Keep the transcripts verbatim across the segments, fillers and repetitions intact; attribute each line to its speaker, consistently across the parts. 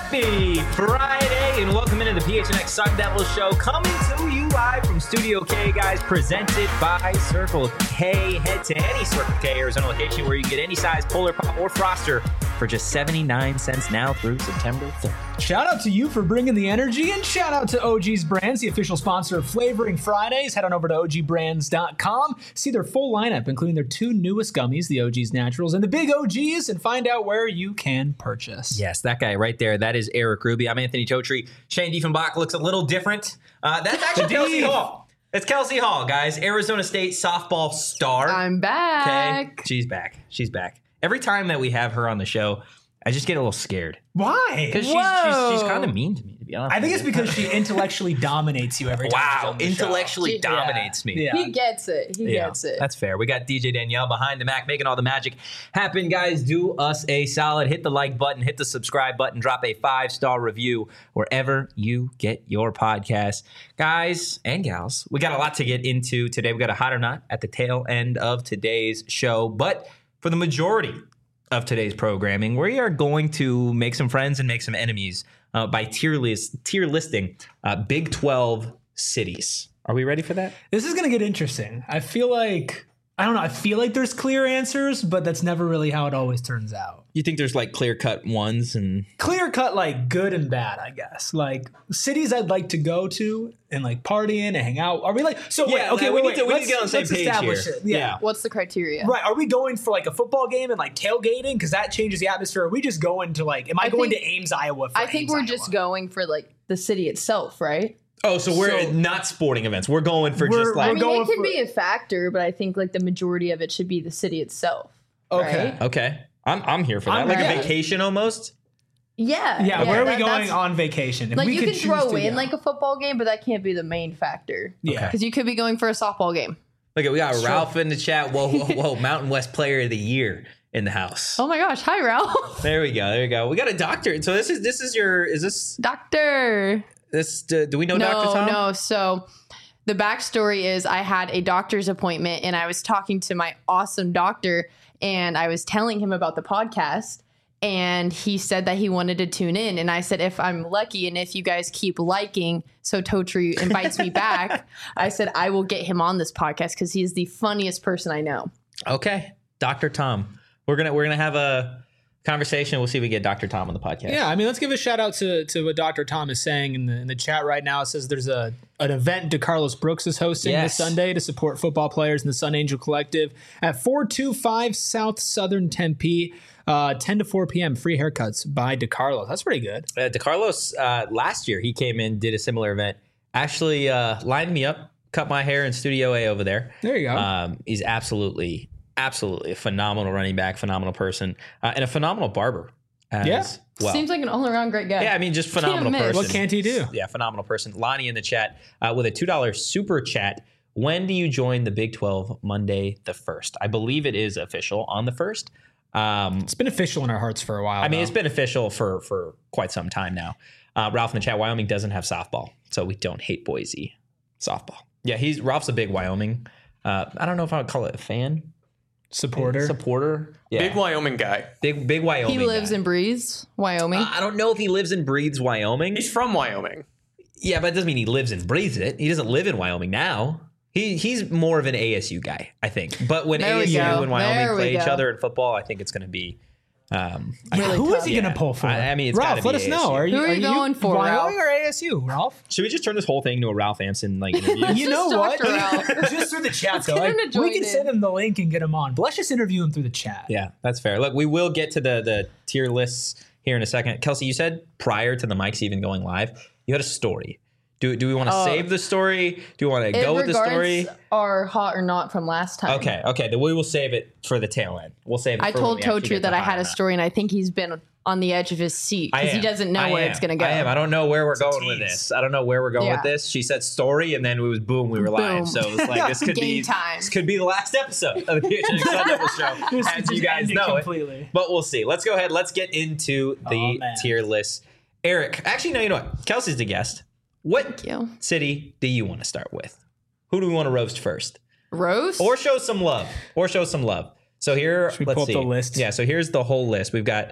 Speaker 1: Happy Friday and welcome into the P H N X Sun Devil Show, coming to you live from Studio K, guys, presented by Circle K. Head to any Circle K Arizona location where you get any size Polar Pop or Froster for just seventy-nine cents now through September third.
Speaker 2: Shout out to you for bringing the energy, and shout out to O G's Brands, the official sponsor of Flavoring Fridays. Head on over to O G brands dot com, see their full lineup, including their two newest gummies, the O G's Naturals and the Big O Gs, and find out where you can purchase.
Speaker 1: Yes, that guy right there, that is Eric Ruby. I'm Anthony Totri. Shane Diefenbach looks a little different. Uh, that's actually Kelsey Hall. It's Kelsey Hall, guys. Arizona State softball star.
Speaker 3: I'm back.
Speaker 1: Okay, she's back. She's back. Every time that we have her on the show, I just get a little scared.
Speaker 2: Why?
Speaker 1: Because she's, she's, she's kind of mean to me, to be honest.
Speaker 2: I think it's because she intellectually dominates you every time.
Speaker 1: Wow,
Speaker 2: she's on the
Speaker 1: intellectually
Speaker 2: show.
Speaker 1: dominates
Speaker 2: Yeah.
Speaker 1: me.
Speaker 2: Yeah.
Speaker 3: He gets it. He
Speaker 1: Yeah,
Speaker 3: gets it.
Speaker 1: that's fair. We got D J Danielle behind the Mac making all the magic happen. Guys, do us a solid. Hit the like button, hit the subscribe button, drop a five-star review wherever you get your podcast. Guys and gals, we got a lot to get into today. We got a hot or not at the tail end of today's show. But for the majority of today's programming, we are going to make some friends and make some enemies uh, by tier list, tier listing uh, Big twelve cities. Are we ready for that?
Speaker 2: This is going to get interesting. I feel like, I don't know, I feel like there's clear answers, but that's never really how it always turns out.
Speaker 1: You think there's like clear cut ones and
Speaker 2: Clear cut, like good and bad, I guess. Like cities I'd like to go to and like partying and hang out. Are we like, so wait,
Speaker 1: Yeah,
Speaker 2: okay,
Speaker 1: we
Speaker 2: wait,
Speaker 1: need
Speaker 2: wait.
Speaker 1: to- we need
Speaker 2: let's,
Speaker 1: to get on the same
Speaker 2: let's
Speaker 1: page
Speaker 2: establish
Speaker 1: here.
Speaker 2: it. Yeah.
Speaker 1: Yeah.
Speaker 3: What's the criteria?
Speaker 2: Right. Are we going for like a football game and like tailgating? Because that changes the atmosphere. Are we just going to like, am I,
Speaker 3: I
Speaker 2: going
Speaker 3: think-
Speaker 2: to Ames, Iowa? For
Speaker 3: I think
Speaker 2: Ames,
Speaker 3: we're
Speaker 2: Iowa?
Speaker 3: just going for like the city itself, right?
Speaker 1: oh, so we're
Speaker 2: So-
Speaker 1: not sporting events. We're going for
Speaker 2: We're-
Speaker 1: just like
Speaker 3: I
Speaker 2: we're
Speaker 3: mean,
Speaker 2: going
Speaker 3: it can
Speaker 2: for-
Speaker 3: be a factor, but I think like the majority of it should be the city itself.
Speaker 2: Okay.
Speaker 3: right?
Speaker 1: okay. I'm I'm here for that.
Speaker 2: I'm
Speaker 1: like
Speaker 2: ready.
Speaker 1: a vacation almost.
Speaker 3: Yeah.
Speaker 2: Yeah, where are we
Speaker 3: that-
Speaker 2: going
Speaker 3: that's-
Speaker 2: on vacation? If
Speaker 3: Like
Speaker 2: we
Speaker 3: you
Speaker 2: could
Speaker 3: can
Speaker 2: choose
Speaker 3: throw
Speaker 2: to
Speaker 3: in
Speaker 2: go.
Speaker 3: like a football game, but that can't be the main factor.
Speaker 2: yeah.
Speaker 3: Because you could be going for a softball game.
Speaker 1: Look at we got
Speaker 2: Sure.
Speaker 1: Ralph in the chat. Whoa, whoa, whoa! Mountain West Player of the Year in the house.
Speaker 3: Oh my gosh! Hi, Ralph.
Speaker 1: There we go. There we go. We got a doctor. So this is this is your is this
Speaker 3: Doctor.
Speaker 1: this uh, do we know
Speaker 3: No,
Speaker 1: Doctor Tom?
Speaker 3: no. So the backstory is I had a doctor's appointment and I was talking to my awesome doctor and I was telling him about the podcast and he said that he wanted to tune in. And I said, if I'm lucky and if you guys keep liking, so Totri invites me back, I said, I will get him on this podcast because he is the funniest person I know.
Speaker 1: Okay, Doctor Tom. We're gonna we're gonna have a conversation. We'll see if we get Doctor Tom on the podcast.
Speaker 2: Yeah, I mean, let's give a shout out to, to what Doctor Tom is saying in the in the chat right now. It says there's a an event DeCarlos Brooks is hosting
Speaker 1: Yes.
Speaker 2: this Sunday to support football players in the Sun Angel Collective at four two five South Southern Tempe, uh, ten to four p.m. Free haircuts by DeCarlos. That's pretty good.
Speaker 1: Uh, DeCarlos, uh, last year, he came in, did a similar event. Actually uh, lined me up, cut my hair in Studio A over there.
Speaker 2: There you go.
Speaker 1: Um, he's absolutely, absolutely a phenomenal running back, phenomenal person, uh, and a phenomenal barber. As
Speaker 2: Yeah.
Speaker 1: well.
Speaker 3: Seems like an all around great guy.
Speaker 1: Yeah, I mean, just phenomenal
Speaker 3: miss.
Speaker 1: person.
Speaker 2: What can't he do?
Speaker 1: Yeah, phenomenal person. Lonnie in the chat uh, with a two dollars super chat. When do you join the Big twelve? Monday the first. I believe it is official on the first. Um,
Speaker 2: It's been official in our hearts for a while.
Speaker 1: I mean,
Speaker 2: though.
Speaker 1: it's been official for for quite some time now. Uh, Ralph in the chat, Wyoming doesn't have softball, so we don't hate Boise softball. Yeah, he's Ralph's a big Wyoming. Uh, I don't know if I would call it a fan,
Speaker 2: supporter.
Speaker 1: supporter. Yeah,
Speaker 4: Big Wyoming guy.
Speaker 1: big big Wyoming.
Speaker 3: He lives
Speaker 1: guy.
Speaker 3: and breathes Wyoming.
Speaker 1: Uh, I don't know if he lives and breathes Wyoming.
Speaker 4: He's from Wyoming.
Speaker 1: Yeah, but it doesn't mean he lives and breathes it. He doesn't live in Wyoming now. He he's more of an A S U guy, I think. But when
Speaker 3: There we
Speaker 1: A S U
Speaker 3: go.
Speaker 1: and
Speaker 3: There
Speaker 1: Wyoming
Speaker 3: we
Speaker 1: play each
Speaker 3: go.
Speaker 1: other in football, I think it's going to be. Um, I-
Speaker 3: Really
Speaker 2: Who is
Speaker 3: tough.
Speaker 2: he
Speaker 1: Yeah.
Speaker 2: going to pull for?
Speaker 1: I- I mean, it's
Speaker 2: Ralph,
Speaker 1: gotta
Speaker 2: let
Speaker 1: be
Speaker 2: us
Speaker 1: A S U.
Speaker 2: know. Are you,
Speaker 3: Who are you going for,
Speaker 2: Wyoming
Speaker 3: Ralph?
Speaker 2: or A S U, Ralph?
Speaker 1: should we just turn this whole thing into a Ralph Anson like interview?
Speaker 2: You know
Speaker 3: Just
Speaker 2: what?
Speaker 3: Doctor Ralph.
Speaker 2: Just through the chat, though.
Speaker 3: get him
Speaker 2: Like,
Speaker 3: to
Speaker 2: we
Speaker 3: join
Speaker 2: can
Speaker 3: in.
Speaker 2: send him the link and get him on. But let's just interview him through the chat.
Speaker 1: Yeah, that's fair. Look, we will get to the the tier lists here in a second. Kelsey, you said prior to the mics even going live, you had a story. Do, do we want to
Speaker 3: Oh.
Speaker 1: save the story? Do we want to
Speaker 3: It
Speaker 1: go with the story?
Speaker 3: regards Are hot or not from last time.
Speaker 1: Okay, okay. Then we will save it for the tail end. We'll save it
Speaker 3: I
Speaker 1: for
Speaker 3: told
Speaker 1: when we actually
Speaker 3: Totri
Speaker 1: get
Speaker 3: that
Speaker 1: to
Speaker 3: I had
Speaker 1: hot
Speaker 3: a
Speaker 1: or not.
Speaker 3: story, and I think he's been on the edge of his seat
Speaker 1: I
Speaker 3: because he
Speaker 1: am.
Speaker 3: doesn't know
Speaker 1: I
Speaker 3: where
Speaker 1: am.
Speaker 3: it's going to go.
Speaker 1: I am. I don't know where we're
Speaker 2: a
Speaker 1: going with
Speaker 2: tease.
Speaker 1: this. I don't know where we're going
Speaker 3: Yeah.
Speaker 1: with this. She said story, and then it was boom, we were live.
Speaker 3: Boom.
Speaker 1: So it was like this could be
Speaker 3: Game time.
Speaker 1: this could be the last episode of the P H N X Sun Devil Show,
Speaker 2: Just-
Speaker 1: as
Speaker 2: just
Speaker 1: you guys
Speaker 2: end it
Speaker 1: know
Speaker 2: completely.
Speaker 1: it. But we'll see. Let's go ahead. Let's get into
Speaker 2: Oh,
Speaker 1: the
Speaker 2: man.
Speaker 1: tier list. Eric, actually, no. You know what? Kelsey's the guest. What
Speaker 3: Thank you.
Speaker 1: city do you want to start with? Who do we want to roast first?
Speaker 3: Roast?
Speaker 1: Or show some love. Or show some love. So here,
Speaker 2: Should we
Speaker 1: let's
Speaker 2: pull up
Speaker 1: see.
Speaker 2: the list?
Speaker 1: Yeah, so here's the whole list. We've got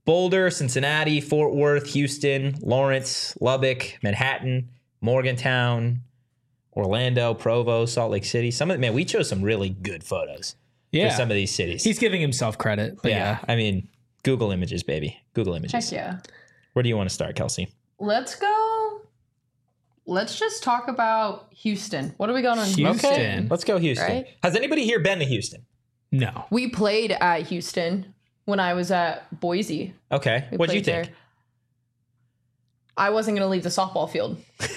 Speaker 1: Boulder, Cincinnati, Fort Worth, Houston, Lawrence, Lubbock, Manhattan, Morgantown, Orlando, Provo, Salt Lake City. Some of man, we chose some really good photos
Speaker 2: Yeah.
Speaker 1: for some of these cities.
Speaker 2: He's giving himself credit. But
Speaker 1: yeah,
Speaker 2: yeah.
Speaker 1: I mean, Google Images, baby. Google Images.
Speaker 3: Heck yeah.
Speaker 1: Where do you want to start, Kelsey?
Speaker 3: Let's go. Let's just talk about Houston. What are we going on?
Speaker 2: Houston.
Speaker 1: Okay, let's go Houston.
Speaker 3: Right?
Speaker 1: Has anybody here been to Houston?
Speaker 2: No.
Speaker 3: We played at Houston when I was at Boise.
Speaker 1: Okay.
Speaker 3: We
Speaker 1: What'd you
Speaker 3: played
Speaker 1: think?
Speaker 3: there. I wasn't going to leave the softball field.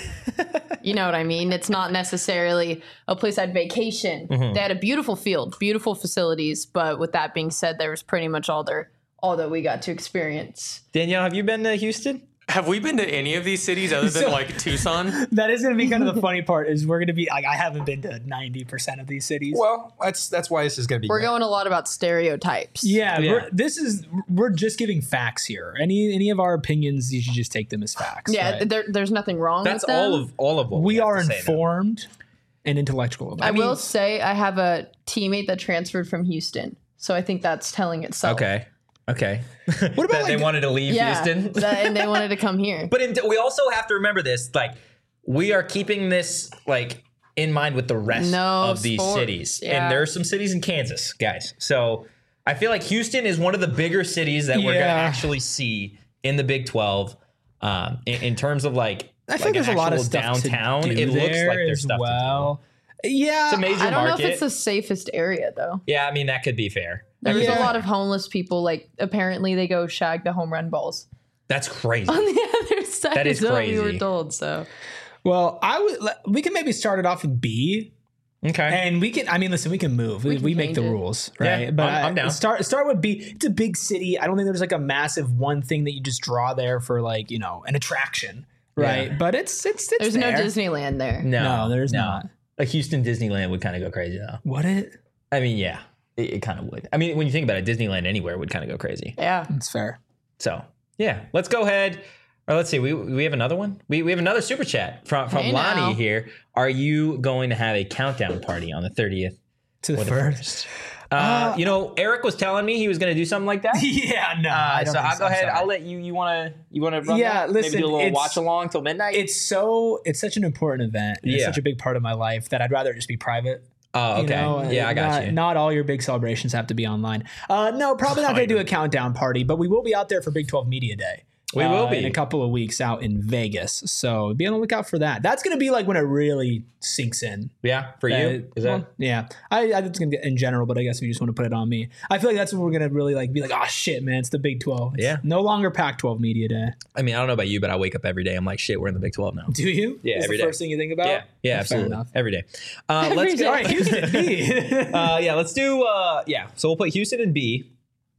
Speaker 3: You know what I mean? It's not necessarily a place I'd vacation.
Speaker 1: Mhm.
Speaker 3: They had a beautiful field, beautiful facilities, but with that being said, there was pretty much all there, all that we got to experience.
Speaker 1: Danielle, have you been to Houston?
Speaker 4: Have we been to any of these cities other than
Speaker 2: So-
Speaker 4: like Tucson?
Speaker 2: That is going to be kind of the funny part is we're going to be like, I haven't been to ninety percent of these cities.
Speaker 5: Well, that's that's why this is going to be.
Speaker 3: We're
Speaker 5: great.
Speaker 3: going a lot about stereotypes.
Speaker 2: Yeah,
Speaker 1: Yeah.
Speaker 2: We're, this is we're just giving facts here. Any any of our opinions, you should just take them as facts.
Speaker 3: Yeah,
Speaker 2: right?
Speaker 3: there, there's nothing wrong
Speaker 1: That's
Speaker 3: with them.
Speaker 1: all of all of what we,
Speaker 2: we
Speaker 1: have
Speaker 2: are
Speaker 1: to say, though.
Speaker 2: informed and intellectual about
Speaker 3: I
Speaker 2: it.
Speaker 3: will say I have a teammate that transferred from Houston, so I think that's telling itself.
Speaker 1: Okay. Okay.
Speaker 5: What about
Speaker 1: that they
Speaker 5: like-
Speaker 1: wanted to leave
Speaker 3: Yeah,
Speaker 1: Houston?
Speaker 3: that, and they wanted to come here.
Speaker 1: But in, we also have to remember this, like we are keeping this like in mind with the rest
Speaker 3: No
Speaker 1: of these
Speaker 3: sports,
Speaker 1: cities.
Speaker 3: yeah.
Speaker 1: And there are some cities in Kansas, guys. So I feel like Houston is one of the bigger cities that we're going to
Speaker 2: Yeah.
Speaker 1: actually see in the Big twelve. Um, in, in terms of like,
Speaker 2: I
Speaker 1: like
Speaker 2: think there's
Speaker 1: an
Speaker 2: a lot of
Speaker 1: actual
Speaker 2: stuff
Speaker 1: downtown.
Speaker 2: to do
Speaker 1: It looks
Speaker 2: there
Speaker 1: like there's
Speaker 2: as
Speaker 1: stuff
Speaker 2: well. Yeah,
Speaker 1: to do. It's a major
Speaker 3: I don't
Speaker 1: market.
Speaker 3: know if it's the safest area though.
Speaker 1: yeah, I mean that could be fair. That
Speaker 3: There's
Speaker 1: could be
Speaker 3: a
Speaker 1: fair.
Speaker 3: lot of homeless people. Like apparently they go shag the home run balls
Speaker 1: That's crazy.
Speaker 3: on the other side.
Speaker 1: That is
Speaker 3: is what we
Speaker 1: crazy.
Speaker 3: were told. So
Speaker 2: Well, I would. We can maybe start it off with B,
Speaker 1: Okay.
Speaker 2: and we can. I mean, listen, we can move. We,
Speaker 3: can
Speaker 2: we make
Speaker 3: change
Speaker 2: the
Speaker 3: it.
Speaker 2: rules,
Speaker 1: Yeah,
Speaker 2: right? but
Speaker 1: I'm- I'm
Speaker 2: I-
Speaker 1: down.
Speaker 2: Start start with B. It's a big city. I don't think there's like a massive one thing that you just draw there for like you know an attraction, right?
Speaker 1: Yeah.
Speaker 2: But it's it's it's
Speaker 3: there's
Speaker 2: there.
Speaker 3: no Disneyland there.
Speaker 1: no,
Speaker 2: No, there's not.
Speaker 1: Like Houston Disneyland would kind of go crazy though.
Speaker 2: What it?
Speaker 1: I mean, yeah, it, it kind of would. I mean, when you think about it, Disneyland anywhere would kind of go crazy.
Speaker 3: Yeah.
Speaker 2: It's fair.
Speaker 1: So yeah, let's go ahead. Or let's see, we we have another one. We we have another super chat from from
Speaker 3: Hey,
Speaker 1: Lonnie
Speaker 3: now.
Speaker 1: here. Are you going to have a countdown party on the thirtieth?
Speaker 2: To the
Speaker 1: Or the
Speaker 2: first.
Speaker 1: Uh, you know, Eric was telling me he was going to do something like that.
Speaker 2: yeah, no. I
Speaker 1: Uh,
Speaker 2: don't
Speaker 1: so
Speaker 2: think
Speaker 1: I'll go
Speaker 2: I'm
Speaker 1: ahead.
Speaker 2: sorry.
Speaker 1: I'll let you. You want to? You want to run
Speaker 2: Yeah,
Speaker 1: that?
Speaker 2: listen,
Speaker 1: Maybe do a little
Speaker 2: it's-
Speaker 1: watch along till midnight.
Speaker 2: It's so it's such an important event. And It's
Speaker 1: Yeah.
Speaker 2: such a big part of my life that I'd rather it just be private.
Speaker 1: oh, okay.
Speaker 2: You know,
Speaker 1: yeah, I got
Speaker 2: not,
Speaker 1: you.
Speaker 2: Not all your big celebrations have to be online. Uh, no, probably not going to do a countdown party, but we will be out there for Big twelve Media Day.
Speaker 1: We
Speaker 2: uh,
Speaker 1: will be.
Speaker 2: in a couple of weeks out in Vegas. So be on the lookout for that. That's going to be like when it really sinks in.
Speaker 1: yeah, for you.
Speaker 2: Uh,
Speaker 1: Is that?
Speaker 2: well, yeah, I, I think it's gonna get in general, but I guess we just want to put it on me. I feel like that's when we're gonna really like be like, oh shit, man, it's the Big twelve. It's
Speaker 1: Yeah.
Speaker 2: no longer Pac twelve Media Day.
Speaker 1: I mean, I don't know about you, but I wake up every day. I'm like, shit, we're in the Big twelve now.
Speaker 2: Do you?
Speaker 1: Yeah,
Speaker 2: That's
Speaker 1: every
Speaker 2: the
Speaker 1: day.
Speaker 2: first thing you think about.
Speaker 1: Yeah, yeah,
Speaker 2: Fair
Speaker 1: absolutely,
Speaker 2: enough.
Speaker 1: every day. Uh,
Speaker 3: Every
Speaker 1: let's
Speaker 3: day.
Speaker 1: go.
Speaker 2: All right, Houston B.
Speaker 1: uh, yeah, let's do. Uh, yeah, so we'll put Houston in B.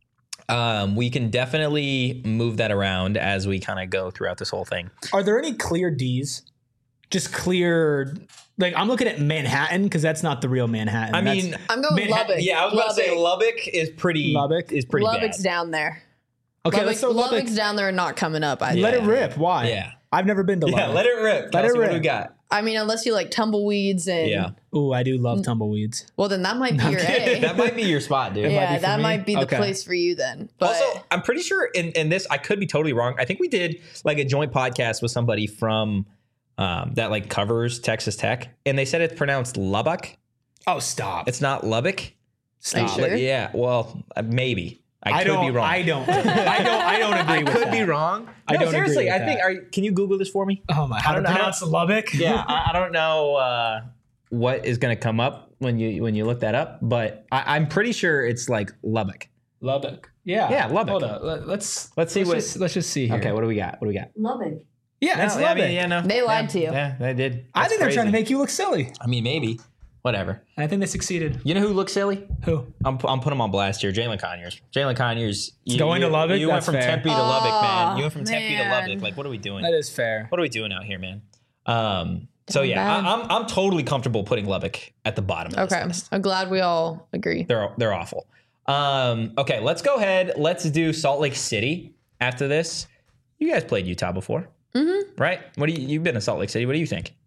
Speaker 1: Um, we can definitely move that around as we kind of go throughout this whole thing.
Speaker 2: Are there any clear D's? Just clear. Like I'm looking at Manhattan because that's not the real Manhattan.
Speaker 1: I
Speaker 2: That's
Speaker 1: mean,
Speaker 3: I'm going
Speaker 2: Manhattan-
Speaker 3: Lubbock.
Speaker 1: yeah, I was about to say Lubbock is pretty.
Speaker 2: Lubbock?
Speaker 1: is pretty
Speaker 3: Lubbock's
Speaker 1: bad.
Speaker 3: down there.
Speaker 2: okay.
Speaker 3: Lubbock,
Speaker 2: let's throw Lubbock.
Speaker 3: Lubbock's down there and not coming up. I,
Speaker 2: Let
Speaker 1: Yeah.
Speaker 2: it rip. Why?
Speaker 1: Yeah.
Speaker 2: I've never been to Lubbock.
Speaker 1: Yeah, let it rip.
Speaker 2: Let it
Speaker 1: Kelsey, What
Speaker 2: rip.
Speaker 1: do we got?
Speaker 3: I mean, unless you like tumbleweeds and
Speaker 1: Yeah,
Speaker 2: Ooh, I do love tumbleweeds.
Speaker 3: well, then that might be your A.
Speaker 1: that might be your spot, dude.
Speaker 2: might
Speaker 3: yeah,
Speaker 2: be for
Speaker 3: that
Speaker 2: me.
Speaker 3: might be the
Speaker 2: Okay.
Speaker 3: place for you then. But
Speaker 1: Also, I'm pretty sure in, in this, I could be totally wrong. I think we did like a joint podcast with somebody from um, that like covers Texas Tech, and they said it's pronounced Lubbock.
Speaker 2: Oh, stop.
Speaker 1: It's not Lubbock.
Speaker 2: Stop.
Speaker 3: sure?
Speaker 1: Like, yeah, well, uh, maybe. I,
Speaker 2: I
Speaker 1: could
Speaker 2: don't.
Speaker 1: be wrong.
Speaker 2: I don't. I don't. I don't agree
Speaker 1: I
Speaker 2: with
Speaker 1: could
Speaker 2: that.
Speaker 1: be wrong.
Speaker 2: I
Speaker 1: no,
Speaker 2: don't agree
Speaker 1: seriously.
Speaker 2: with
Speaker 1: I think.
Speaker 2: that.
Speaker 1: Are, you- can you Google this for me?
Speaker 2: Oh my! How
Speaker 1: I
Speaker 2: to
Speaker 1: don't know how-
Speaker 2: pronounce Lubbock?
Speaker 1: Yeah, I, I don't know uh, what is going to come up when you when you look that up, but I, I'm pretty sure it's like Lubbock.
Speaker 2: Lubbock. Yeah.
Speaker 1: Yeah, Lubbock.
Speaker 2: Hold on. Let, let's
Speaker 1: Let's see
Speaker 2: let's
Speaker 1: what-
Speaker 2: Just, let's just see here.
Speaker 1: Okay, what do we got? What do we got?
Speaker 3: Lubbock.
Speaker 2: Yeah, it's
Speaker 1: No, yeah, I
Speaker 2: Lubbock.
Speaker 1: mean, yeah, no,
Speaker 3: They lied
Speaker 1: yeah,
Speaker 3: to you.
Speaker 1: Yeah, they did.
Speaker 2: I
Speaker 1: That's
Speaker 2: think they're trying to
Speaker 1: crazy.
Speaker 2: make you look silly.
Speaker 1: I mean, maybe. Whatever.
Speaker 2: And I think they succeeded.
Speaker 1: You know who looks silly?
Speaker 2: Who?
Speaker 1: I'm I'm putting him on blast here. Jalen Conyers. Jalen Conyers. You,
Speaker 2: Going to
Speaker 1: you-
Speaker 2: Lubbock?
Speaker 1: You went
Speaker 2: That's
Speaker 1: from
Speaker 2: fair.
Speaker 1: Tempe to Lubbock, man.
Speaker 3: Aw,
Speaker 1: You went from Tempe to
Speaker 3: man.
Speaker 1: Lubbock. Like, what are we doing?
Speaker 2: That is fair.
Speaker 1: What are we doing out here, man? Um. So
Speaker 3: Doing
Speaker 1: yeah,
Speaker 3: bad.
Speaker 1: I, I'm I'm totally comfortable putting Lubbock at the bottom of
Speaker 3: Okay,
Speaker 1: this list.
Speaker 3: I'm glad we all agree.
Speaker 1: They're they're awful. Um. Okay, let's go ahead. Let's do Salt Lake City after this. You guys played Utah before,
Speaker 3: Mm-hmm.
Speaker 1: right? What do you you've been to Salt Lake City? What do you think?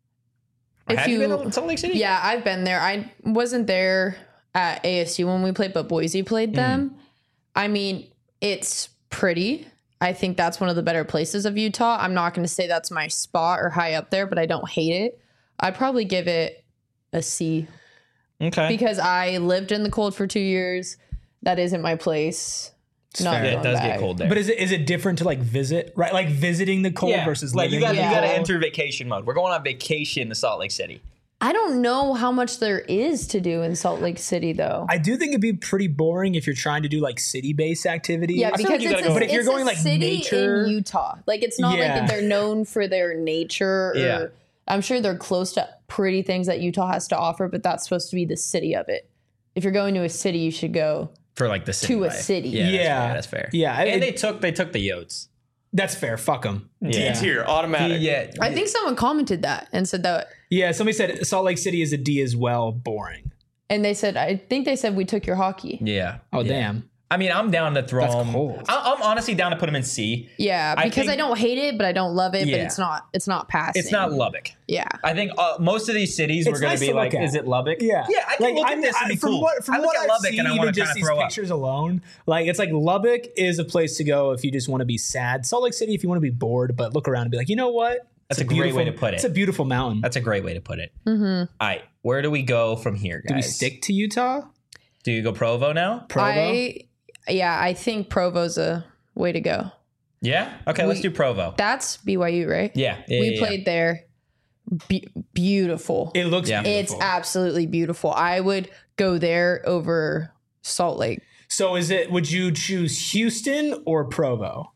Speaker 1: Or
Speaker 3: If
Speaker 1: have you,
Speaker 3: you-
Speaker 1: been to Salt Lake City?
Speaker 3: Yeah, I've been there. I wasn't there at A S U when we played, but Boise played them. I mean, it's pretty. I think that's one of the better places of Utah. I'm not going to say that's my spot or high up there, but I don't hate it. I'd probably give it a C.
Speaker 1: Okay.
Speaker 3: Because I lived in the cold for two years. That isn't my place. Not
Speaker 2: fair.
Speaker 1: Yeah, it
Speaker 3: going
Speaker 1: does
Speaker 3: back.
Speaker 1: get cold there.
Speaker 2: But is it is it different to like visit, right? Like visiting the cold versus
Speaker 1: like
Speaker 2: living
Speaker 1: you got
Speaker 2: in
Speaker 3: Yeah.
Speaker 1: you
Speaker 2: the
Speaker 1: got to
Speaker 2: cold?
Speaker 1: enter vacation mode. We're going on vacation to Salt Lake City.
Speaker 3: I don't know how much there is to do in Salt Lake City, though.
Speaker 2: I do think it'd be pretty boring if you're trying to do like city-based activities.
Speaker 3: Yeah,
Speaker 1: feel
Speaker 3: because
Speaker 1: like you
Speaker 3: it's
Speaker 1: gotta
Speaker 3: a,
Speaker 1: go-
Speaker 2: But if you're
Speaker 3: it's a
Speaker 2: going, like,
Speaker 3: city
Speaker 2: nature-
Speaker 3: in Utah, like it's not
Speaker 2: Yeah.
Speaker 3: like they're known for their nature. Or,
Speaker 1: Yeah.
Speaker 3: I'm sure they're close to pretty things that Utah has to offer, but that's supposed to be the city of it. If you're going to a city, you should go.
Speaker 1: For like the city
Speaker 3: To a
Speaker 1: life.
Speaker 3: city.
Speaker 1: Yeah,
Speaker 2: Yeah.
Speaker 1: that's fair.
Speaker 2: Yeah,
Speaker 1: and
Speaker 2: it-
Speaker 1: they took they took the Yotes.
Speaker 2: That's fair. Fuck them.
Speaker 4: D tier, automatic.
Speaker 1: Yeah,
Speaker 3: I think someone commented that and said that,
Speaker 2: Yeah, somebody said Salt Lake City is a D as well. Boring.
Speaker 3: and they said, I think they said we took your hockey.
Speaker 1: yeah.
Speaker 2: Oh
Speaker 1: yeah.
Speaker 2: damn.
Speaker 1: I mean, I'm down to throw
Speaker 2: That's
Speaker 1: them.
Speaker 2: cold.
Speaker 1: I- I'm honestly down to put them in C.
Speaker 3: Yeah,
Speaker 1: I
Speaker 3: because I,
Speaker 1: think-
Speaker 3: don't hate it, but I don't love it.
Speaker 1: Yeah.
Speaker 3: But it's not. It's not passing.
Speaker 1: It's not Lubbock.
Speaker 3: Yeah.
Speaker 1: I think uh, most of these cities
Speaker 2: It's
Speaker 1: were going
Speaker 2: nice
Speaker 1: to be
Speaker 2: to look
Speaker 1: like,
Speaker 2: at.
Speaker 1: is it Lubbock?
Speaker 2: Yeah,
Speaker 1: Yeah, I can look at this and be
Speaker 2: from
Speaker 1: cool.
Speaker 2: what from
Speaker 1: I look
Speaker 2: what
Speaker 1: at
Speaker 2: I've
Speaker 1: Lubbock
Speaker 2: seen,
Speaker 1: and I
Speaker 2: even
Speaker 1: wanna
Speaker 2: just
Speaker 1: kinda
Speaker 2: these
Speaker 1: throw up.
Speaker 2: pictures alone, like it's like Lubbock is a place to go if you just want to be sad. Salt Lake City if you want to be bored, but look around and be like, you know what? It's
Speaker 1: That's a great
Speaker 2: beautiful-
Speaker 1: way to put it.
Speaker 2: It's a beautiful mountain.
Speaker 1: That's a great way to put it.
Speaker 3: Mm-hmm.
Speaker 1: All right, where do we go from here, guys?
Speaker 2: Do we stick to Utah?
Speaker 1: Do you go Provo now?
Speaker 2: Provo?
Speaker 3: I. Yeah, I think Provo's a way to go.
Speaker 1: Yeah. Okay, let's
Speaker 3: We-
Speaker 1: do Provo.
Speaker 3: That's B Y U, right?
Speaker 1: Yeah. yeah
Speaker 3: we
Speaker 1: yeah,
Speaker 3: played there. Be- beautiful.
Speaker 2: It looks
Speaker 1: Yeah.
Speaker 2: beautiful.
Speaker 3: It's absolutely beautiful. I would go there over Salt Lake.
Speaker 2: So is it? Would you choose Houston or Provo?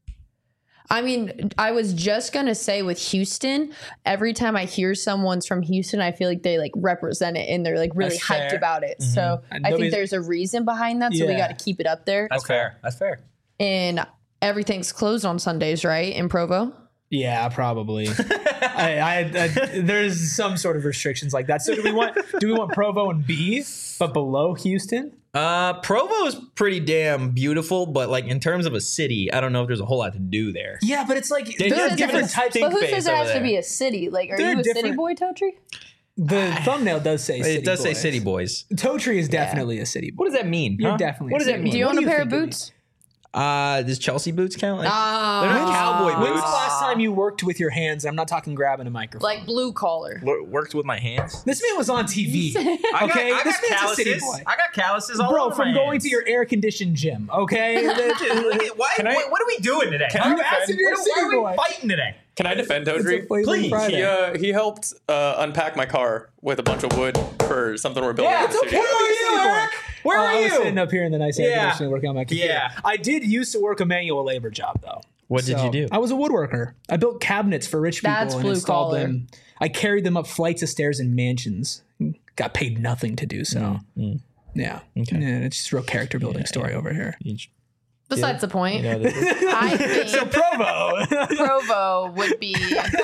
Speaker 3: I mean, I was just gonna say with Houston, every time I hear someone's from Houston, I feel like they like represent it and they're like really
Speaker 2: That's
Speaker 3: hyped
Speaker 2: fair.
Speaker 3: about it. So
Speaker 2: And
Speaker 3: I think
Speaker 2: nobody's-
Speaker 3: there's a reason behind that. So we
Speaker 2: Yeah.
Speaker 3: got to keep it up there.
Speaker 1: That's fair. That's fair.
Speaker 3: And everything's closed on Sundays, right? In Provo.
Speaker 2: Yeah, probably. I, I, I, there's some sort of restrictions like that. So do we want do we want Provo and B, but below Houston?
Speaker 1: Uh, Provo is pretty damn beautiful, but like in terms of a city, I don't know if there's a whole lot to do there.
Speaker 2: Yeah, but it's like
Speaker 1: They
Speaker 2: there are
Speaker 1: just
Speaker 2: different
Speaker 3: it-
Speaker 2: types.
Speaker 1: Think
Speaker 3: But who
Speaker 1: face
Speaker 3: says it
Speaker 1: over
Speaker 3: has to
Speaker 1: there.
Speaker 3: be a city? Like, are
Speaker 2: They're
Speaker 3: you a city
Speaker 2: different-
Speaker 3: boy, Totri?
Speaker 2: The thumbnail does say city
Speaker 1: It does say
Speaker 2: boys.
Speaker 1: city boys.
Speaker 2: Toe Tree is definitely a city boy.
Speaker 1: What does that mean?
Speaker 2: You're
Speaker 1: huh?
Speaker 2: definitely
Speaker 1: What
Speaker 2: a
Speaker 1: does that
Speaker 2: city
Speaker 1: mean?
Speaker 3: Do you
Speaker 2: What
Speaker 3: own
Speaker 2: do
Speaker 3: a
Speaker 2: you
Speaker 3: pair of
Speaker 2: think it
Speaker 3: boots?
Speaker 1: Uh, does Chelsea boots count? Like,
Speaker 3: Ah,
Speaker 1: they're not cowboy
Speaker 2: When's
Speaker 1: boots.
Speaker 2: the last time you worked with your hands? I'm not talking grabbing a microphone.
Speaker 3: like blue collar.
Speaker 1: Wor- Worked with my hands.
Speaker 2: This man was on T V.
Speaker 1: I got,
Speaker 2: Okay,
Speaker 1: I
Speaker 2: this
Speaker 1: got
Speaker 2: man's a city
Speaker 1: calluses.
Speaker 2: boy.
Speaker 1: I got calluses all
Speaker 2: Bro,
Speaker 1: over
Speaker 2: from
Speaker 1: my
Speaker 2: going
Speaker 1: hands.
Speaker 2: to your air conditioned gym, okay?
Speaker 1: Dude, look at- why,
Speaker 4: Can I-
Speaker 1: what, what are we doing today?
Speaker 4: Can
Speaker 1: Huh?
Speaker 4: I
Speaker 2: You asked if you're a
Speaker 1: Why
Speaker 2: city
Speaker 1: are we
Speaker 2: boy.
Speaker 1: fighting today?
Speaker 4: Can I defend
Speaker 2: It's a
Speaker 4: Todri?
Speaker 2: Flavor
Speaker 1: Please.
Speaker 2: Friday.
Speaker 4: He uh, he helped uh, unpack my car with a bunch of wood for something we're building.
Speaker 1: Yeah,
Speaker 4: in the
Speaker 1: it's okay.
Speaker 4: studio.
Speaker 1: Where are you, Eric? Where
Speaker 2: Oh,
Speaker 1: are
Speaker 2: I was
Speaker 1: you?
Speaker 2: sitting up here in the nice air
Speaker 1: Yeah.
Speaker 2: conditioning working on my computer.
Speaker 1: Yeah.
Speaker 2: I did used to work a manual labor job though.
Speaker 1: What did
Speaker 2: So,
Speaker 1: you do?
Speaker 2: I was a woodworker. I built cabinets for rich people
Speaker 3: That's
Speaker 2: and
Speaker 3: blue
Speaker 2: installed
Speaker 3: collar.
Speaker 2: them. I carried them up flights of stairs in mansions. Got paid nothing to do so.
Speaker 1: Mm,
Speaker 2: Yeah. Yeah, it's just a real character building story over here.
Speaker 3: Besides the point,
Speaker 1: You know, this is-
Speaker 3: I think
Speaker 2: So Provo.
Speaker 3: Provo would be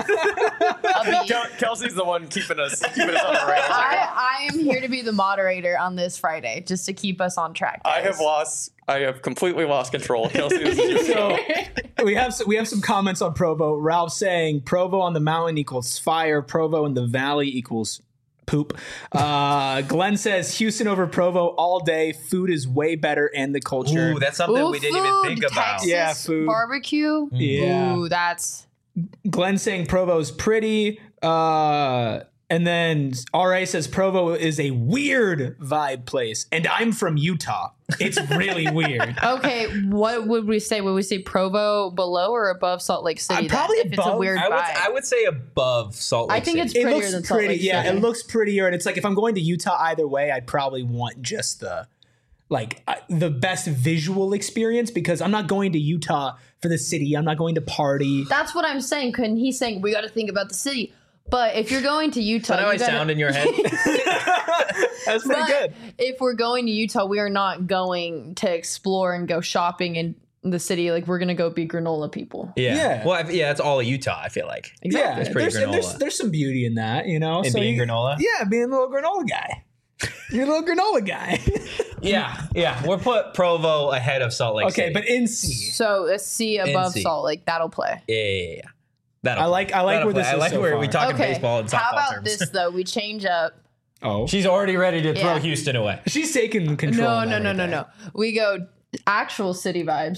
Speaker 3: a B.
Speaker 4: Kel- Kelsey's the one keeping us keeping us on the rails.
Speaker 3: I, I am here to be the moderator on this Friday, just to keep us on track.
Speaker 4: I
Speaker 3: guys.
Speaker 4: have lost. I have completely lost control. Kelsey, this is your
Speaker 2: So we have some, we have some comments on Provo. Ralph saying Provo on the mountain equals fire. Provo in the valley equals poop. Uh, Glenn says Houston over Provo all day. Food is way better and the culture.
Speaker 1: Ooh, that's something
Speaker 3: Ooh,
Speaker 1: we didn't even
Speaker 3: food,
Speaker 1: think about.
Speaker 3: Texas
Speaker 2: Yeah, food.
Speaker 3: barbecue.
Speaker 2: Yeah.
Speaker 3: Ooh, that's
Speaker 2: Glenn saying Provo's pretty. Uh, and then R A says Provo is a weird vibe place. And I'm from Utah. It's really weird.
Speaker 3: okay. What would we say? Would we say Provo below or above Salt Lake City?
Speaker 2: Uh,
Speaker 3: then,
Speaker 2: probably
Speaker 3: if it's a
Speaker 2: above.
Speaker 3: weird
Speaker 1: I would,
Speaker 3: vibe.
Speaker 1: I would say above Salt Lake
Speaker 3: I think
Speaker 1: City.
Speaker 3: it's
Speaker 2: It
Speaker 3: prettier
Speaker 2: looks
Speaker 3: than Salt
Speaker 2: pretty.
Speaker 3: Lake
Speaker 2: Yeah,
Speaker 3: City.
Speaker 2: it looks prettier. And it's like if I'm going to Utah either way, I'd probably want just the like uh, the best visual experience because I'm not going to Utah for the city. I'm not going to party.
Speaker 3: That's what I'm saying. Couldn't he saying we got to think about the city? But if you're going to Utah,
Speaker 1: Is that how
Speaker 3: you
Speaker 1: I
Speaker 3: gotta-
Speaker 1: sound in your head?
Speaker 2: That's pretty
Speaker 3: but
Speaker 2: good.
Speaker 3: if we're going to Utah, we are not going to explore and go shopping in the city. Like we're gonna go be granola people.
Speaker 1: Yeah.
Speaker 2: Yeah.
Speaker 1: Well, I, yeah, that's all of Utah, I feel like.
Speaker 2: Yeah,
Speaker 1: It's pretty
Speaker 2: there's, and there's
Speaker 1: granola.
Speaker 2: there's some beauty in that, you know.
Speaker 1: In
Speaker 2: so
Speaker 1: being
Speaker 2: you-
Speaker 1: granola?
Speaker 2: Yeah, being a little granola guy. You're a little granola guy.
Speaker 1: Yeah, yeah. We'll put Provo ahead of Salt Lake
Speaker 2: Okay,
Speaker 1: City.
Speaker 2: but in C.
Speaker 3: So a C above
Speaker 1: C.
Speaker 3: Salt Lake, that'll play.
Speaker 1: Yeah, yeah, yeah. That'll
Speaker 2: I like I like
Speaker 1: That'll
Speaker 2: where
Speaker 1: play.
Speaker 2: this
Speaker 1: I
Speaker 2: is
Speaker 1: like
Speaker 2: so
Speaker 1: where
Speaker 2: far.
Speaker 1: we talking
Speaker 3: Okay.
Speaker 1: baseball and softball
Speaker 3: How about
Speaker 1: terms.
Speaker 3: this though? We change up.
Speaker 2: Oh,
Speaker 1: She's already ready to throw
Speaker 3: Yeah.
Speaker 1: Houston away.
Speaker 2: she's taking control.
Speaker 3: No,
Speaker 2: of
Speaker 3: no, no, no,
Speaker 2: everything.
Speaker 3: no. We go actual city vibes.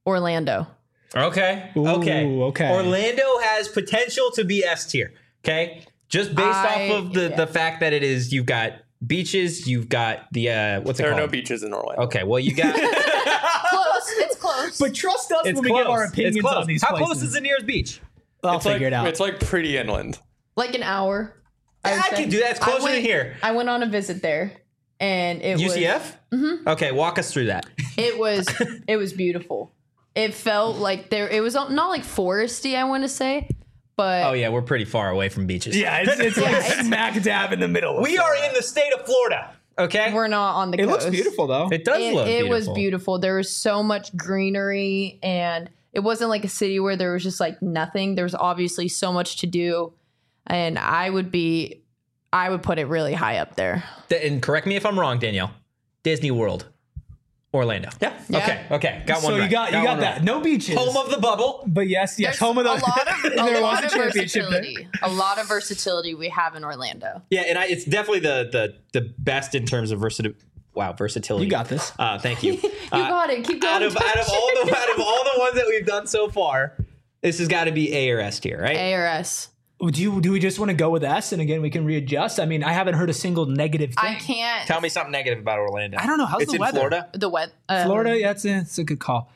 Speaker 3: Orlando.
Speaker 1: Okay.
Speaker 2: Ooh,
Speaker 1: okay.
Speaker 2: okay.
Speaker 1: Orlando has potential to be S tier. Okay. Just based
Speaker 3: I-
Speaker 1: off of the,
Speaker 3: yeah.
Speaker 1: the fact that it is, you've got beaches, you've got the, uh, what's it
Speaker 4: There are
Speaker 1: called?
Speaker 4: no beaches in Orlando.
Speaker 1: Okay. Well, you got.
Speaker 3: Close. It's close.
Speaker 2: But trust us
Speaker 1: It's
Speaker 2: when we
Speaker 1: close.
Speaker 2: give our
Speaker 1: It's
Speaker 2: opinions
Speaker 1: close.
Speaker 2: on these
Speaker 1: How
Speaker 2: places.
Speaker 1: close is the nearest beach?
Speaker 2: I'll
Speaker 4: It's
Speaker 2: figure
Speaker 4: like,
Speaker 2: it out.
Speaker 4: It's like pretty inland.
Speaker 3: like an hour.
Speaker 1: I,
Speaker 3: would
Speaker 1: I
Speaker 3: say.
Speaker 1: can do that. It's
Speaker 3: I
Speaker 1: closer
Speaker 3: went-
Speaker 1: than here.
Speaker 3: I went on a visit there, and it
Speaker 1: U
Speaker 3: was
Speaker 1: C F? Mm-hmm. Okay. Walk us through that.
Speaker 3: it was it was beautiful. It felt like there. It was not like foresty. I want to say, but
Speaker 1: Oh, yeah. We're pretty far away from beaches.
Speaker 2: yeah, it's, it's like
Speaker 3: it's-
Speaker 2: smack dab in the middle. Of
Speaker 1: We are in the state of Florida. Okay.
Speaker 3: we're not on the
Speaker 2: It
Speaker 3: coast.
Speaker 2: looks beautiful though.
Speaker 1: it does
Speaker 3: It,
Speaker 1: look
Speaker 3: it
Speaker 1: beautiful.
Speaker 3: was beautiful. There was so much greenery, and it wasn't like a city where there was just like nothing. There was obviously so much to do, and I would be, I would put it really high up there.
Speaker 1: Th- And correct me if I'm wrong, Danielle. Disney World. Orlando.
Speaker 4: Yeah.
Speaker 3: Yeah.
Speaker 1: Okay. Okay. Got one
Speaker 2: so
Speaker 1: right.
Speaker 2: you got you got
Speaker 1: one
Speaker 2: that.
Speaker 1: right.
Speaker 2: No beaches.
Speaker 1: Home of the bubble.
Speaker 2: but yes, yes,
Speaker 3: There's
Speaker 2: home of the.
Speaker 3: a lot of, a
Speaker 2: there
Speaker 3: lot
Speaker 2: was a
Speaker 3: of
Speaker 2: championship there.
Speaker 3: versatility. A lot of versatility we have in Orlando.
Speaker 1: Yeah, and I, it's definitely the the the best in terms of versatility. Wow, versatility.
Speaker 2: You got this.
Speaker 1: Uh, thank you.
Speaker 3: You got it. Keep going.
Speaker 1: out of out of all the out of all the ones that we've done so far, this has got to be A or S tier, right?
Speaker 3: A or S.
Speaker 2: Do you do we just want to go with S and again we can readjust? I mean, I haven't heard a single negative thing.
Speaker 3: I can't.
Speaker 1: Tell me something negative about Orlando.
Speaker 2: I don't know. How's
Speaker 1: it's
Speaker 2: the
Speaker 1: in
Speaker 2: weather?
Speaker 1: Florida.
Speaker 3: The wet. Uh,
Speaker 2: Florida, yeah, that's a, that's a good call.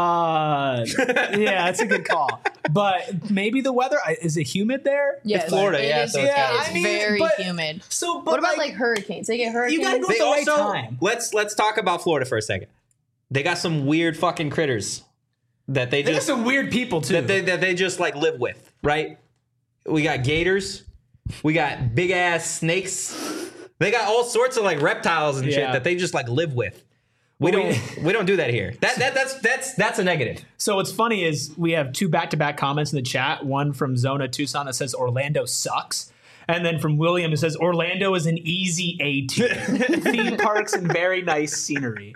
Speaker 2: Uh, yeah, that's a good call. But maybe the weather I- is it humid there?
Speaker 3: Yes,
Speaker 1: Florida,
Speaker 3: it
Speaker 1: yeah,
Speaker 3: is-
Speaker 1: so
Speaker 3: it
Speaker 1: it's gotta
Speaker 3: is
Speaker 2: be- I mean,
Speaker 3: very
Speaker 2: but-
Speaker 3: humid.
Speaker 2: So, but
Speaker 3: What about like, hurricanes? They get hurricanes.
Speaker 2: gotta go-
Speaker 1: They
Speaker 2: the right
Speaker 1: also
Speaker 2: time.
Speaker 1: let's let's talk about Florida for a second. They got some weird fucking critters that they
Speaker 2: they got
Speaker 1: just
Speaker 2: some weird people too.
Speaker 1: that they that they just like live with, right? We got gators, we got big ass snakes. They got all sorts of like reptiles and shit
Speaker 2: Yeah.
Speaker 1: that they just like live with. We
Speaker 2: Well, we-
Speaker 1: don't we don't do that here. That that that's that's that's a negative.
Speaker 2: So what's funny is we have two back-to-back comments in the chat. One from Zona Tucson that says Orlando sucks. And then from William it says Orlando is an easy A tier. Theme parks and very nice scenery.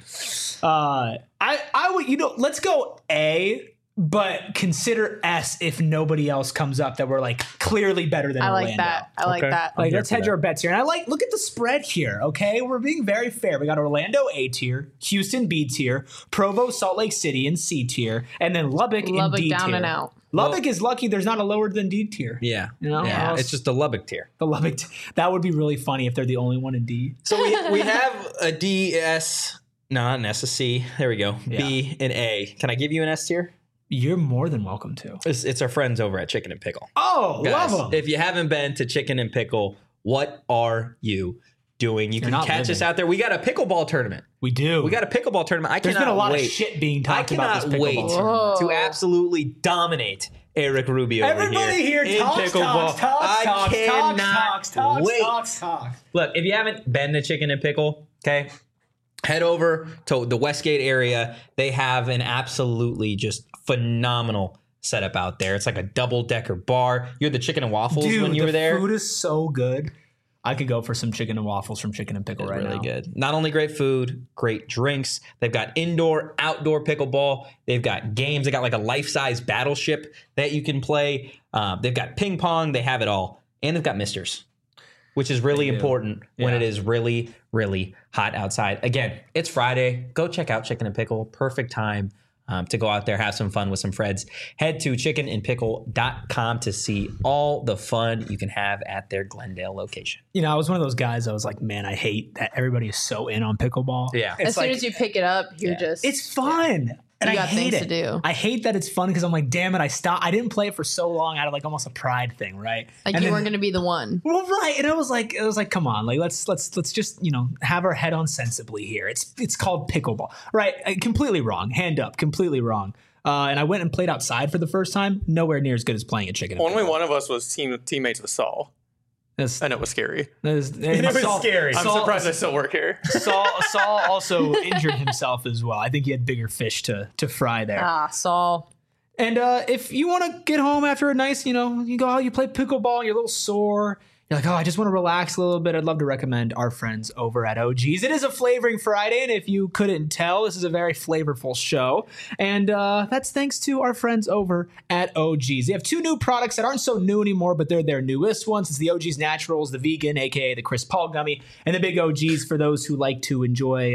Speaker 2: Uh, I I would you know let's go A, but consider S if nobody else comes up that we're like clearly better than
Speaker 3: I
Speaker 2: Orlando.
Speaker 3: like that. I like
Speaker 1: Okay.
Speaker 3: that.
Speaker 2: Like,
Speaker 1: here
Speaker 2: let's
Speaker 1: for
Speaker 2: hedge
Speaker 1: that.
Speaker 2: our bets here. And I like, look at the spread here, okay? We're being very fair. We got Orlando A tier, Houston B tier, Provo, Salt Lake City in C tier, and then Lubbock,
Speaker 3: Lubbock
Speaker 2: in D
Speaker 3: down
Speaker 2: tier.
Speaker 3: and out.
Speaker 2: Lubbock
Speaker 1: Well-
Speaker 2: is lucky there's not a lower than D tier.
Speaker 1: Yeah.
Speaker 2: You know?
Speaker 1: yeah.
Speaker 2: Else-
Speaker 1: It's just the Lubbock tier.
Speaker 2: The Lubbock, t- that would be really funny if they're the only one in D.
Speaker 1: So we we have a D S, no, not an S, a C. There we go. B and A. Can I give you an S tier?
Speaker 2: You're more than welcome to.
Speaker 1: It's, it's our friends over at Chicken and Pickle.
Speaker 2: Oh,
Speaker 1: Guys,
Speaker 2: love them.
Speaker 1: if you haven't been to Chicken and Pickle, what are you doing? You can
Speaker 2: not
Speaker 1: catch
Speaker 2: living.
Speaker 1: us out there. We got a pickleball tournament.
Speaker 2: We do.
Speaker 1: We got a pickleball tournament. I
Speaker 2: There's
Speaker 1: cannot
Speaker 2: been a lot
Speaker 1: wait.
Speaker 2: of shit being
Speaker 1: I
Speaker 2: talked about this
Speaker 1: cannot
Speaker 2: pickleball
Speaker 1: wait
Speaker 2: tournament.
Speaker 3: Whoa.
Speaker 1: to absolutely dominate Eric Rubio over
Speaker 2: Everybody here,
Speaker 1: in
Speaker 2: talks,
Speaker 1: pickleball.
Speaker 2: talks, talks,
Speaker 1: I
Speaker 2: talks,
Speaker 1: cannot
Speaker 2: talks, talks,
Speaker 1: wait.
Speaker 2: talks, talks.
Speaker 1: Look, if you haven't been to Chicken and Pickle, okay, head over to the Westgate area. They have an absolutely just phenomenal setup out there. It's like a double decker bar. You had the chicken and waffles
Speaker 2: Dude,
Speaker 1: when you
Speaker 2: the
Speaker 1: were there.
Speaker 2: food is so good. I could go for some chicken and waffles from Chicken and Pickle right
Speaker 1: really
Speaker 2: now.
Speaker 1: good. Not only great food, great drinks. They've got indoor, outdoor pickleball. They've got games. They got like a life-size battleship that you can play. Um, they've got ping pong. They have it all. And they've got misters, which is really
Speaker 2: They do.
Speaker 1: important when
Speaker 2: Yeah.
Speaker 1: it is really, really hot outside. Again, it's Friday. Go check out Chicken and Pickle. Perfect time um, to go out there, have some fun with some friends. Head to chicken and pickle dot com to see all the fun you can have at their Glendale location.
Speaker 2: You know, I was one of those guys. I was like, man, I hate that everybody is so in on pickleball.
Speaker 1: Yeah.
Speaker 2: It's
Speaker 3: As soon
Speaker 2: like,
Speaker 3: as you pick it up, you're
Speaker 1: Yeah.
Speaker 3: just
Speaker 2: it's fun. And
Speaker 3: You
Speaker 2: I
Speaker 3: got
Speaker 2: hate
Speaker 3: things
Speaker 2: it.
Speaker 3: to do.
Speaker 2: I hate that it's fun because I'm like, damn it, I stopped. I didn't play it for so long out of like almost a pride thing, right?
Speaker 3: like
Speaker 2: And
Speaker 3: you
Speaker 2: then-
Speaker 3: weren't going to be the one.
Speaker 2: Well, right, and I was like, it was like, come on, like let's let's let's just you know have our head on sensibly here. It's it's called pickleball, right? Uh, completely wrong. Hand up, completely wrong. Uh, and I went and played outside for the first time. Nowhere near as good as playing a chicken. and
Speaker 4: Only
Speaker 2: pickle.
Speaker 4: one of us was team teammates with Saul,
Speaker 2: That's,
Speaker 4: and it was scary.
Speaker 2: that's,
Speaker 1: It was
Speaker 2: Saul-
Speaker 1: scary.
Speaker 4: I'm
Speaker 2: Saul-
Speaker 4: surprised I still work here.
Speaker 2: Saul, Saul also injured himself as well. I think he had bigger fish to to fry there.
Speaker 3: Ah, Saul.
Speaker 2: And uh, if you want to get home after a nice, you know, you go out, you play pickleball, you're a little sore. You're like, oh, I just want to relax a little bit. I'd love to recommend our friends over at O G's. It is a Flavoring Friday, and if you couldn't tell, this is a very flavorful show. And uh, that's thanks to our friends over at O G's. They have two new products that aren't so new anymore, but they're their newest ones. It's the O G's Naturals, the vegan, aka the Chris Paul gummy, and the big O G's for those who like to enjoy uh,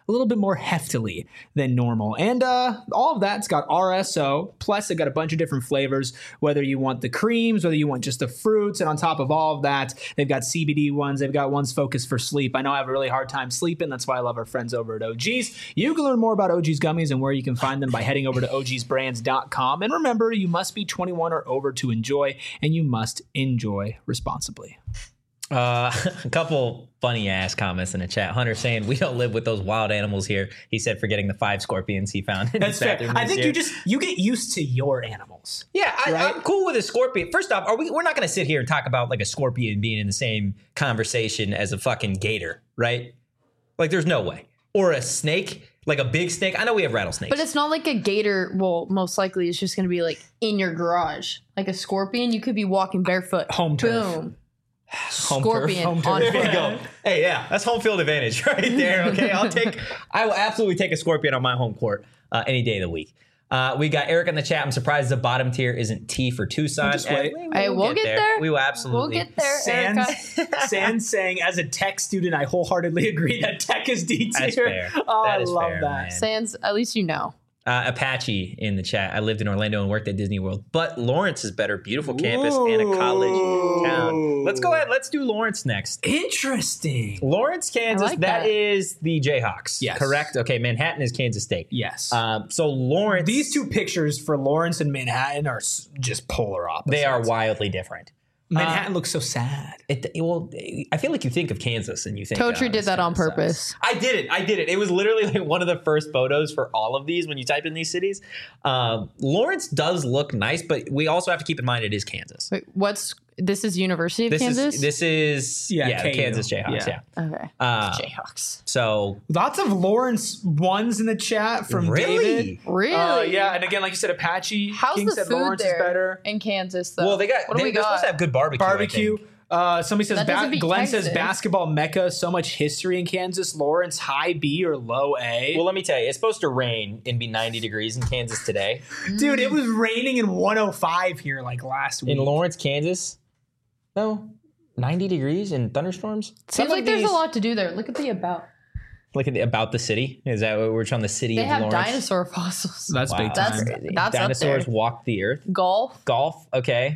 Speaker 2: a little bit more heftily than normal. And uh, all of that's got R S O. Plus, they've got a bunch of different flavors, whether you want the creams, whether you want just the fruits. And on top of all of that, they've got C B D ones. They've got ones focused for sleep. I know I have a really hard time sleeping. That's why I love our friends over at O G's. You can learn more about O G's gummies and where you can find them by heading over to O Gs brands dot com. And remember, you must be twenty-one or over to enjoy, and you must enjoy responsibly.
Speaker 1: Uh, a couple funny ass comments in the chat. Hunter saying we don't live with those wild animals here. He said forgetting the five scorpions he found in
Speaker 2: That's
Speaker 1: his
Speaker 2: fair.
Speaker 1: bathroom
Speaker 2: I
Speaker 1: this
Speaker 2: think
Speaker 1: year.
Speaker 2: you just you get used to your animals.
Speaker 1: Yeah, I,
Speaker 2: Right?
Speaker 1: I'm cool with a scorpion. First off, are we? We're not going to sit here and talk about like a scorpion being in the same conversation as a fucking gator, right? Like, there's no way. Or a snake, like a big snake. I know we have rattlesnakes,
Speaker 3: But it's not like a gator. Well, most likely it's just going to be like in your garage. Like a scorpion, you could be walking barefoot.
Speaker 2: Home turf.
Speaker 3: Boom.
Speaker 1: Home turf.
Speaker 3: Scorpion
Speaker 2: Home turf.
Speaker 3: on
Speaker 1: There you
Speaker 3: foot.
Speaker 1: go. Hey, yeah, that's home field advantage right there. Okay, I'll take. I will absolutely take a scorpion on my home court uh, any day of the week. Uh, we got Eric in the chat. I'm surprised the bottom tier isn't T for Tucson.
Speaker 2: Just wait.
Speaker 1: And
Speaker 3: Hey, we'll get there.
Speaker 1: We will absolutely.
Speaker 3: We'll get there, Erica.
Speaker 2: Sans, Sans saying, as a tech student, I wholeheartedly agree that tech is D tier.
Speaker 1: That's fair.
Speaker 2: Oh,
Speaker 1: That
Speaker 2: I
Speaker 1: is
Speaker 2: love
Speaker 1: fair,
Speaker 2: that.
Speaker 1: man.
Speaker 3: Sans, at least you know.
Speaker 1: Uh, Apache in the chat. I lived in Orlando and worked at Disney World, but Lawrence is better. Beautiful campus and a college town. Let's go ahead. Let's do Lawrence next.
Speaker 2: Interesting.
Speaker 1: Lawrence, Kansas.
Speaker 3: like
Speaker 1: that
Speaker 3: that.
Speaker 1: is the Jayhawks.
Speaker 2: Yes.
Speaker 1: Correct? Okay, Manhattan is Kansas State.
Speaker 2: Yes.
Speaker 1: Um, so Lawrence.
Speaker 2: These two pictures for Lawrence and Manhattan are s- just polar opposites.
Speaker 1: they are wildly different.
Speaker 2: Manhattan looks so sad.
Speaker 1: It, it- well, I feel like you think of Kansas and you think
Speaker 3: Totri
Speaker 1: uh,
Speaker 3: did that
Speaker 1: this
Speaker 3: on
Speaker 1: kinda
Speaker 3: purpose.
Speaker 1: sucks. I did it. I did it. It was literally like one of the first photos for all of these when you type in these cities. Um, Lawrence does look nice, but we also have to keep in mind it is Kansas.
Speaker 3: Wait, what's this? Is University of
Speaker 1: This
Speaker 3: Kansas?
Speaker 1: is this is
Speaker 2: Yeah,
Speaker 1: yeah, the
Speaker 2: K U.
Speaker 1: Kansas Jayhawks. Yeah.
Speaker 2: Yeah.
Speaker 3: okay.
Speaker 1: Uh,
Speaker 3: Jayhawks.
Speaker 1: so
Speaker 2: Lots of Lawrence ones in the chat from
Speaker 1: really,
Speaker 2: David.
Speaker 3: Really?
Speaker 2: Uh, yeah, and again, like you said, Apache.
Speaker 3: How's
Speaker 2: King
Speaker 3: the
Speaker 2: said
Speaker 3: food
Speaker 2: Lawrence
Speaker 3: there
Speaker 2: is better.
Speaker 3: in Kansas? Though.
Speaker 1: well, they got
Speaker 3: What do
Speaker 1: they,
Speaker 3: we
Speaker 1: they're
Speaker 3: got?
Speaker 1: supposed to have good barbecue. I
Speaker 2: Barbecue.
Speaker 1: think.
Speaker 2: Uh, somebody says
Speaker 3: That
Speaker 2: ba-
Speaker 3: doesn't beat
Speaker 2: Glenn says
Speaker 3: Texas.
Speaker 2: basketball mecca. So much history in Kansas. Lawrence high B or low A.
Speaker 1: Well, let me tell you, it's supposed to rain and be ninety degrees in Kansas today.
Speaker 2: Dude, it was raining in one oh five here like last week.
Speaker 1: In Lawrence, Kansas, no, ninety degrees and thunderstorms. Some
Speaker 3: Seems
Speaker 1: of
Speaker 3: like there's
Speaker 1: these-
Speaker 3: a lot to do there. Look at the about.
Speaker 1: Look at the, about the city. Is that what we're trying? The city
Speaker 3: They
Speaker 1: of
Speaker 3: have
Speaker 1: Lawrence.
Speaker 3: dinosaur fossils.
Speaker 2: That's
Speaker 1: Wow.
Speaker 2: big time.
Speaker 3: That's
Speaker 1: Crazy.
Speaker 3: that's
Speaker 1: Dinosaurs
Speaker 3: up there.
Speaker 1: walked the earth.
Speaker 3: Golf.
Speaker 1: Golf, okay.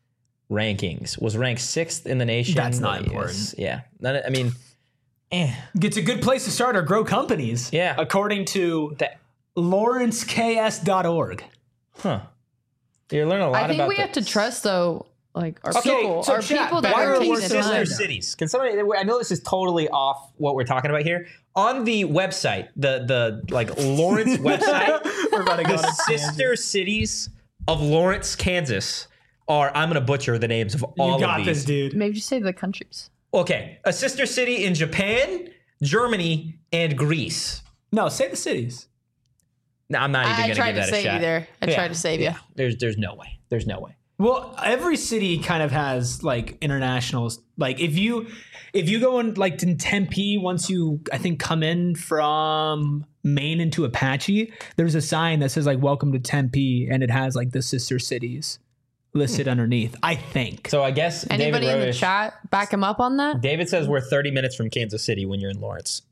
Speaker 1: Rankings was ranked sixth in the nation.
Speaker 2: That's not
Speaker 1: Yes.
Speaker 2: important.
Speaker 1: Yeah, None, I mean, eh.
Speaker 2: It's a good place to start or grow companies.
Speaker 1: Yeah.
Speaker 2: According to
Speaker 1: That,
Speaker 2: lawrence k s dot org.
Speaker 1: huh? You're learning a lot
Speaker 3: I think
Speaker 1: about
Speaker 3: we
Speaker 1: the-
Speaker 3: have to trust though, like our
Speaker 1: Okay,
Speaker 3: people,
Speaker 2: so
Speaker 3: our
Speaker 2: chat,
Speaker 3: people that
Speaker 2: why
Speaker 3: are
Speaker 2: are
Speaker 3: taking
Speaker 2: we
Speaker 3: the
Speaker 1: sister
Speaker 3: time.
Speaker 1: cities? Can somebody? I know this is totally off what we're talking about here. On the website, the the like Lawrence website,
Speaker 2: We're about to go
Speaker 1: the
Speaker 2: to
Speaker 1: sister cities of Lawrence, Kansas are. I'm gonna butcher the names of all
Speaker 2: You got
Speaker 1: of these.
Speaker 2: this, dude.
Speaker 3: Maybe just say the countries.
Speaker 1: Okay, a sister city in Japan, Germany, and Greece.
Speaker 2: No, say the cities.
Speaker 1: No, I'm not even
Speaker 3: I
Speaker 1: gonna
Speaker 3: tried
Speaker 1: give
Speaker 3: to
Speaker 1: that a
Speaker 3: save
Speaker 1: shot.
Speaker 3: you there. I
Speaker 1: Yeah,
Speaker 3: tried to save
Speaker 1: yeah.
Speaker 3: you.
Speaker 1: There's there's no way. There's no way.
Speaker 2: Well, every city kind of has like internationals. Like if you if you go in like in Tempe, once you I think come in from Maine into Apache, there's a sign that says like "Welcome to Tempe," and it has like the sister cities listed underneath. I think.
Speaker 1: So I guess
Speaker 3: Anybody
Speaker 1: David
Speaker 3: in the
Speaker 1: Rodish-
Speaker 3: chat back him up on that?
Speaker 1: David says we're thirty minutes from Kansas City when you're in Lawrence.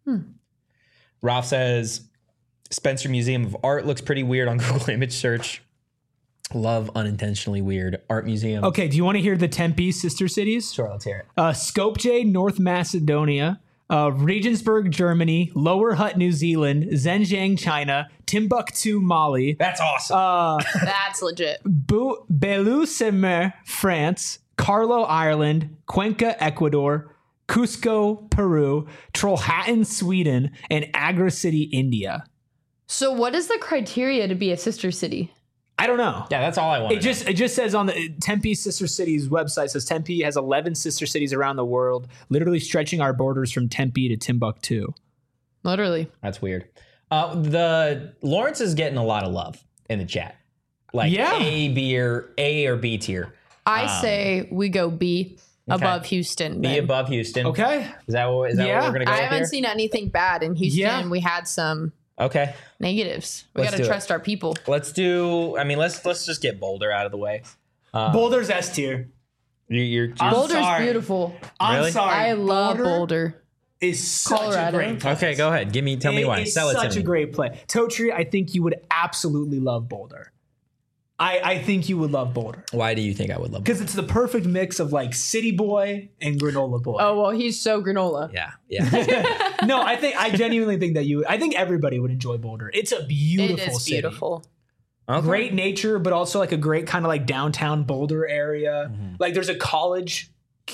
Speaker 1: Ralph says Spencer Museum of Art looks pretty weird on Google image search. Love unintentionally weird art museum.
Speaker 2: Okay, do you want to hear the Tempe sister cities?
Speaker 1: Sure, let's hear it.
Speaker 2: Uh, Skopje, North Macedonia, uh, Regensburg, Germany, Lower Hutt, New Zealand, Zhenjiang, China, Timbuktu, Mali,
Speaker 1: That's awesome.
Speaker 2: uh,
Speaker 3: That's legit.
Speaker 2: Bu- Belusemer, France, Carlo, Ireland, Cuenca, Ecuador, Cusco, Peru, Trollhättan, Sweden, and Agra City, India.
Speaker 3: So, what is the criteria to be a sister city?
Speaker 2: I don't know.
Speaker 1: yeah, that's all I want.
Speaker 2: It just it just says on the Tempe Sister Cities website says Tempe has eleven sister cities around the world, literally stretching our borders from Tempe to Timbuktu.
Speaker 3: Literally.
Speaker 1: That's weird. Uh, the Lawrence is getting a lot of love in the chat. Like
Speaker 2: Yeah.
Speaker 1: A, B, or A or B tier.
Speaker 3: I say we go B above Houston.
Speaker 1: B
Speaker 3: then.
Speaker 1: above Houston.
Speaker 2: Okay.
Speaker 1: Is that what, is that
Speaker 2: Yeah.
Speaker 1: what we're gonna go
Speaker 3: I
Speaker 1: with
Speaker 3: haven't
Speaker 1: here?
Speaker 3: seen anything bad in Houston.
Speaker 2: Yeah.
Speaker 3: We had some
Speaker 1: Okay.
Speaker 3: negatives. We
Speaker 1: Let's
Speaker 3: got to
Speaker 1: do it.
Speaker 3: trust our people.
Speaker 1: Let's do. I mean, let's let's just get Boulder out of the way.
Speaker 2: Boulder's S tier.
Speaker 1: You, you're,
Speaker 2: I'm
Speaker 3: Boulder's
Speaker 2: sorry.
Speaker 3: beautiful.
Speaker 2: I'm
Speaker 1: Really?
Speaker 2: sorry.
Speaker 3: I love
Speaker 2: Boulder
Speaker 3: Boulder.
Speaker 2: is such
Speaker 3: Colorado.
Speaker 2: a great place.
Speaker 1: Okay, go ahead. Give me, tell me
Speaker 2: It
Speaker 1: why.
Speaker 2: is
Speaker 1: Sell it
Speaker 2: such
Speaker 1: to
Speaker 2: a
Speaker 1: me.
Speaker 2: great play. Totri, I think you would absolutely love Boulder. I, I think you would love Boulder
Speaker 1: Why do you think I would love it?
Speaker 2: because it's the perfect mix of like city boy and granola boy.
Speaker 3: Oh well, he's so granola.
Speaker 1: Yeah, yeah.
Speaker 2: No, I think I genuinely think that you. I think everybody would enjoy Boulder. It's a
Speaker 3: It
Speaker 2: beautiful
Speaker 3: is
Speaker 2: city.
Speaker 3: beautiful.
Speaker 1: Okay.
Speaker 2: Great nature, but also like a great kind of like downtown Boulder area.
Speaker 1: Mm-hmm.
Speaker 2: Like there's a college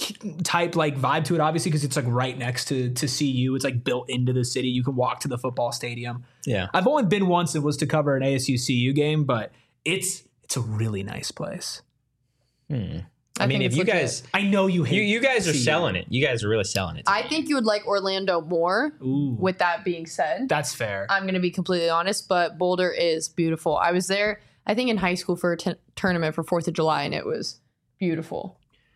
Speaker 2: type like vibe to it, obviously, because it's like right next to to C U. It's like built into the city. You can walk to the football stadium.
Speaker 1: Yeah.
Speaker 2: I've only been once. It was to cover an A S U C U game, but it's it's a really nice place.
Speaker 1: Hmm.
Speaker 3: I
Speaker 1: I mean,
Speaker 3: think
Speaker 1: if
Speaker 3: it's
Speaker 1: you
Speaker 3: legit.
Speaker 1: guys,
Speaker 2: I know you hate.
Speaker 1: you, you guys are
Speaker 2: C U.
Speaker 1: selling it. You guys are really selling it. to
Speaker 3: I
Speaker 1: me.
Speaker 3: think you would like Orlando more.
Speaker 2: Ooh,
Speaker 3: With that being said,
Speaker 2: that's fair.
Speaker 3: I'm going to be completely honest, but Boulder is beautiful. I was there, I think, in high school for a t- tournament for fourth of July, and it was beautiful.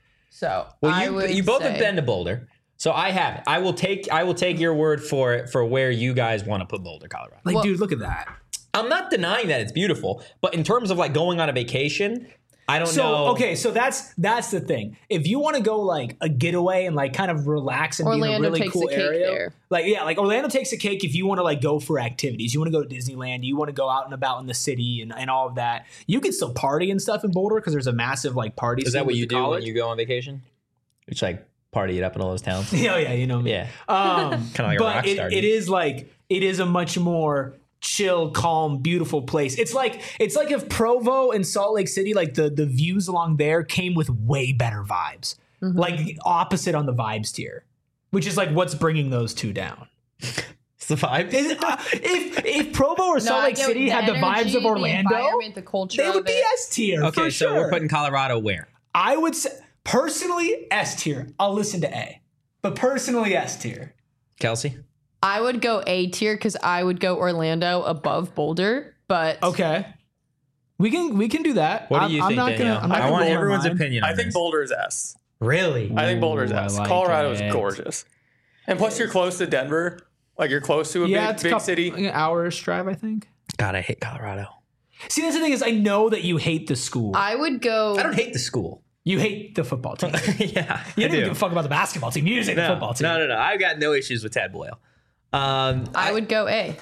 Speaker 3: So,
Speaker 1: Well,
Speaker 3: I
Speaker 1: you
Speaker 3: would
Speaker 1: you both
Speaker 3: say,
Speaker 1: have been to Boulder, so I haven't. I will take I will take your word for it for where you guys want to put Boulder, Colorado.
Speaker 2: Like,
Speaker 3: Well-
Speaker 2: dude, look at that.
Speaker 1: I'm not denying that it's beautiful, but in terms of like going on a vacation, I don't
Speaker 2: So
Speaker 1: know.
Speaker 2: okay, so that's that's the thing. If you want to go like a getaway and like kind of relax and be in a
Speaker 3: Orlando
Speaker 2: really
Speaker 3: takes
Speaker 2: cool
Speaker 3: the cake
Speaker 2: area,
Speaker 3: there.
Speaker 2: like yeah, like Orlando takes a cake. If you want to like go for activities, you want to go to Disneyland, you want to go out and about in the city and, and all of that. You can still party and stuff in Boulder because there's a massive like party.
Speaker 1: Is
Speaker 2: scene
Speaker 1: that what
Speaker 2: with
Speaker 1: you
Speaker 2: the
Speaker 1: do
Speaker 2: college.
Speaker 1: when you go on vacation? It's like party it up in all those towns.
Speaker 2: Yeah, yeah, you know me.
Speaker 1: Yeah.
Speaker 2: Um,
Speaker 1: Kinda like a
Speaker 2: but
Speaker 1: rock
Speaker 2: it,
Speaker 1: star,
Speaker 2: it
Speaker 1: dude.
Speaker 2: is like it is a much more chill, calm, beautiful place. It's like it's like if Provo and Salt Lake City, like the the views along there came with way better vibes, like opposite on the vibes tier, which is like what's bringing those two down.
Speaker 1: It's the vibe.
Speaker 2: Is it- uh, if if Provo or
Speaker 3: No,
Speaker 2: Salt
Speaker 3: I
Speaker 2: Lake
Speaker 3: get
Speaker 2: City had the vibes
Speaker 3: energy,
Speaker 2: of Orlando,
Speaker 3: the environment, the culture
Speaker 2: they would
Speaker 3: of
Speaker 2: be
Speaker 3: it.
Speaker 2: S tier.
Speaker 1: Okay,
Speaker 2: for
Speaker 1: so
Speaker 2: sure.
Speaker 1: we're putting Colorado where?
Speaker 2: I would say personally S tier. I'll listen to A, but personally S tier.
Speaker 1: Kelsey?
Speaker 3: I would go A tier because I would go Orlando above Boulder, but
Speaker 2: Okay. We can we can do that.
Speaker 1: What do
Speaker 2: I'm-
Speaker 1: you
Speaker 2: I'm
Speaker 1: think,
Speaker 2: not
Speaker 1: Danielle?
Speaker 2: Gonna, I'm not
Speaker 1: I
Speaker 2: gonna
Speaker 1: want
Speaker 2: blow my
Speaker 1: everyone's
Speaker 2: mind.
Speaker 1: opinion on
Speaker 4: I think
Speaker 1: this.
Speaker 4: Boulder is S.
Speaker 1: Really?
Speaker 4: I think Boulder's
Speaker 2: Ooh, I
Speaker 4: S.
Speaker 2: like
Speaker 4: Colorado is
Speaker 2: it.
Speaker 4: gorgeous. And plus, you're close to Denver. Like, you're close to a
Speaker 2: Yeah,
Speaker 4: big,
Speaker 2: it's a
Speaker 4: big
Speaker 2: couple,
Speaker 4: city.
Speaker 2: like an hour-ish drive, I think.
Speaker 1: God, I hate Colorado.
Speaker 2: See, that's the thing is, I know that you hate the school.
Speaker 3: I would go.
Speaker 1: I don't hate the school.
Speaker 2: you hate the football team.
Speaker 1: yeah,
Speaker 2: You
Speaker 1: I
Speaker 2: don't even
Speaker 1: do.
Speaker 2: give a fuck about the basketball team. You just hate the
Speaker 1: No,
Speaker 2: football team.
Speaker 1: no, no, no. I've got no issues with Tad Boyle. Um,
Speaker 3: I would go A.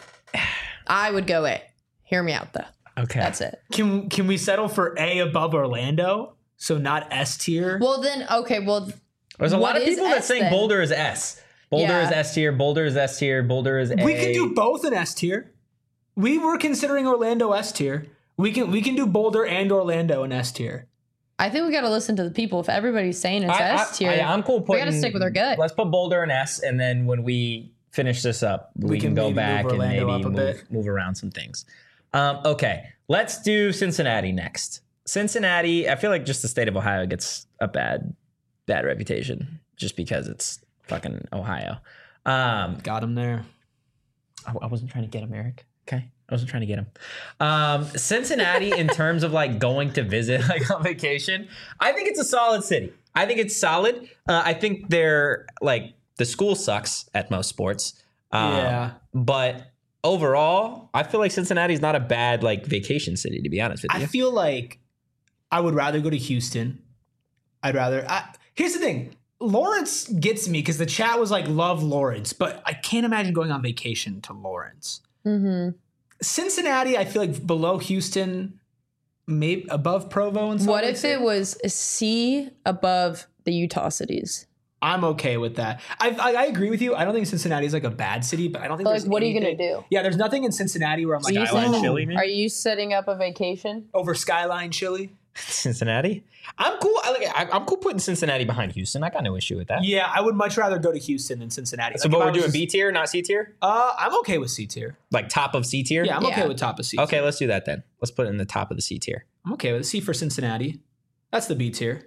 Speaker 3: I would go A. Hear me out though.
Speaker 1: okay.
Speaker 3: That's it.
Speaker 2: Can can we settle for A above Orlando? So not S tier.
Speaker 3: Well then, okay. Well,
Speaker 1: There's a lot
Speaker 3: what
Speaker 1: of
Speaker 3: is
Speaker 1: people that
Speaker 3: S
Speaker 1: think
Speaker 3: then?
Speaker 1: Boulder is S. Boulder
Speaker 3: Yeah.
Speaker 1: is S tier. Boulder is S tier. Boulder is A.
Speaker 2: we can do both in S tier. We were considering Orlando S tier. We can we can do Boulder and Orlando in S tier.
Speaker 3: I think we got to listen to the people. If everybody's saying it's
Speaker 1: I,
Speaker 3: S tier,
Speaker 1: I, am cool
Speaker 3: we
Speaker 1: putting.
Speaker 3: got to stick with our gut.
Speaker 1: Let's put Boulder in S, and then when we finish this up, we,
Speaker 2: We
Speaker 1: can,
Speaker 2: can
Speaker 1: go
Speaker 2: maybe move
Speaker 1: back and
Speaker 2: Orlando
Speaker 1: maybe
Speaker 2: up a
Speaker 1: move,
Speaker 2: bit.
Speaker 1: move around some things. Um, okay, let's do Cincinnati next. Cincinnati, I feel like just the state of Ohio gets a bad, bad reputation just because it's fucking Ohio. Um,
Speaker 2: Got him there.
Speaker 1: I, I wasn't trying to get him, Eric. Okay. I wasn't trying to get him. Um, Cincinnati, in terms of like going to visit like on vacation, I think it's a solid city. I think it's solid. Uh, I think they're like the school sucks at most sports. Um,
Speaker 2: Yeah.
Speaker 1: But overall, I feel like Cincinnati's not a bad like vacation city, to be honest with
Speaker 2: I
Speaker 1: you.
Speaker 2: feel like I would rather go to Houston. I'd rather. I, here's the thing. Lawrence gets me because the chat was like, love Lawrence, but I can't imagine going on vacation to Lawrence.
Speaker 3: Mm-hmm.
Speaker 2: Cincinnati, I feel like below Houston, maybe above Provo and stuff.
Speaker 3: What if it was a C above the Utah cities?
Speaker 2: I'm okay with that. I, I I agree with you. I don't think Cincinnati is like a bad city, but I don't think
Speaker 3: But,
Speaker 2: there's
Speaker 3: like, what are you gonna
Speaker 2: anything-
Speaker 3: do?
Speaker 2: Yeah, there's nothing in Cincinnati where I'm like,
Speaker 3: So you
Speaker 1: Skyline
Speaker 3: said-
Speaker 1: Chili, man?
Speaker 3: Are you setting up a vacation?
Speaker 2: over Skyline Chili.
Speaker 1: Cincinnati? I'm cool. I, like, I, I'm cool putting Cincinnati behind Houston. I got no issue with that.
Speaker 2: Yeah, I would much rather go to Houston than Cincinnati.
Speaker 1: So,
Speaker 2: Like,
Speaker 1: but
Speaker 2: if I
Speaker 1: we're
Speaker 2: was
Speaker 1: doing
Speaker 2: just-
Speaker 1: B tier, not C tier?
Speaker 2: Uh, I'm okay with C tier.
Speaker 1: Like top of C tier?
Speaker 2: Yeah, I'm okay
Speaker 3: Yeah.
Speaker 2: with top of C tier.
Speaker 1: Okay, let's do that then. Let's put it in the top of the C tier.
Speaker 2: I'm okay with it. C for Cincinnati. That's the B tier.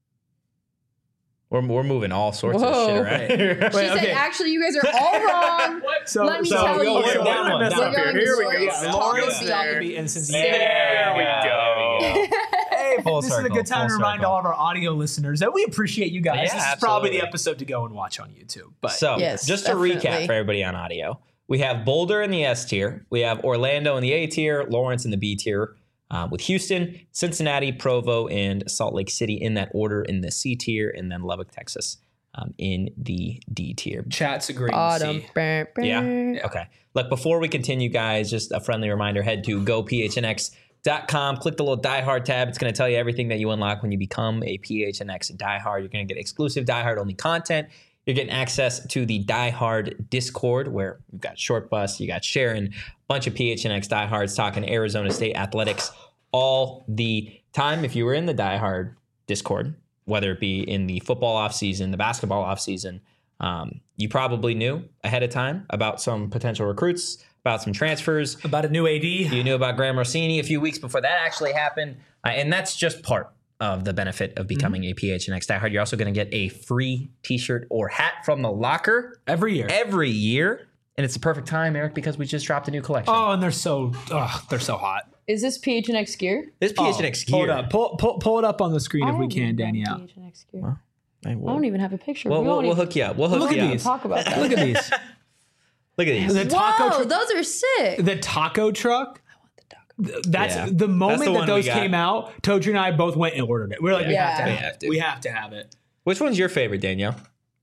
Speaker 1: We're, we're moving all sorts
Speaker 3: Whoa.
Speaker 1: of shit around. here.
Speaker 2: Wait,
Speaker 3: She said,
Speaker 2: okay.
Speaker 3: actually, you guys are all wrong.
Speaker 2: So,
Speaker 3: Let me
Speaker 2: so
Speaker 3: tell
Speaker 1: we
Speaker 3: you.
Speaker 1: go
Speaker 2: okay,
Speaker 1: one
Speaker 2: what
Speaker 1: down,
Speaker 2: did I
Speaker 1: one
Speaker 2: mess
Speaker 1: down.
Speaker 2: up
Speaker 3: We're
Speaker 2: here?
Speaker 3: going
Speaker 2: Here we go.
Speaker 3: Lawrence,
Speaker 2: Yeah, Lawrence,
Speaker 3: Taco
Speaker 2: Tallahassee,
Speaker 3: Bell.
Speaker 2: and Cincinnati.
Speaker 1: There we go.
Speaker 2: Hey,
Speaker 1: Full
Speaker 2: this is a
Speaker 1: circle,
Speaker 2: good time to
Speaker 1: full
Speaker 2: remind
Speaker 1: circle.
Speaker 2: all of our audio listeners that we appreciate you guys.
Speaker 1: Yeah,
Speaker 2: this is probably the
Speaker 1: absolutely.
Speaker 2: episode to go and watch on YouTube. But
Speaker 1: So,
Speaker 3: Yes,
Speaker 1: just to
Speaker 3: definitely.
Speaker 1: recap for everybody on audio, we have Boulder in the S tier. We have Orlando in the A tier, Lawrence in the B tier, uh, with Houston, Cincinnati, Provo, and Salt Lake City in that order in the C tier, and then Lubbock, Texas um, in the D tier.
Speaker 2: Chat's agreeing.
Speaker 3: Autumn.
Speaker 2: C.
Speaker 3: Brr, brr.
Speaker 1: Yeah. Okay. Look, before we continue, guys, just a friendly reminder: head to go p h n x dot com. Click the little Die Hard tab. It's going to tell you everything that you unlock when you become a P H N X Die Hard. You're going to get exclusive Die Hard only content. You're getting access to the Die Hard Discord, where you've got Short Bus, you got Sharon, a bunch of P H N X Die Hards talking Arizona State athletics all the time. If you were in the Die Hard Discord, whether it be in the football offseason, the basketball offseason, um, you probably knew ahead of time about some potential recruits, about some transfers.
Speaker 2: About a new A D.
Speaker 1: You knew about Graham Rossini a few weeks before that actually happened. Uh, and that's just part of the benefit of becoming mm-hmm. a P H N X Die Hard. You're also going to get a free t-shirt or hat from the locker.
Speaker 2: Every year.
Speaker 1: Every year. And it's the perfect time, Eric, because we just dropped a new collection.
Speaker 2: Oh, and they're so, oh, they're so hot.
Speaker 3: Is this P H N X gear?
Speaker 1: This P H N X
Speaker 2: oh,
Speaker 1: gear.
Speaker 2: Pull it up. Pull, pull, pull it up on the screen
Speaker 3: I
Speaker 2: if we can,
Speaker 3: haven't got
Speaker 2: Danielle.
Speaker 3: P H N X gear.
Speaker 1: Well, I, will.
Speaker 3: I don't even have a picture.
Speaker 1: Well,
Speaker 3: we
Speaker 1: we'll,
Speaker 3: won't
Speaker 1: we'll
Speaker 3: even,
Speaker 1: hook you up. We'll hook
Speaker 2: Look
Speaker 1: you
Speaker 2: at
Speaker 1: up.
Speaker 2: these.
Speaker 3: talk about that.
Speaker 2: Look at these.
Speaker 1: Look at these.
Speaker 2: The taco
Speaker 3: Whoa,
Speaker 2: tr-
Speaker 3: those are sick.
Speaker 2: The taco truck. That's
Speaker 1: Yeah.
Speaker 2: the moment
Speaker 1: That's the
Speaker 2: that
Speaker 1: one
Speaker 2: those
Speaker 1: we got.
Speaker 2: came out. Toji and I both went and ordered it. We were like, we,
Speaker 3: Yeah.
Speaker 2: have to
Speaker 3: We
Speaker 2: have,
Speaker 1: have
Speaker 2: it.
Speaker 1: to.
Speaker 2: we have to have it.
Speaker 1: Which one's your favorite, Danielle?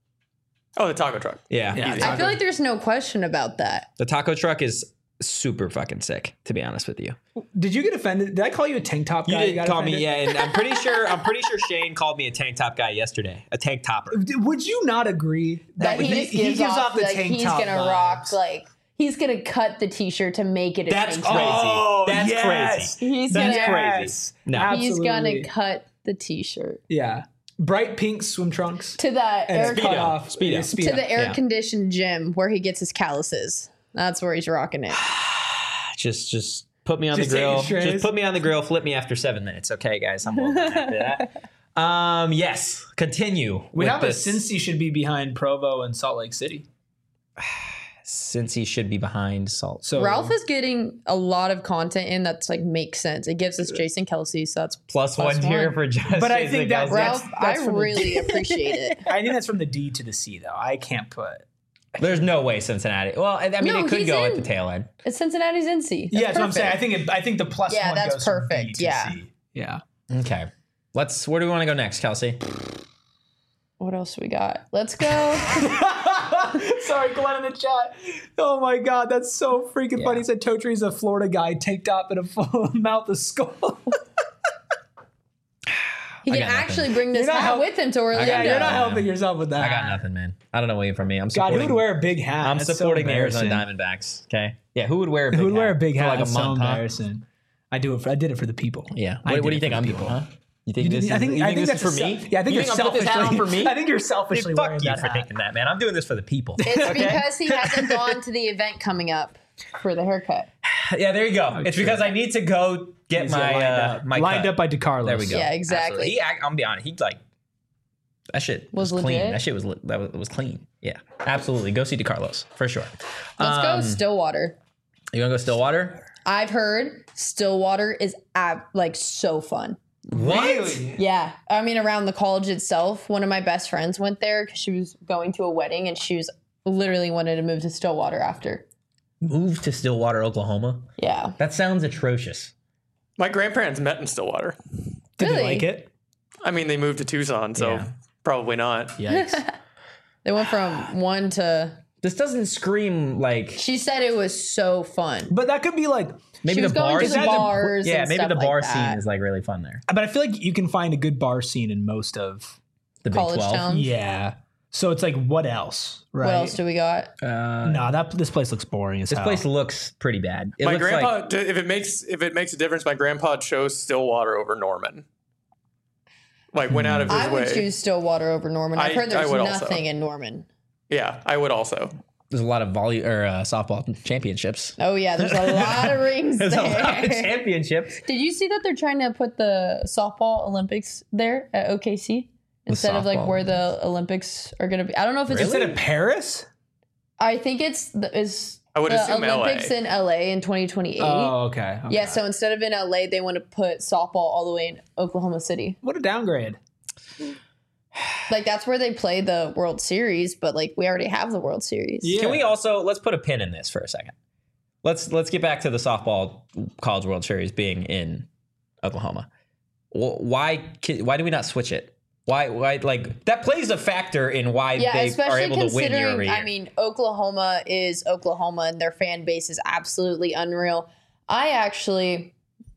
Speaker 4: Oh, the taco truck.
Speaker 1: Yeah.
Speaker 2: Yeah.
Speaker 4: Easy.
Speaker 3: I feel like there's no question about that.
Speaker 1: The taco truck is super fucking sick, to be honest with you.
Speaker 2: Did you get offended? Did I call you a tank top
Speaker 1: You
Speaker 2: guy?
Speaker 1: didn't
Speaker 2: got
Speaker 1: call me,
Speaker 2: offended?
Speaker 1: yeah, and I'm pretty sure I'm pretty sure Shane called me a tank top guy yesterday. A tank topper.
Speaker 2: Would you not agree
Speaker 3: That he, just gives, off,
Speaker 2: the
Speaker 3: like
Speaker 2: tank
Speaker 3: he's
Speaker 2: top
Speaker 3: gonna
Speaker 2: vibes?
Speaker 3: rock like he's gonna cut the t-shirt to make it a
Speaker 1: That's
Speaker 3: tank
Speaker 1: crazy.
Speaker 3: top.
Speaker 2: Oh,
Speaker 1: That's
Speaker 2: yes.
Speaker 1: crazy.
Speaker 3: He's
Speaker 1: That's
Speaker 3: gonna
Speaker 1: crazy.
Speaker 2: Yes.
Speaker 1: No.
Speaker 3: he's
Speaker 2: Absolutely.
Speaker 3: gonna cut the t-shirt
Speaker 2: Yeah. Bright pink swim trunks.
Speaker 3: to that air
Speaker 2: And
Speaker 1: Speedo.
Speaker 2: cut off.
Speaker 1: Speedo.
Speaker 2: Yeah, Speedo.
Speaker 3: to the air
Speaker 1: Yeah.
Speaker 3: conditioned gym where he gets his calluses. That's where he's rocking it.
Speaker 1: Just just put me on
Speaker 2: Just
Speaker 1: the grill.
Speaker 2: taking strays.
Speaker 1: Just put me on the grill, flip me after seven minutes. Okay, guys. I'm over after that. Um, yes. Continue.
Speaker 2: We
Speaker 1: with
Speaker 2: have
Speaker 1: this.
Speaker 2: a Cincy should be behind Provo and Salt Lake City.
Speaker 1: Since he should be behind Salt.
Speaker 2: So
Speaker 3: Ralph is getting a lot of content in that's like makes sense. It gives us Jason Kelsey, so that's
Speaker 1: plus,
Speaker 3: plus
Speaker 1: one tier
Speaker 3: one.
Speaker 1: for just.
Speaker 2: But I
Speaker 1: Jason
Speaker 2: think that-
Speaker 1: Kelsey.
Speaker 3: Ralph.
Speaker 2: that's
Speaker 3: I
Speaker 2: from the-
Speaker 3: really appreciate it.
Speaker 2: I think that's from the D to the C though. I can't put.
Speaker 1: There's no way Cincinnati. Well, I I mean,
Speaker 3: No,
Speaker 1: it could
Speaker 3: he's
Speaker 1: go
Speaker 3: in.
Speaker 1: at the tail end.
Speaker 3: It's Cincinnati's N C.
Speaker 2: Yeah, that's what I'm saying. I think it, I think the plus
Speaker 3: Yeah,
Speaker 2: one
Speaker 3: that's
Speaker 2: goes from B
Speaker 3: perfect.
Speaker 2: to
Speaker 3: Yeah.
Speaker 2: C. Yeah.
Speaker 1: Okay. Let's. Where do we want to go next, Kelsey?
Speaker 3: What else we got? Let's go.
Speaker 2: Sorry, Glenn in the chat. Oh my god, that's so freaking
Speaker 1: Yeah.
Speaker 2: funny. He said Totri's a Florida guy, tank top and a full mouth of skull.
Speaker 3: He
Speaker 1: I
Speaker 3: can
Speaker 1: got nothing.
Speaker 3: actually bring this
Speaker 2: You're not
Speaker 3: hat
Speaker 2: help-
Speaker 3: with him to Orlando.
Speaker 2: yeah, you're not
Speaker 1: nothing.
Speaker 2: helping yourself with that.
Speaker 1: I got nothing, man. I don't know what you from me. I'm
Speaker 2: God,
Speaker 1: supporting.
Speaker 2: who would wear a big hat?
Speaker 1: I'm
Speaker 2: That's so
Speaker 1: supporting the Arizona
Speaker 2: embarrassing.
Speaker 1: Diamondbacks. Okay. Yeah. Who would wear a big
Speaker 2: Who would
Speaker 1: hat
Speaker 2: wear a big
Speaker 1: for
Speaker 2: hat?
Speaker 1: like a
Speaker 2: That's so
Speaker 1: month? Huh?
Speaker 2: embarrassing. I do it. For, I did it for the people.
Speaker 1: Yeah.
Speaker 2: I
Speaker 1: What,
Speaker 2: did
Speaker 1: what do you
Speaker 2: it
Speaker 1: think
Speaker 2: for
Speaker 1: I'm
Speaker 2: the
Speaker 1: doing?
Speaker 2: people.
Speaker 1: Huh? You think
Speaker 2: You
Speaker 1: this
Speaker 2: I
Speaker 1: is,
Speaker 2: think
Speaker 1: you
Speaker 2: I
Speaker 1: think
Speaker 2: think
Speaker 1: this
Speaker 2: that's
Speaker 1: is for
Speaker 2: a
Speaker 1: me?
Speaker 2: self- Yeah, I think
Speaker 1: you
Speaker 2: you're
Speaker 1: think I'm putting this hat on
Speaker 2: selfishly.
Speaker 1: for me?
Speaker 2: I think you're selfishly
Speaker 1: Fuck
Speaker 2: wearing
Speaker 1: you
Speaker 2: that
Speaker 1: for
Speaker 2: hat.
Speaker 1: thinking that, man. I'm doing this for the people.
Speaker 3: It's because he hasn't gone to the event coming up for the haircut.
Speaker 1: Yeah, there you go. it's
Speaker 2: true.
Speaker 1: because I need to go get
Speaker 2: He's
Speaker 1: my
Speaker 2: lined
Speaker 1: uh,
Speaker 2: up,
Speaker 1: my
Speaker 2: lined
Speaker 1: cut.
Speaker 2: up by DeCarlos.
Speaker 1: There we go.
Speaker 3: Yeah, exactly.
Speaker 1: Absolutely. He, I, I'm gonna be honest. He like that shit was,
Speaker 3: Was
Speaker 1: clean.
Speaker 3: legit?
Speaker 1: That shit was li- that was, was clean. Yeah, absolutely. Go see DeCarlos for sure.
Speaker 3: Let's
Speaker 1: Um,
Speaker 3: go Stillwater.
Speaker 1: You wanna go Stillwater?
Speaker 3: I've heard Stillwater is ab- like so fun.
Speaker 1: What?
Speaker 3: Yeah. I mean, around the college itself, one of my best friends went there because she was going to a wedding and she was literally wanted to move to Stillwater after.
Speaker 1: Move to Stillwater, Oklahoma.
Speaker 3: Yeah.
Speaker 1: That sounds atrocious.
Speaker 4: My grandparents met in Stillwater.
Speaker 2: Did
Speaker 3: Really?
Speaker 2: you like it?
Speaker 4: I mean, they moved to Tucson, so
Speaker 1: Yeah.
Speaker 4: probably not.
Speaker 1: Yikes.
Speaker 3: They went from one to.
Speaker 1: This doesn't scream like
Speaker 3: She said it was so fun.
Speaker 2: But that could be like.
Speaker 1: maybe
Speaker 3: She was
Speaker 1: the
Speaker 3: going
Speaker 1: bar.
Speaker 3: to
Speaker 2: Is
Speaker 3: the
Speaker 2: that the-
Speaker 3: bars.
Speaker 1: yeah,
Speaker 3: and
Speaker 1: maybe
Speaker 3: stuff
Speaker 1: the bar
Speaker 3: like that.
Speaker 1: scene is like really fun there.
Speaker 2: But I feel like you can find a good bar scene in most of.
Speaker 1: The Big
Speaker 3: College
Speaker 1: twelve.
Speaker 3: town.
Speaker 2: Yeah. So it's like, what else? Right.
Speaker 3: What else do we got?
Speaker 1: Uh,
Speaker 2: No, that this place looks boring as
Speaker 1: this
Speaker 2: hell.
Speaker 1: place looks pretty bad. It
Speaker 4: my
Speaker 1: looks
Speaker 4: grandpa,
Speaker 1: like
Speaker 4: d- if it makes if it makes a difference, my grandpa chose Stillwater over Norman. Like went out of his
Speaker 3: I would
Speaker 4: way.
Speaker 3: choose Stillwater over Norman. I've
Speaker 4: I-
Speaker 3: heard
Speaker 4: I
Speaker 3: there's
Speaker 4: would
Speaker 3: nothing
Speaker 4: also.
Speaker 3: in Norman.
Speaker 4: Yeah, I would also.
Speaker 1: there's a lot of volley or uh, softball championships.
Speaker 3: Oh yeah, there's a lot of rings
Speaker 1: There's a lot of
Speaker 3: there.
Speaker 1: championships.
Speaker 3: Did you see that they're trying to put the softball Olympics there at O K C instead of like
Speaker 1: softball
Speaker 3: where the Olympics are going to be? I don't know if it's.
Speaker 2: Instead of Paris?
Speaker 3: I think it's the, is
Speaker 4: I would
Speaker 3: the
Speaker 4: assume L A.
Speaker 3: Olympics in L A in twenty twenty-eight.
Speaker 2: Oh, okay. okay.
Speaker 3: Yeah, so instead of in L A, they want to put softball all the way in Oklahoma City.
Speaker 2: What a downgrade.
Speaker 3: Like that's where they play the World Series, but like we already have the World Series.
Speaker 2: Yeah.
Speaker 1: Can we also let's put a pin in this for a second? Let's let's get back to the softball College World Series being in Oklahoma. Wh- Why ki- why do we not switch it? Why? Why? Like that plays a factor in why
Speaker 3: Yeah,
Speaker 1: they are
Speaker 3: especially
Speaker 1: able to win year over
Speaker 3: considering,
Speaker 1: year.
Speaker 3: I mean, Oklahoma is Oklahoma and their fan base is absolutely unreal. I actually,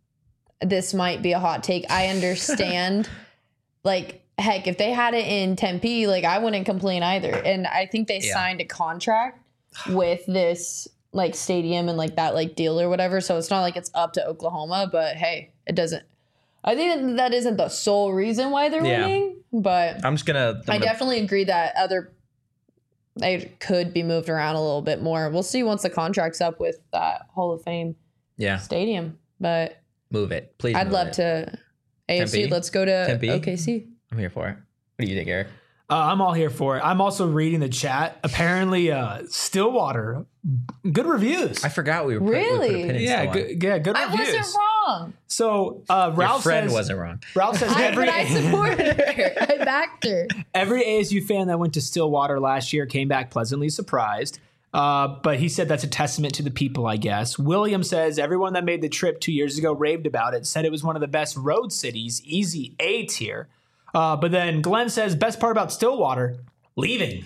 Speaker 3: this might be a hot take. I understand, like, heck, if they had it in Tempe, like, I wouldn't complain either. And I think they
Speaker 1: Yeah.
Speaker 3: signed a contract with this, like, stadium and, like, that, like, deal or whatever. So it's not like it's up to Oklahoma, but hey, it doesn't. I think that isn't the sole reason why they're
Speaker 1: Yeah.
Speaker 3: winning, but
Speaker 1: I'm just gonna. I'm
Speaker 3: I
Speaker 1: gonna-
Speaker 3: definitely agree that other they could be moved around a little bit more. We'll see once the contract's up with that Hall of Fame
Speaker 1: yeah,
Speaker 3: stadium. But
Speaker 1: move it, please.
Speaker 3: I'd
Speaker 1: move
Speaker 3: love
Speaker 1: it.
Speaker 3: to A F C.
Speaker 1: Tempe?
Speaker 3: Let's go to
Speaker 1: Tempe?
Speaker 3: O K C.
Speaker 1: I'm here for it. What do you think, Eric?
Speaker 2: Uh, I'm all here for it. I'm also reading the chat. Apparently, uh, Stillwater, good reviews.
Speaker 1: I forgot we were. Put, we put a
Speaker 3: Really?
Speaker 1: pin in
Speaker 2: yeah,
Speaker 1: Stillwater.
Speaker 2: good, yeah, good
Speaker 3: I
Speaker 2: reviews.
Speaker 3: wasn't wrong.
Speaker 2: So uh,
Speaker 1: Your
Speaker 2: Ralph
Speaker 1: friend
Speaker 2: says,
Speaker 1: wasn't wrong.
Speaker 2: Ralph says
Speaker 3: I,
Speaker 2: every
Speaker 3: but I supported her. I backed her.
Speaker 2: every A S U fan that went to Stillwater last year came back pleasantly surprised. Uh, but he said that's a testament to the people, I guess. William says everyone that made the trip two years ago raved about it, said it was one of the best road cities, easy A tier. Uh, but then Glenn says best part about Stillwater, leaving.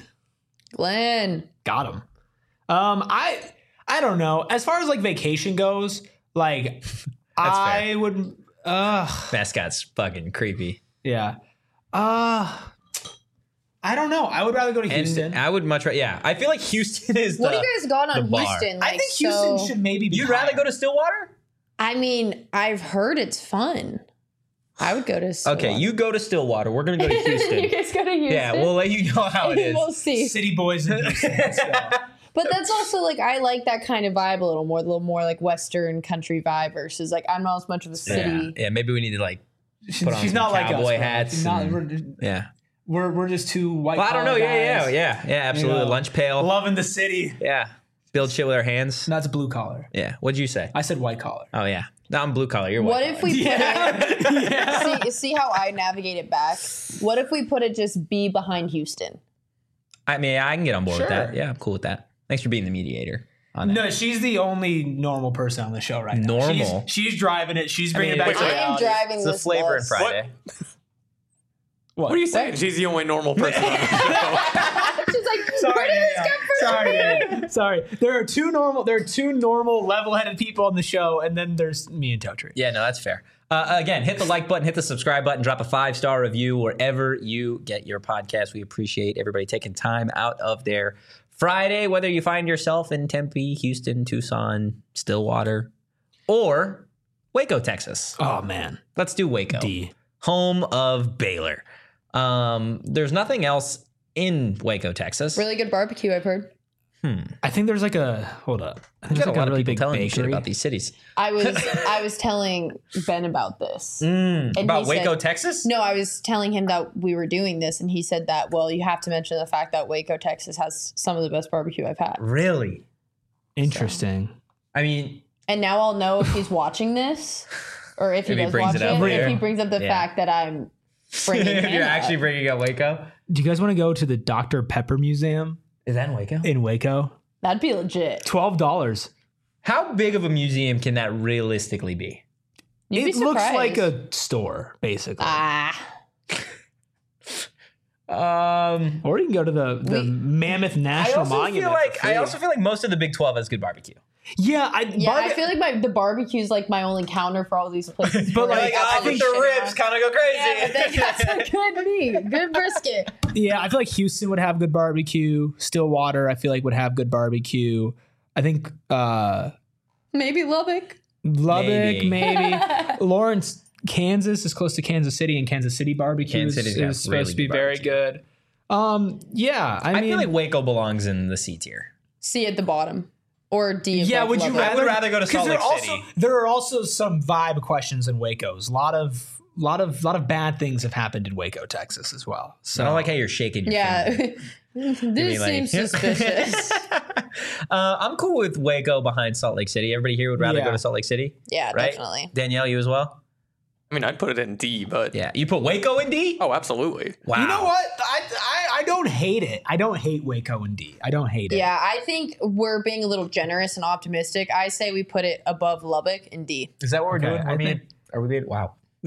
Speaker 3: Glenn.
Speaker 2: Got him. Um, I I don't know. As far as like vacation goes, like I
Speaker 1: fair.
Speaker 2: would. Uh,
Speaker 1: Mascot's fucking creepy.
Speaker 2: yeah. Uh, I don't know. I would rather go to Houston.
Speaker 1: And I would much rather. Yeah, I feel like Houston is.
Speaker 3: What
Speaker 1: the,
Speaker 3: do you guys got on
Speaker 1: the bar.
Speaker 3: Houston?
Speaker 2: I
Speaker 3: Like,
Speaker 2: think Houston
Speaker 3: so-
Speaker 2: should maybe be.
Speaker 1: You'd rather
Speaker 2: higher.
Speaker 1: go to Stillwater?
Speaker 3: I mean, I've heard it's fun. I would go to Stillwater.
Speaker 1: Okay, you go to Stillwater. We're gonna go to
Speaker 3: you
Speaker 1: Houston.
Speaker 3: guys go to Houston?
Speaker 1: Yeah, we'll let you know how it is.
Speaker 3: We'll see.
Speaker 2: City boys in Houston. Let's go.
Speaker 3: But that's also like I like that kind of vibe a little more, a little more like Western country vibe versus like I'm not as much of a
Speaker 1: Yeah.
Speaker 3: city.
Speaker 1: yeah, maybe we need to like.
Speaker 2: She's,
Speaker 1: Put on
Speaker 2: she's
Speaker 1: some
Speaker 2: not like us.
Speaker 1: cowboy
Speaker 2: bro.
Speaker 1: hats
Speaker 2: She's not-
Speaker 1: and-
Speaker 2: we're, just,
Speaker 1: Yeah.
Speaker 2: we're we're just two white.
Speaker 1: Well, I don't know.
Speaker 2: collar
Speaker 1: Yeah,
Speaker 2: guys,
Speaker 1: yeah, yeah, yeah. Absolutely.
Speaker 2: you know,
Speaker 1: Lunch pail.
Speaker 2: loving the city.
Speaker 1: Yeah. Build shit with our hands.
Speaker 2: That's blue collar.
Speaker 1: Yeah. What'd you say?
Speaker 2: I said white collar.
Speaker 1: Oh yeah. No, I'm blue collar. You're
Speaker 3: What
Speaker 1: white
Speaker 3: if
Speaker 1: collar.
Speaker 3: we put it
Speaker 2: yeah.
Speaker 3: see, see how I navigate it back? What if we put it just be behind Houston?
Speaker 1: I mean, I can get on board with
Speaker 2: Sure.
Speaker 1: that. Yeah, I'm cool with that. Thanks for being the mediator on that.
Speaker 2: No, she's the only normal person on the show right now.
Speaker 1: Normal?
Speaker 2: She's, she's driving it. She's
Speaker 1: I
Speaker 2: bringing
Speaker 1: mean,
Speaker 2: it back
Speaker 1: wait,
Speaker 2: to
Speaker 1: wait.
Speaker 3: I am
Speaker 2: reality.
Speaker 3: driving
Speaker 1: It's the
Speaker 3: this
Speaker 1: flavor in
Speaker 3: bus.
Speaker 1: Friday.
Speaker 2: What?
Speaker 4: What are you saying? She's the only normal person on the show.
Speaker 3: She's like,
Speaker 2: Sorry,
Speaker 3: where did this
Speaker 2: yeah,
Speaker 3: come from?
Speaker 2: sorry, yeah. sorry. There are two normal. There are two normal, level-headed people on the show, and then there's me and Totri.
Speaker 1: Yeah, no, that's fair. Uh, again, hit the like button, hit the subscribe button, drop a five-star review wherever you get your podcast. We appreciate everybody taking time out of their Friday, whether you find yourself in Tempe, Houston, Tucson, Stillwater, or Waco, Texas.
Speaker 2: Oh man,
Speaker 1: Let's do Waco.
Speaker 2: D.
Speaker 1: Home of Baylor. Um, there's nothing else in Waco, Texas.
Speaker 3: Really good barbecue, I've heard.
Speaker 2: I think there's like a hold up. I think
Speaker 1: There's
Speaker 2: there's
Speaker 1: a
Speaker 2: like
Speaker 1: lot
Speaker 2: a
Speaker 1: of
Speaker 2: really
Speaker 1: people
Speaker 2: big
Speaker 1: telling me shit
Speaker 2: bakery.
Speaker 1: about these cities.
Speaker 3: I was I was telling Ben about this.
Speaker 1: Mm,
Speaker 3: And
Speaker 1: about
Speaker 3: he
Speaker 1: Waco,
Speaker 3: said-
Speaker 1: Texas?
Speaker 3: No, I was telling him that we were doing this, and he said that, well, you have to mention the fact that Waco, Texas has some of the best barbecue I've had.
Speaker 1: Really?
Speaker 2: Interesting.
Speaker 1: I mean,
Speaker 3: And now I'll know if he's watching this or if he
Speaker 1: If he
Speaker 3: does
Speaker 1: brings
Speaker 3: watch
Speaker 1: it
Speaker 3: it,
Speaker 1: up
Speaker 3: if
Speaker 1: there.
Speaker 3: he brings up the
Speaker 1: Yeah.
Speaker 3: fact that I'm bringing him
Speaker 1: you're
Speaker 3: up.
Speaker 1: actually bringing up Waco?
Speaker 2: Do you guys want to go to the Doctor Pepper Museum
Speaker 1: Is that in Waco?
Speaker 2: in Waco?
Speaker 3: That'd be legit.
Speaker 2: Twelve dollars.
Speaker 1: How big of a museum can that realistically be?
Speaker 3: You'd
Speaker 2: It
Speaker 3: be
Speaker 2: looks
Speaker 3: surprised.
Speaker 2: like a store, basically.
Speaker 3: Ah.
Speaker 1: Um,
Speaker 2: or you can go to the, the
Speaker 3: We-
Speaker 2: Mammoth
Speaker 1: I
Speaker 2: National
Speaker 1: also
Speaker 2: Monument.
Speaker 1: feel like
Speaker 2: for
Speaker 1: I
Speaker 2: food.
Speaker 1: also feel like most of the Big twelve has good barbecue.
Speaker 2: yeah, I
Speaker 3: Yeah,
Speaker 2: barbe-
Speaker 3: I feel like my the barbecue's like my only counter for all these places.
Speaker 2: But,
Speaker 3: where
Speaker 2: like,
Speaker 3: got
Speaker 2: I
Speaker 3: all
Speaker 2: think
Speaker 3: this
Speaker 1: the
Speaker 3: shit
Speaker 1: ribs
Speaker 3: on.
Speaker 1: kind of go crazy.
Speaker 3: Yeah, but they got some good meat, good brisket.
Speaker 2: yeah, I feel like Houston would have good barbecue. Stillwater, I feel like would have good barbecue. I think uh,
Speaker 3: Maybe Lubbock.
Speaker 2: Lubbock,
Speaker 1: Maybe.
Speaker 2: maybe. Lawrence, Kansas is close to Kansas City, and Kansas City barbecue
Speaker 1: Kansas
Speaker 2: is,
Speaker 1: City's got
Speaker 2: is supposed
Speaker 1: really
Speaker 2: to be
Speaker 1: good
Speaker 2: very
Speaker 1: barbecue.
Speaker 2: good. Um, yeah, I,
Speaker 1: I,
Speaker 2: mean,
Speaker 1: feel like Waco belongs in the C tier.
Speaker 3: C at the bottom. Or D above
Speaker 2: yeah. Would you
Speaker 3: Lubbock.
Speaker 1: I would rather go to
Speaker 2: 'cause
Speaker 1: Salt
Speaker 2: there
Speaker 1: Lake
Speaker 2: are also-
Speaker 1: City.
Speaker 2: There are also some vibe questions in Waco's. A lot of, lot of, lot of bad things have happened in Waco, Texas, as well. So
Speaker 1: I don't like how you're shaking your finger.
Speaker 3: Yeah. this
Speaker 1: mean, like-
Speaker 3: seems suspicious.
Speaker 1: uh, I'm cool with Waco behind Salt Lake City. Everybody here would rather
Speaker 2: Yeah.
Speaker 1: go to Salt Lake City,
Speaker 3: Yeah,
Speaker 1: right?
Speaker 3: definitely.
Speaker 1: Danielle, you as well?
Speaker 4: I mean, I'd put it in D, but
Speaker 1: Yeah. You put Waco in D?
Speaker 4: oh, absolutely.
Speaker 1: Wow.
Speaker 2: You know what? I, I I don't hate it. I don't hate Waco and D. I don't hate it.
Speaker 3: Yeah, I think we're being a little generous and optimistic. I say we put it above Lubbock in D.
Speaker 1: Is that what we're
Speaker 2: Okay,
Speaker 1: doing?
Speaker 2: I
Speaker 1: with
Speaker 2: mean-
Speaker 1: it? Are we being, wow.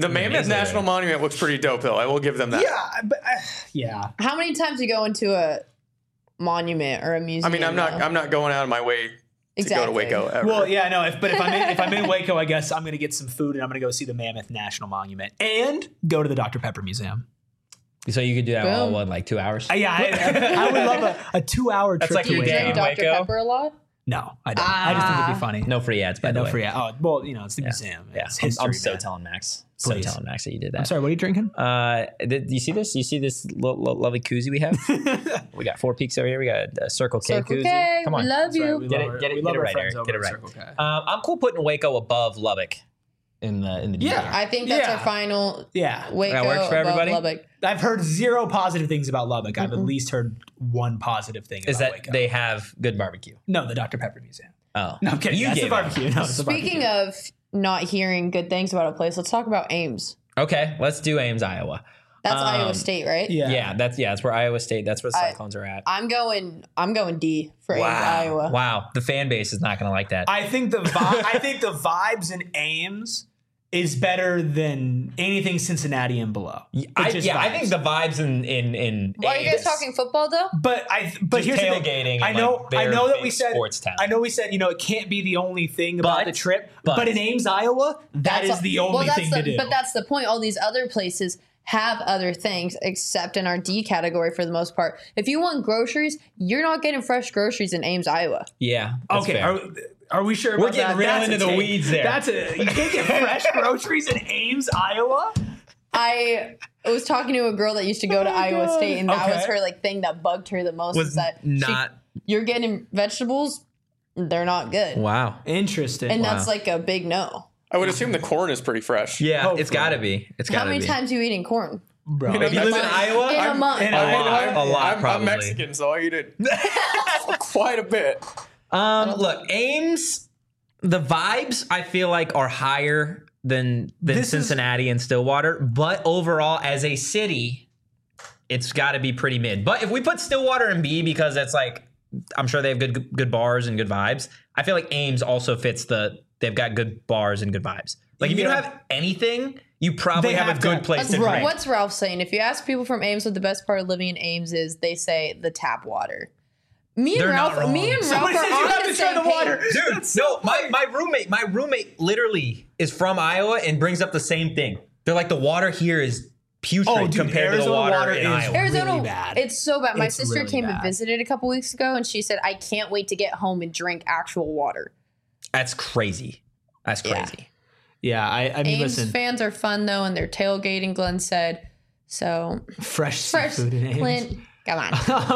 Speaker 4: The Mammoth National Monument looks pretty dope, though. I will give them that.
Speaker 2: Yeah, but uh, yeah.
Speaker 3: How many times do you go into a monument or a museum?
Speaker 4: I mean, I'm not.
Speaker 3: though?
Speaker 4: I'm not going out of my way to
Speaker 3: Exactly.
Speaker 4: go to Waco ever.
Speaker 2: Well, yeah, no. If, but if I'm in, if I'm in Waco, I guess I'm gonna get some food and I'm gonna go see the Mammoth National Monument and go to the Doctor Pepper Museum.
Speaker 1: So you could do that all
Speaker 3: Boom.
Speaker 1: in like two hours?
Speaker 2: Uh, yeah, I, I would love a, a two-hour trip.
Speaker 1: like
Speaker 2: to
Speaker 1: your
Speaker 3: Do you
Speaker 1: day
Speaker 2: Waco.
Speaker 1: in
Speaker 3: drink Doctor
Speaker 1: Waco?
Speaker 3: Pepper a lot?
Speaker 2: No, I don't. I just think it'd be funny.
Speaker 1: No free ads, by
Speaker 2: yeah,
Speaker 1: the
Speaker 2: no
Speaker 1: way.
Speaker 2: free. Oh, well, you know, it's the museum.
Speaker 1: Yeah,
Speaker 2: It's
Speaker 1: I'm,
Speaker 2: history,
Speaker 1: I'm so
Speaker 2: man.
Speaker 1: telling Max.
Speaker 2: Please.
Speaker 1: So telling Max that you did that.
Speaker 2: I'm sorry. What are you drinking?
Speaker 1: Uh, th- do you see this? You see this lo- lo- lovely koozie we have? We got four peaks over here. We got a Circle K
Speaker 3: Circle
Speaker 1: koozie.
Speaker 3: K,
Speaker 1: Come on.
Speaker 3: we love you.
Speaker 2: We
Speaker 1: Get
Speaker 2: love
Speaker 1: it-
Speaker 2: our-
Speaker 1: get it-
Speaker 2: we
Speaker 1: get
Speaker 2: love
Speaker 1: it
Speaker 2: our
Speaker 1: right,
Speaker 2: friends
Speaker 1: Eric.
Speaker 2: over
Speaker 1: Get it
Speaker 2: at
Speaker 1: right.
Speaker 2: Circle K.
Speaker 1: Um, I'm cool putting Waco above Lubbock in the in the D M.
Speaker 2: Yeah.
Speaker 3: I think that's
Speaker 2: Yeah.
Speaker 3: our final
Speaker 2: Yeah,
Speaker 3: Waco
Speaker 1: That works for
Speaker 3: above
Speaker 1: everybody?
Speaker 3: Lubbock.
Speaker 2: I've heard zero positive things about Lubbock. I've at least heard one positive thing.
Speaker 1: Is
Speaker 2: about
Speaker 1: that
Speaker 2: Waco.
Speaker 1: they have good barbecue?
Speaker 2: No, the Doctor Pepper Museum.
Speaker 1: Oh,
Speaker 2: No, I'm kidding.
Speaker 1: You
Speaker 2: That's the
Speaker 1: gave it.
Speaker 2: barbecue. No, it's the
Speaker 3: Speaking
Speaker 2: barbecue.
Speaker 3: of not hearing good things about a place, let's talk about Ames.
Speaker 1: Okay, let's do Ames, Iowa.
Speaker 3: That's
Speaker 1: Um,
Speaker 3: Iowa State, right?
Speaker 2: yeah,
Speaker 1: Yeah, that's yeah, that's where Iowa State. That's where the
Speaker 3: I-
Speaker 1: Cyclones are at.
Speaker 3: I'm going. I'm going D for Ames,
Speaker 1: Wow,
Speaker 3: Iowa.
Speaker 1: wow, the fan base is not going to like that.
Speaker 2: I think the vi- I think the vibes in Ames is better than anything Cincinnati and below. It's
Speaker 1: I,
Speaker 2: just
Speaker 1: yeah, I
Speaker 2: vibes.
Speaker 1: think the vibes in in in.
Speaker 3: Why are you guys
Speaker 1: Ames-
Speaker 3: talking football though?
Speaker 2: But I but
Speaker 1: Just
Speaker 2: here's the
Speaker 1: tailgating
Speaker 2: thing.
Speaker 1: and,
Speaker 2: I know
Speaker 1: like,
Speaker 2: I
Speaker 1: their
Speaker 2: know that
Speaker 1: big
Speaker 2: we said
Speaker 1: sports town.
Speaker 2: I know we said you know it can't be the only thing about
Speaker 1: But-
Speaker 2: the trip.
Speaker 1: but-
Speaker 2: But, in Ames, Iowa, that is
Speaker 3: a-
Speaker 2: the
Speaker 3: well,
Speaker 2: only
Speaker 3: that's
Speaker 2: thing
Speaker 3: the,
Speaker 2: to do.
Speaker 3: But that's the point. All these other places have other things except in our D category for the most part. If you want groceries, you're not getting fresh groceries in Ames, Iowa.
Speaker 1: Yeah. that's
Speaker 2: okay.
Speaker 1: fair.
Speaker 2: Are, are we sure?
Speaker 1: We're
Speaker 2: about
Speaker 1: getting
Speaker 2: that?
Speaker 1: real
Speaker 2: That's a
Speaker 1: into the
Speaker 2: take.
Speaker 1: weeds there.
Speaker 2: That's a you can't get fresh groceries in Ames, Iowa.
Speaker 3: I was talking to a girl that used to go to
Speaker 2: Oh my
Speaker 3: Iowa
Speaker 2: God.
Speaker 3: State, and that was
Speaker 2: Okay.
Speaker 3: her like thing that bugged her the most.
Speaker 1: Was
Speaker 3: is that she-
Speaker 1: not-
Speaker 3: you're getting vegetables, they're not good,
Speaker 1: Wow.
Speaker 2: Interesting.
Speaker 3: and
Speaker 1: Wow.
Speaker 3: that's like a big no.
Speaker 4: I would assume the corn is pretty fresh.
Speaker 1: Yeah,
Speaker 2: Hopefully.
Speaker 1: it's got to be. It's got
Speaker 3: How
Speaker 1: to be.
Speaker 3: many times are you eating corn?
Speaker 2: bro.
Speaker 4: You know,
Speaker 1: If you live in
Speaker 4: That's-
Speaker 1: Iowa,
Speaker 3: In a
Speaker 4: I'm-
Speaker 3: month.
Speaker 2: in
Speaker 1: a
Speaker 2: Iowa,
Speaker 1: lot, a lot,
Speaker 4: I'm,
Speaker 1: probably.
Speaker 4: I'm Mexican, so I eat it quite a bit.
Speaker 1: Um, look, Ames, the vibes I feel like are higher than than
Speaker 2: This is-
Speaker 1: Cincinnati and Stillwater, but overall as a city, it's got to be pretty mid. But if we put Stillwater in B because that's like, I'm sure they have good good bars and good vibes. I feel like Ames also fits the they've got good bars and good vibes. Like if you don't
Speaker 2: Yeah.
Speaker 1: have anything, you probably
Speaker 2: They
Speaker 1: have,
Speaker 2: have
Speaker 1: a good
Speaker 2: to-
Speaker 1: place
Speaker 3: That's
Speaker 1: to drink.
Speaker 3: What's Ralph saying? If you ask people from Ames what the best part of living in Ames is, they say the tap water. Me and
Speaker 1: They're not
Speaker 3: Ralph, me
Speaker 1: wrong.
Speaker 3: and Ralph
Speaker 2: Somebody
Speaker 3: are
Speaker 2: says you
Speaker 3: on
Speaker 2: have
Speaker 3: the
Speaker 2: to try
Speaker 3: same
Speaker 2: the water.
Speaker 3: page.
Speaker 1: Dude, no, my, my roommate, my roommate literally is from Iowa and brings up the same thing. They're like, the water here is putrid
Speaker 2: Oh, dude,
Speaker 1: compared to the
Speaker 2: Arizona
Speaker 1: water,
Speaker 2: water
Speaker 1: in
Speaker 2: is-
Speaker 1: Iowa.
Speaker 3: Arizona,
Speaker 2: really bad.
Speaker 3: it's so bad. My
Speaker 2: It's
Speaker 3: sister
Speaker 2: really
Speaker 3: came
Speaker 2: bad.
Speaker 3: and visited a couple weeks ago, and she said, "I can't wait to get home and drink actual water."
Speaker 1: That's crazy. That's
Speaker 3: Yeah.
Speaker 1: crazy.
Speaker 2: Yeah, I, I mean,
Speaker 3: Ames
Speaker 2: listen,
Speaker 3: fans are fun though, and they're tailgating. Glenn said, "So
Speaker 2: fresh,
Speaker 3: fresh,
Speaker 2: seafood in Ames.
Speaker 3: Clint, come on."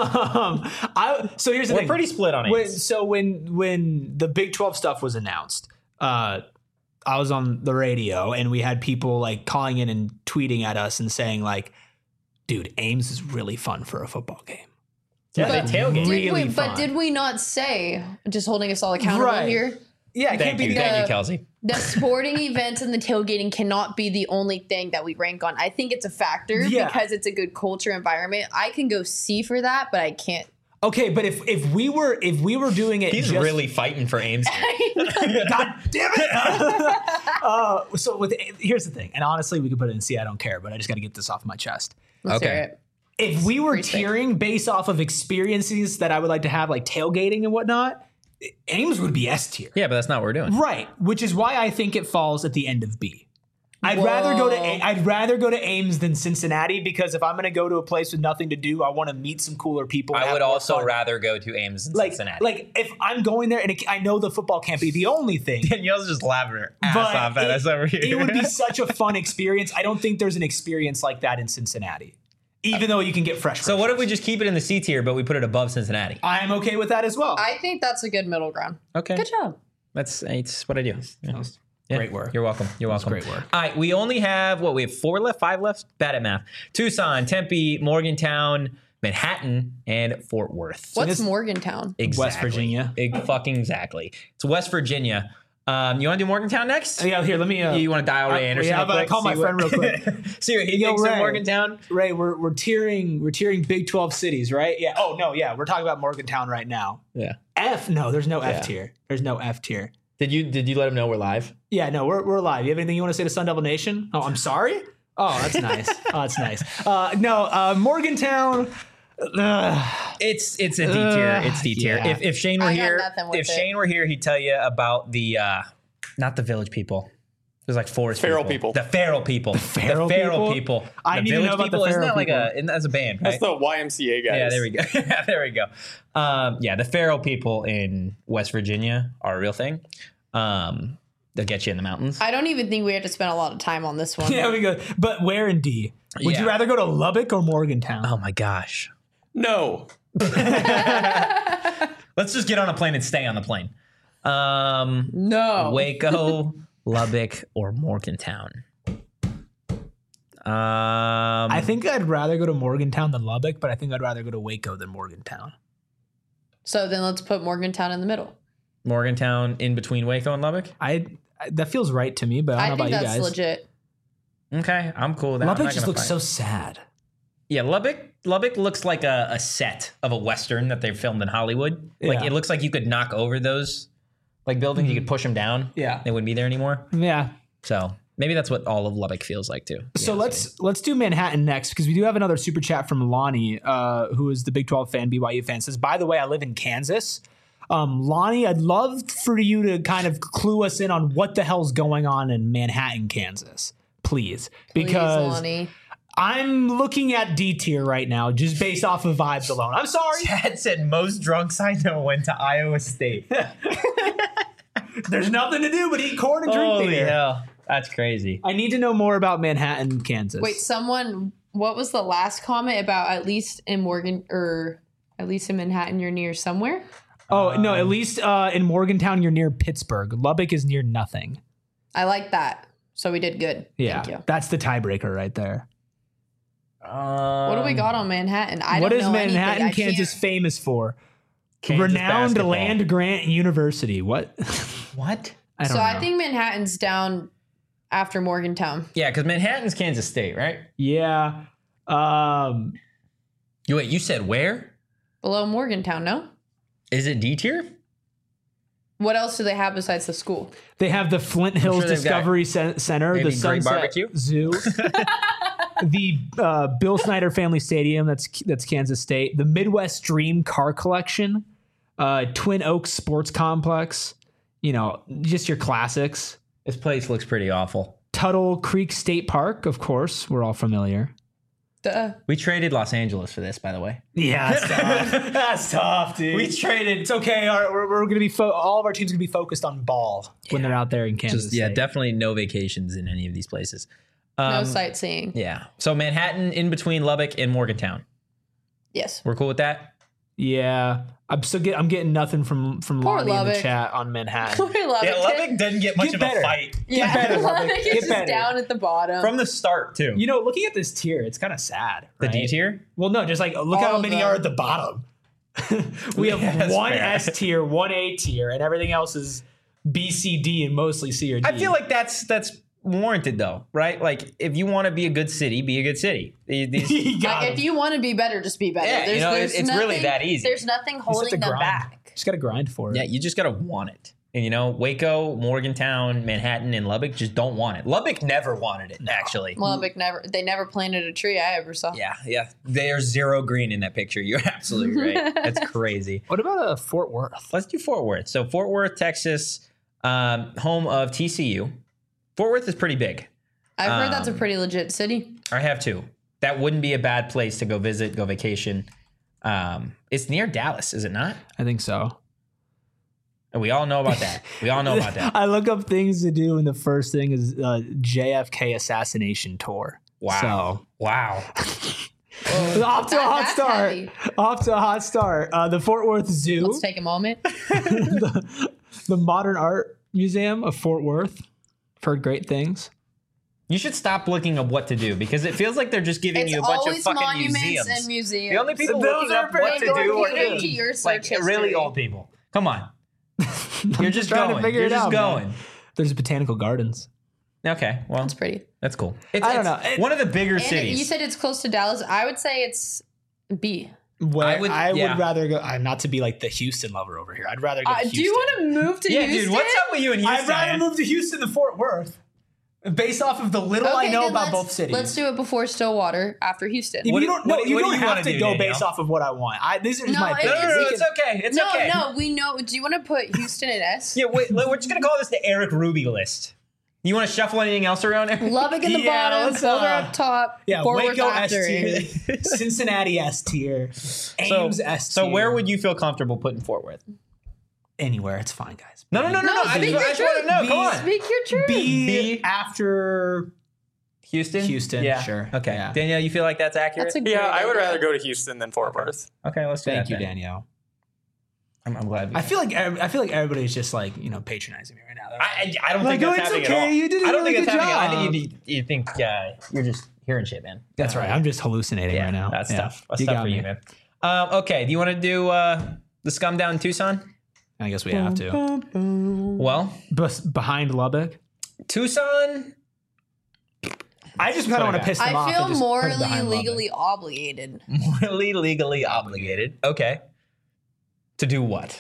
Speaker 2: um, I, so here's the
Speaker 1: We're
Speaker 2: thing.
Speaker 1: pretty split on
Speaker 2: When,
Speaker 1: Ames.
Speaker 2: so when when the Big twelve stuff was announced, uh, I was on the radio and we had people like calling in and tweeting at us and saying like, "Dude, Ames is really fun for a football game."
Speaker 1: Yeah,
Speaker 3: But
Speaker 1: they tailgate.
Speaker 3: Did
Speaker 2: Really
Speaker 3: we,
Speaker 2: fun.
Speaker 3: but did we not say, just holding us all accountable
Speaker 2: Right.
Speaker 3: here?
Speaker 2: Yeah, it
Speaker 1: Thank
Speaker 2: can't be
Speaker 1: you.
Speaker 2: the
Speaker 1: Thank you,
Speaker 3: the-
Speaker 1: Kelsey.
Speaker 3: The sporting events and the tailgating cannot be the only thing that we rank on. I think it's a factor
Speaker 2: Yeah.
Speaker 3: because it's a good culture environment. I can go C for that, but I can't.
Speaker 2: Okay, but if if we were if we were doing it,
Speaker 1: He's
Speaker 2: just,
Speaker 1: really fighting for Ames here.
Speaker 2: God damn it! uh, so with here's the thing, and honestly, we could put it in C. I don't care, but I just got to get this off my chest.
Speaker 3: Let's
Speaker 1: Okay.
Speaker 3: hear it.
Speaker 2: If we were
Speaker 3: Free space.
Speaker 2: tiering based off of experiences that I would like to have, like tailgating and whatnot, Ames would be S tier.
Speaker 1: Yeah, but that's not what we're doing.
Speaker 2: Right, which is why I think it falls at the end of B. I'd rather go to A-
Speaker 3: Whoa.
Speaker 2: I'd rather go to Ames than Cincinnati because if I'm going to go to a place with nothing to do, I want to meet some cooler people. and
Speaker 1: I
Speaker 2: have
Speaker 1: would
Speaker 2: more
Speaker 1: also
Speaker 2: fun.
Speaker 1: rather go to Ames than
Speaker 2: like
Speaker 1: Cincinnati.
Speaker 2: like if I'm going there and it, I know the football can't be the only thing.
Speaker 1: Danielle's just laughing her ass
Speaker 2: But
Speaker 1: off at
Speaker 2: it,
Speaker 1: us over here.
Speaker 2: it would be such a fun experience. I don't think there's an experience like that in Cincinnati, even though you can get fresh.
Speaker 1: So what if we
Speaker 2: groceries.
Speaker 1: just keep it in the C tier, but we put it above Cincinnati?
Speaker 2: I'm okay with that as well.
Speaker 3: I think that's a good middle ground.
Speaker 1: Okay,
Speaker 3: Good job.
Speaker 1: that's it's what I do. Yeah. Yeah.
Speaker 2: Great work.
Speaker 1: You're welcome. You're welcome.
Speaker 2: great work.
Speaker 1: All right, we only have what we have four left, five left. Bad at math. Tucson, Tempe, Morgantown, Manhattan, and Fort Worth.
Speaker 3: What's
Speaker 2: this-
Speaker 3: Morgantown?
Speaker 1: Exactly.
Speaker 2: West Virginia.
Speaker 1: Big fucking exactly. It's West Virginia. Um, you want to do Morgantown next?
Speaker 2: yeah, here, let me. Uh,
Speaker 1: You want to dial Ray
Speaker 2: uh,
Speaker 1: Anderson?
Speaker 2: yeah,
Speaker 1: real
Speaker 2: but I
Speaker 1: quick?
Speaker 2: call my
Speaker 1: See what-
Speaker 2: friend real quick.
Speaker 1: See what he
Speaker 2: Yo,
Speaker 1: thinks of
Speaker 2: Ray.
Speaker 1: Morgantown.
Speaker 2: Ray, we're we're tiering we're tiering Big twelve cities, right? Yeah. Oh no, yeah, we're talking about Morgantown right now.
Speaker 1: Yeah.
Speaker 2: F? No, there's no
Speaker 1: Yeah.
Speaker 2: F tier. There's no F tier.
Speaker 1: Did you did you let him know we're live?
Speaker 2: Yeah, no, we're we're live. You have anything you want to say to Sun Devil Nation? Oh, I'm sorry. Oh, that's nice. Oh, that's nice. Uh, no, uh, Morgantown. Uh,
Speaker 1: It's it's a D tier.
Speaker 2: Uh,
Speaker 1: It's D tier.
Speaker 2: yeah.
Speaker 1: If if Shane were
Speaker 3: I got
Speaker 1: here,
Speaker 3: nothing with
Speaker 1: if
Speaker 3: it.
Speaker 1: Shane were here, he'd tell you about the uh, not the village people. There's like forest
Speaker 4: Feral people.
Speaker 1: The feral people. The
Speaker 2: feral
Speaker 1: feral
Speaker 2: people?
Speaker 1: people.
Speaker 2: I
Speaker 1: the
Speaker 2: need to know
Speaker 1: village
Speaker 2: about the
Speaker 1: people. Isn't
Speaker 2: feral
Speaker 1: that like
Speaker 2: people.
Speaker 1: a? Isn't that as a band, right?
Speaker 4: That's the Y M C A guys.
Speaker 1: Yeah, there we go. there we go. Um, yeah, the feral people in West Virginia are a real thing. Um, they'll get you in the mountains.
Speaker 3: I don't even think we have to spend a lot of time on this one.
Speaker 2: yeah, we go. But where in D? Would
Speaker 1: Yeah.
Speaker 2: you rather go to Lubbock or Morgantown?
Speaker 1: Oh my gosh.
Speaker 4: No.
Speaker 1: Let's just get on a plane and stay on the plane. Um,
Speaker 3: No.
Speaker 1: Waco, Lubbock, or Morgantown. Um,
Speaker 2: I think I'd rather go to Morgantown than Lubbock, but I think I'd rather go to Waco than Morgantown.
Speaker 3: So then let's put Morgantown in the middle.
Speaker 1: Morgantown in between Waco and Lubbock.
Speaker 2: I, I that feels right to me, but I
Speaker 3: I
Speaker 2: don't know
Speaker 3: think
Speaker 2: about you
Speaker 3: that's
Speaker 2: guys.
Speaker 3: legit.
Speaker 1: Okay, I'm cool with that. I'm
Speaker 2: Lubbock
Speaker 1: not
Speaker 2: just
Speaker 1: gonna
Speaker 2: looks
Speaker 1: fight.
Speaker 2: so sad.
Speaker 1: Yeah, Lubbock. Lubbock looks like a, a set of a western that they filmed in Hollywood. Like
Speaker 2: Yeah.
Speaker 1: it looks like you could knock over those like buildings. You could push them down.
Speaker 2: Yeah.
Speaker 1: They wouldn't be there anymore.
Speaker 2: Yeah.
Speaker 1: So maybe that's what all of Lubbock feels like too.
Speaker 2: So
Speaker 1: Yeah,
Speaker 2: let's let's do Manhattan next because we do have another super chat from Lonnie, uh, who is the Big twelve fan, B Y U fan. Says, by the way, I live in Kansas. Um, Lonnie, I'd love for you to kind of clue us in on what the hell's going on in Manhattan, Kansas, please,
Speaker 3: Please,
Speaker 2: because
Speaker 3: Lonnie.
Speaker 2: I'm looking at D tier right now just based off of vibes alone. I'm sorry.
Speaker 1: Chad said most drunks I know went to Iowa State.
Speaker 2: There's nothing to do but eat corn and drink
Speaker 1: Holy
Speaker 2: beer.
Speaker 1: hell, that's crazy.
Speaker 2: I need to know more about Manhattan, Kansas.
Speaker 3: Wait, someone, what was the last comment about at least in Morgan or at least in Manhattan, you're near somewhere?
Speaker 2: Oh, no,
Speaker 1: Um,
Speaker 2: at least uh, in Morgantown, you're near Pittsburgh. Lubbock is near nothing.
Speaker 3: I like that. So we did good.
Speaker 2: Yeah,
Speaker 3: Thank you.
Speaker 2: that's the tiebreaker right there.
Speaker 1: Um,
Speaker 3: What do we got on Manhattan? I
Speaker 2: What
Speaker 3: don't
Speaker 2: is
Speaker 3: know anything.
Speaker 2: Manhattan,
Speaker 3: I
Speaker 2: Kansas
Speaker 3: can't-
Speaker 2: famous for?
Speaker 1: Kansas
Speaker 2: Renowned
Speaker 1: basketball.
Speaker 2: land grant university. What?
Speaker 1: What?
Speaker 2: I don't
Speaker 3: So
Speaker 2: know.
Speaker 3: I think Manhattan's down after Morgantown.
Speaker 1: Yeah, because Manhattan's Kansas State, right?
Speaker 2: yeah. Um,
Speaker 1: You wait. You said where?
Speaker 3: Below Morgantown, no?
Speaker 1: Is it D tier?
Speaker 3: What else do they have besides the school?
Speaker 2: they have the Flint Hills
Speaker 1: sure they've got
Speaker 2: Discovery Cen- Center,
Speaker 1: maybe
Speaker 2: the
Speaker 1: Great
Speaker 2: Sunset
Speaker 1: Barbecue.
Speaker 2: Zoo, the uh, Bill Snyder Family Stadium. That's that's Kansas State. The Midwest Dream Car Collection, uh, Twin Oaks Sports Complex. You know, just your classics.
Speaker 1: This place looks pretty awful.
Speaker 2: Tuttle Creek State Park, of course, we're all familiar.
Speaker 3: Duh.
Speaker 1: We traded Los Angeles for this, by the way.
Speaker 2: Yeah, that's tough. That's tough, dude.
Speaker 1: We traded.
Speaker 2: It's okay. Our, we're we're going to be fo- all of our teams going to be focused on ball when they're out there in Kansas.
Speaker 1: Just, yeah,
Speaker 2: State.
Speaker 1: definitely no vacations in any of these places. Um,
Speaker 3: No sightseeing.
Speaker 1: Yeah. So Manhattan in between Lubbock and Morgantown.
Speaker 3: Yes.
Speaker 1: We're cool with that?
Speaker 2: Yeah, I'm still get, I'm getting nothing from from
Speaker 3: Poor
Speaker 2: Lonnie in the
Speaker 3: Lubbock.
Speaker 2: chat on Manhattan.
Speaker 3: Poor Lubbock.
Speaker 1: doesn't get
Speaker 2: much Get of a better. fight.
Speaker 3: Yeah.
Speaker 2: better, Lubbock.
Speaker 3: Lubbock
Speaker 2: Get
Speaker 3: is just
Speaker 2: better.
Speaker 3: down at the bottom.
Speaker 1: From the start, too.
Speaker 2: You know, looking at this tier, it's kind of sad.
Speaker 1: The
Speaker 2: right?
Speaker 1: D tier?
Speaker 2: Well, no, just like look
Speaker 3: All
Speaker 2: how
Speaker 3: of
Speaker 2: many
Speaker 3: them.
Speaker 2: are at the bottom. we have
Speaker 1: Yeah, that's
Speaker 2: one
Speaker 1: fair.
Speaker 2: S tier, one A tier, and everything else is B, C, D, and mostly C or D.
Speaker 1: I feel like that's that's warranted, though, right? Like, if you want to be a good city, be a good city. These- these-
Speaker 2: You got
Speaker 3: Like,
Speaker 2: him.
Speaker 3: if you want to be better, just be better.
Speaker 1: Yeah, you
Speaker 3: there's,
Speaker 1: know,
Speaker 3: there's
Speaker 1: it's- it's really
Speaker 3: nothing-
Speaker 1: that easy.
Speaker 3: There's nothing
Speaker 2: You just have
Speaker 3: holding
Speaker 2: to
Speaker 3: them
Speaker 2: grind.
Speaker 3: back.
Speaker 2: Just got to grind for it.
Speaker 1: yeah, you just got to want it. And, you know, Waco, Morgantown, Manhattan, and Lubbock just don't want it. Lubbock never wanted it, actually.
Speaker 3: Lubbock never. They never planted a tree I ever saw.
Speaker 1: Yeah, yeah. There's zero green in that picture. You're absolutely right. That's crazy.
Speaker 2: What about uh, Fort Worth?
Speaker 1: Let's do Fort Worth. So Fort Worth, Texas, um, home of T C U. Fort Worth is pretty big.
Speaker 3: I've heard that's a
Speaker 1: Um,
Speaker 3: pretty legit city.
Speaker 1: I have two. That wouldn't be a bad place to go visit, go vacation. Um, it's near Dallas, is it not?
Speaker 2: I think so.
Speaker 1: And we all know about that. We all know about that.
Speaker 2: I look up things to do, and the first thing is uh, J F K assassination tour.
Speaker 1: Wow. Wow.
Speaker 2: So off to a
Speaker 3: That-
Speaker 2: hot
Speaker 3: that's
Speaker 2: start.
Speaker 3: heavy.
Speaker 2: Off to a hot start. Uh, the Fort Worth Zoo,
Speaker 3: Let's take a moment.
Speaker 2: the, the Modern Art Museum of Fort Worth. I've heard great things.
Speaker 1: You should stop looking up what to do because it feels like they're just giving
Speaker 3: It's
Speaker 1: you a bunch of
Speaker 3: always
Speaker 1: fucking
Speaker 3: monuments
Speaker 1: museums.
Speaker 3: and museums.
Speaker 1: The only people
Speaker 2: Those
Speaker 1: looking
Speaker 2: are
Speaker 1: up what to
Speaker 2: very
Speaker 1: do are
Speaker 3: important to
Speaker 1: me.
Speaker 3: your
Speaker 1: like
Speaker 3: search
Speaker 1: really
Speaker 3: history.
Speaker 1: old people. Come on. You're just
Speaker 2: trying to
Speaker 1: going.
Speaker 2: figure
Speaker 1: You're
Speaker 2: it
Speaker 1: just
Speaker 2: out, man.
Speaker 1: going.
Speaker 2: There's botanical gardens.
Speaker 1: Okay, well,
Speaker 3: It's pretty.
Speaker 1: that's cool. It's,
Speaker 2: I don't
Speaker 1: it's
Speaker 2: know. It-
Speaker 1: one of the bigger
Speaker 3: And
Speaker 1: cities.
Speaker 3: you said it's close to Dallas. I would say it's B.
Speaker 2: Where
Speaker 1: I
Speaker 2: I
Speaker 1: would-
Speaker 2: would,
Speaker 1: yeah.
Speaker 2: rather go. I'm not to be like the Houston lover over here. I'd rather go.
Speaker 3: Uh,
Speaker 2: to Houston.
Speaker 3: do you want to move to
Speaker 1: Yeah,
Speaker 3: Houston?
Speaker 1: dude, what's up with you and Houston?
Speaker 2: I'd rather move to Houston than Fort Worth, based off of the little I
Speaker 3: Okay,
Speaker 2: know
Speaker 3: then
Speaker 2: about
Speaker 3: let's-
Speaker 2: both cities.
Speaker 3: Let's do it before Stillwater, after Houston.
Speaker 2: If
Speaker 1: What
Speaker 2: you
Speaker 1: do-
Speaker 2: don't, no,
Speaker 1: what do-
Speaker 2: you
Speaker 1: what do
Speaker 2: don't
Speaker 1: you
Speaker 2: have
Speaker 1: wanna
Speaker 2: to
Speaker 1: do,
Speaker 2: go
Speaker 1: Danielle?
Speaker 2: based off of what I want. I, these are just
Speaker 3: No,
Speaker 2: my
Speaker 3: it-
Speaker 2: opinions.
Speaker 1: No, no, no,
Speaker 2: We
Speaker 1: it's
Speaker 2: can-
Speaker 1: okay. It's
Speaker 3: no,
Speaker 1: okay.
Speaker 3: no, we know. Do you want to put Houston in S?
Speaker 1: Yeah, wait, we're just gonna call this the Eric Ruby list. You want to shuffle anything else around there?
Speaker 3: Lubbock in the
Speaker 2: Yeah,
Speaker 3: bottom,
Speaker 2: let's,
Speaker 3: Boulder
Speaker 2: uh,
Speaker 3: up top,
Speaker 2: Yeah,
Speaker 3: Fort Worth
Speaker 2: Waco S
Speaker 3: after.
Speaker 2: tier, Cincinnati S tier, Ames S tier.
Speaker 1: So where would you feel comfortable putting Fort Worth?
Speaker 2: Anywhere, it's fine, guys.
Speaker 1: No, no, no, no,
Speaker 3: No,
Speaker 1: no. I
Speaker 3: speak
Speaker 1: just, I
Speaker 3: your
Speaker 1: just want to know.
Speaker 3: truth.
Speaker 1: Come on.
Speaker 3: Speak your truth.
Speaker 2: B,
Speaker 1: B.
Speaker 2: after
Speaker 1: Houston?
Speaker 2: Houston,
Speaker 1: Yeah.
Speaker 2: sure.
Speaker 1: Okay.
Speaker 2: Yeah.
Speaker 1: Danielle, you feel like that's accurate?
Speaker 3: That's a great
Speaker 4: Yeah, I would
Speaker 3: idea.
Speaker 4: rather go to Houston than Fort Worth.
Speaker 1: okay, let's do
Speaker 2: Thank
Speaker 1: that
Speaker 2: you,
Speaker 1: then.
Speaker 2: Danielle.
Speaker 1: I'm, I'm glad. We
Speaker 2: I feel like ev- I feel like everybody's just like you know patronizing me right now.
Speaker 1: I, I, I don't
Speaker 2: Like,
Speaker 1: think
Speaker 2: oh,
Speaker 1: that's
Speaker 2: it's
Speaker 1: happening
Speaker 2: okay,
Speaker 1: at all.
Speaker 2: you did a
Speaker 1: I don't
Speaker 2: really
Speaker 1: think
Speaker 2: good
Speaker 1: that's happening. I
Speaker 2: job.
Speaker 1: think you, you think uh, you're just hearing shit, man.
Speaker 2: That's right. I'm just hallucinating
Speaker 1: Yeah,
Speaker 2: right now.
Speaker 1: that's
Speaker 2: Yeah.
Speaker 1: tough. That's
Speaker 2: You
Speaker 1: tough
Speaker 2: got
Speaker 1: for
Speaker 2: me.
Speaker 1: you, man. Um, okay, do you want to do uh, the scum down in Tucson?
Speaker 2: I guess we have to.
Speaker 1: Well,
Speaker 2: Bes- behind Lubbock.
Speaker 1: Tucson.
Speaker 2: I just kind
Speaker 1: what I
Speaker 2: of want to
Speaker 1: got.
Speaker 2: piss them off.
Speaker 3: I
Speaker 2: and
Speaker 3: feel
Speaker 2: just put it
Speaker 3: morally,
Speaker 2: behind Lubbock.
Speaker 3: legally obligated.
Speaker 1: Morally, legally obligated. Okay. To do what?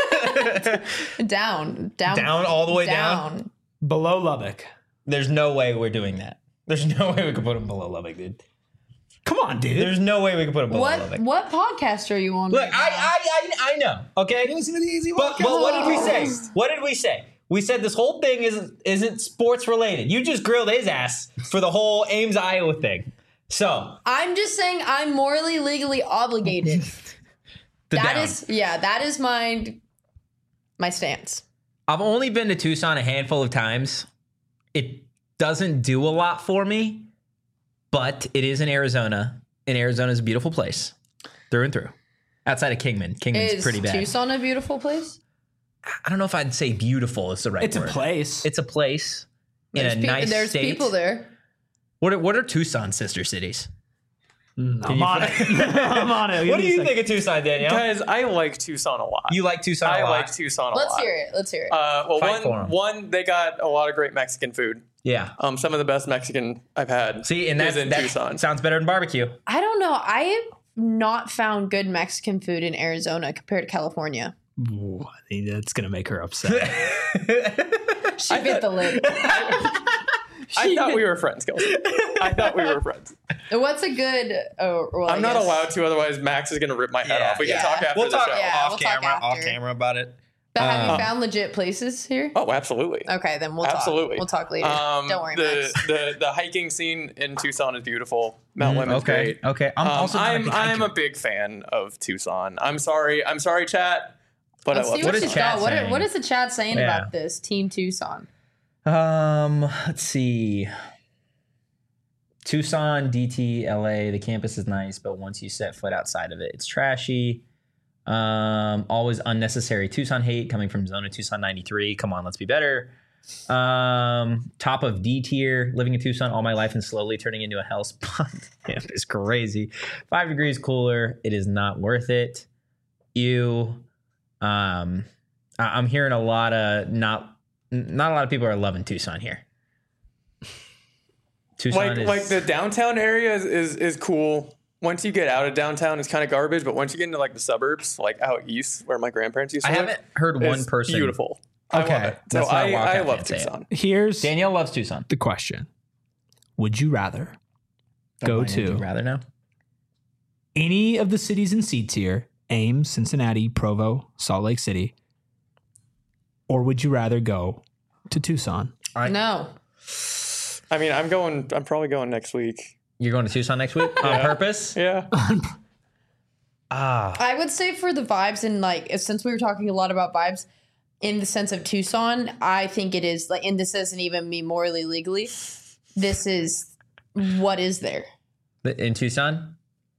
Speaker 3: Down, down,
Speaker 1: Down all the way down?
Speaker 3: down.
Speaker 2: below Lubbock.
Speaker 1: There's no way we're doing that. There's no way we could put him below Lubbock, dude.
Speaker 2: Come on, dude.
Speaker 1: There's no way we could put him below
Speaker 3: What
Speaker 1: Lubbock.
Speaker 3: what podcast are you on?
Speaker 1: Look,
Speaker 3: right
Speaker 1: I,
Speaker 3: now?
Speaker 1: I, I, I know. Okay.
Speaker 2: Listen to the easy
Speaker 1: But, but what did we say? What did we say? We said this whole thing isn't isn't sports related. You just grilled his ass for the whole Ames, Iowa thing. So
Speaker 3: I'm just saying I'm morally, legally obligated.
Speaker 1: the
Speaker 3: That
Speaker 1: down.
Speaker 3: is, yeah, that is my my stance.
Speaker 1: I've only been to Tucson a handful of times. It doesn't do a lot for me, but it is in Arizona, and Arizona's a beautiful place through and through. Outside of Kingman, Kingman's
Speaker 3: Is
Speaker 1: pretty bad.
Speaker 3: Tucson a beautiful place?
Speaker 1: I don't know if I'd say beautiful is the right
Speaker 2: It's
Speaker 1: word.
Speaker 2: a place.
Speaker 1: It's a place in
Speaker 3: There's
Speaker 1: a
Speaker 3: peop-
Speaker 1: nice
Speaker 3: There's
Speaker 1: state.
Speaker 3: people there.
Speaker 1: What are, what are Tucson's sister cities?
Speaker 2: Mm, I'm
Speaker 1: you-
Speaker 2: on it. I'm on it. Give
Speaker 1: What do
Speaker 2: me a
Speaker 1: you
Speaker 2: second.
Speaker 1: think of Tucson, Danielle?
Speaker 4: Guys, I like Tucson a lot.
Speaker 1: You like Tucson a
Speaker 4: I
Speaker 1: lot?
Speaker 4: like Tucson a
Speaker 3: Let's
Speaker 4: lot.
Speaker 3: hear it. Let's hear it.
Speaker 4: Uh, well,
Speaker 1: Fight for
Speaker 4: one,
Speaker 1: 'em.
Speaker 4: one, they got a lot of great Mexican food.
Speaker 1: Yeah.
Speaker 4: Um, some of the best Mexican I've had.
Speaker 1: See, and
Speaker 4: is
Speaker 1: that's,
Speaker 4: in
Speaker 1: that
Speaker 4: Tucson.
Speaker 1: sounds better than barbecue.
Speaker 3: I don't know. I have not found good Mexican food in Arizona compared to California.
Speaker 2: Ooh, I think that's gonna make her upset.
Speaker 3: She bit the lid.
Speaker 4: I thought we were friends, Kelsey. I thought we were friends.
Speaker 3: What's a good? Oh, well, I
Speaker 4: I'm not
Speaker 3: guess-
Speaker 4: allowed to, otherwise Max is going to rip my head
Speaker 1: Yeah.
Speaker 4: off. We
Speaker 3: Yeah.
Speaker 4: can talk after
Speaker 1: We'll
Speaker 4: the
Speaker 1: talk
Speaker 4: show.
Speaker 3: Yeah,
Speaker 1: off
Speaker 3: we'll talk
Speaker 1: camera, off
Speaker 3: after.
Speaker 1: camera about it.
Speaker 3: But have
Speaker 1: Uh,
Speaker 3: you found legit places here?
Speaker 4: Oh, absolutely.
Speaker 3: Okay, then we'll
Speaker 4: Absolutely.
Speaker 3: talk. We'll talk later.
Speaker 4: Um,
Speaker 3: Don't worry,
Speaker 4: the,
Speaker 3: Max.
Speaker 4: the the hiking scene in Tucson is beautiful. Mount
Speaker 1: Mm,
Speaker 4: Lemon's
Speaker 1: okay.
Speaker 4: great.
Speaker 1: Okay. I'm
Speaker 4: Um,
Speaker 1: also not a
Speaker 4: I'm
Speaker 1: big
Speaker 4: I'm
Speaker 1: hiker.
Speaker 4: a big fan of Tucson. I'm sorry. I'm sorry, chat. But
Speaker 3: Let's
Speaker 4: I love
Speaker 3: see
Speaker 1: What
Speaker 3: what
Speaker 1: is
Speaker 3: she's
Speaker 1: chat
Speaker 3: got. What,
Speaker 1: saying?
Speaker 3: what is the chat saying
Speaker 1: Yeah.
Speaker 3: about this Team Tucson?
Speaker 1: Um, let's see. Tucson, D T, L A. The campus is nice, but once you set foot outside of it, it's trashy. Um, always unnecessary Tucson hate coming from Zona Tucson ninety-three. Come on, let's be better. Um, top of D tier, living in Tucson all my life and slowly turning into a hell spot. Damn, it's crazy. Five degrees cooler. It is not worth it. Ew. Um, I- I'm hearing a lot of not not a lot of people are loving Tucson here. Tucson
Speaker 4: like
Speaker 1: is
Speaker 4: like the downtown area is, is is cool. Once you get out of downtown, it's kind of garbage. But once you get into like the suburbs, like out east, where my grandparents used to
Speaker 1: I
Speaker 4: live,
Speaker 1: haven't heard one
Speaker 4: it's
Speaker 1: person.
Speaker 4: beautiful. I
Speaker 2: Okay,
Speaker 4: love it. So
Speaker 1: that's not
Speaker 4: I,
Speaker 1: Wildcat
Speaker 4: I love
Speaker 1: fans saying.
Speaker 4: Tucson.
Speaker 2: Here's
Speaker 1: Danielle loves Tucson.
Speaker 2: the question: would you rather go
Speaker 1: Would you
Speaker 2: to
Speaker 1: rather know?
Speaker 2: any of the cities in C tier, Ames, Cincinnati, Provo, Salt Lake City, or would you rather go to Tucson?
Speaker 1: I-
Speaker 3: No.
Speaker 4: I mean, I'm going. I'm probably going next week.
Speaker 1: You're going to Tucson next week on
Speaker 4: Yeah.
Speaker 1: purpose?
Speaker 4: Yeah.
Speaker 1: Ah,
Speaker 3: I would say for the vibes and like since we were talking a lot about vibes in the sense of Tucson, I think it is like, and this isn't even me morally legally. This is what is there.
Speaker 1: in Tucson.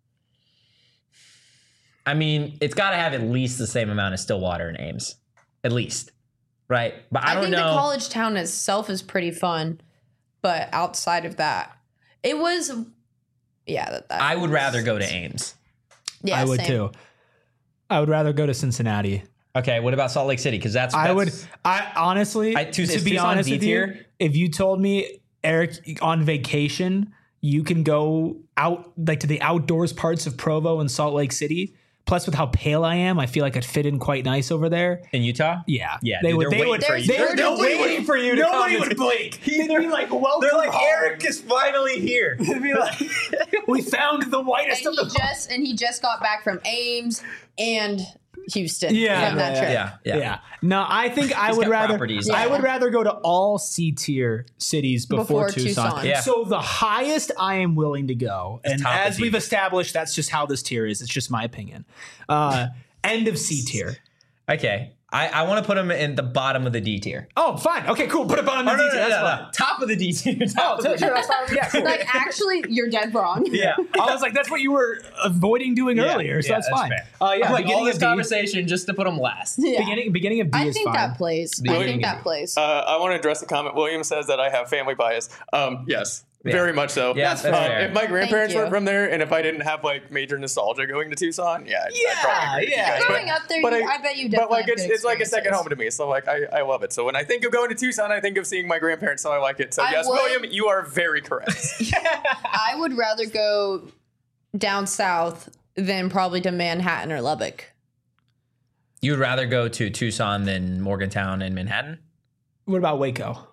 Speaker 1: I mean, it's got to have at least the same amount of Stillwater and Ames, at least, right? But I,
Speaker 3: I,
Speaker 1: don't
Speaker 3: think
Speaker 1: know.
Speaker 3: the college town itself is pretty fun, but outside of that, it was. Yeah, that, that
Speaker 1: I would
Speaker 3: was-
Speaker 1: rather go to Ames.
Speaker 3: Yeah,
Speaker 2: I would
Speaker 3: same.
Speaker 2: too. I would rather go to Cincinnati.
Speaker 1: Okay, what about Salt Lake City? Because that's,
Speaker 2: I
Speaker 1: that's
Speaker 2: would. I honestly,
Speaker 1: I- Tus-
Speaker 2: to
Speaker 1: is
Speaker 2: be
Speaker 1: Tucson
Speaker 2: honest
Speaker 1: D
Speaker 2: with you,
Speaker 1: tier?
Speaker 2: if you told me Eric on vacation, you can go out like to the outdoors parts of Provo and Salt Lake City. Plus, with how pale I am, I feel like I'd fit in quite nice over there.
Speaker 1: In Utah?
Speaker 2: Yeah,
Speaker 1: Yeah,
Speaker 2: They
Speaker 1: dude,
Speaker 2: would.
Speaker 1: they're
Speaker 2: They
Speaker 1: waiting
Speaker 2: would.
Speaker 1: for
Speaker 2: They
Speaker 1: you.
Speaker 2: would.
Speaker 3: They're
Speaker 2: Nobody
Speaker 3: waiting
Speaker 2: would.
Speaker 1: for you to
Speaker 2: Nobody
Speaker 1: come.
Speaker 2: would blink. They'd be like, "Welcome."
Speaker 1: They're like,
Speaker 2: home."
Speaker 1: Eric is finally here.
Speaker 2: They'd be like, "We found the whitest
Speaker 3: And
Speaker 2: of
Speaker 3: he
Speaker 2: the."
Speaker 3: just and he just got back from Ames and Houston
Speaker 2: Yeah,
Speaker 3: from that
Speaker 2: yeah,
Speaker 3: trip.
Speaker 1: Yeah, yeah.
Speaker 2: Yeah. No, I think I
Speaker 1: He's
Speaker 2: would
Speaker 1: got
Speaker 2: rather.
Speaker 1: properties.
Speaker 2: I
Speaker 3: Yeah.
Speaker 2: would rather go to all C tier cities before,
Speaker 3: Before
Speaker 2: Tucson.
Speaker 3: Tucson.
Speaker 1: Yeah.
Speaker 2: So the highest I am willing to go, and
Speaker 1: top of
Speaker 2: as
Speaker 1: D.
Speaker 2: we've established, that's just how this tier is. It's just my opinion. Uh, end of C tier.
Speaker 1: Okay. I, I want to put him in the bottom of the D tier.
Speaker 2: Oh, fine. Okay, cool. Put it on the
Speaker 1: Oh,
Speaker 2: D
Speaker 1: no,
Speaker 2: tier.
Speaker 1: no,
Speaker 2: That's
Speaker 1: no,
Speaker 2: fine.
Speaker 1: no. Top of the D tier.
Speaker 2: Oh,
Speaker 1: Top of the
Speaker 2: sure, that's fine. Yeah, cool.
Speaker 3: Like actually, you're dead wrong.
Speaker 1: Yeah.
Speaker 2: I was like, that's what you were avoiding doing
Speaker 1: Yeah,
Speaker 2: earlier, so
Speaker 1: yeah,
Speaker 2: that's, fine.
Speaker 1: fair.
Speaker 2: Uh, yeah,
Speaker 1: I'm like, all
Speaker 2: beginning
Speaker 1: this
Speaker 2: of D.
Speaker 1: conversation just to put him last.
Speaker 3: Yeah.
Speaker 2: Beginning, beginning of D
Speaker 3: I
Speaker 2: is
Speaker 3: think
Speaker 2: fine.
Speaker 3: that plays. I
Speaker 1: William
Speaker 3: think that
Speaker 1: Gibby.
Speaker 3: plays.
Speaker 4: Uh, I want to address the comment. William says that I have family bias. Um, yes,
Speaker 1: Yeah.
Speaker 4: very much so.
Speaker 1: Yeah, that's
Speaker 4: Uh,
Speaker 1: fair.
Speaker 4: if my grandparents
Speaker 3: you.
Speaker 4: were from there, and if I didn't have like major nostalgia going to Tucson, yeah, I'd,
Speaker 2: Yeah,
Speaker 4: I'd probably agree with
Speaker 2: yeah.
Speaker 4: you guys.
Speaker 3: Growing
Speaker 4: But-
Speaker 3: up there,
Speaker 4: but
Speaker 3: you, I, bet you definitely
Speaker 4: But like
Speaker 3: have
Speaker 4: it's
Speaker 3: good
Speaker 4: it's like a second
Speaker 3: experiences.
Speaker 4: home to me, so like I, I love it. So when I think of going to Tucson, I think of seeing my grandparents, so I like it. So
Speaker 3: I
Speaker 4: yes,
Speaker 3: would-
Speaker 4: William, you are very correct.
Speaker 3: I would rather go down south than probably to Manhattan or Lubbock.
Speaker 1: You'd rather go to Tucson than Morgantown and Manhattan?
Speaker 2: What about Waco?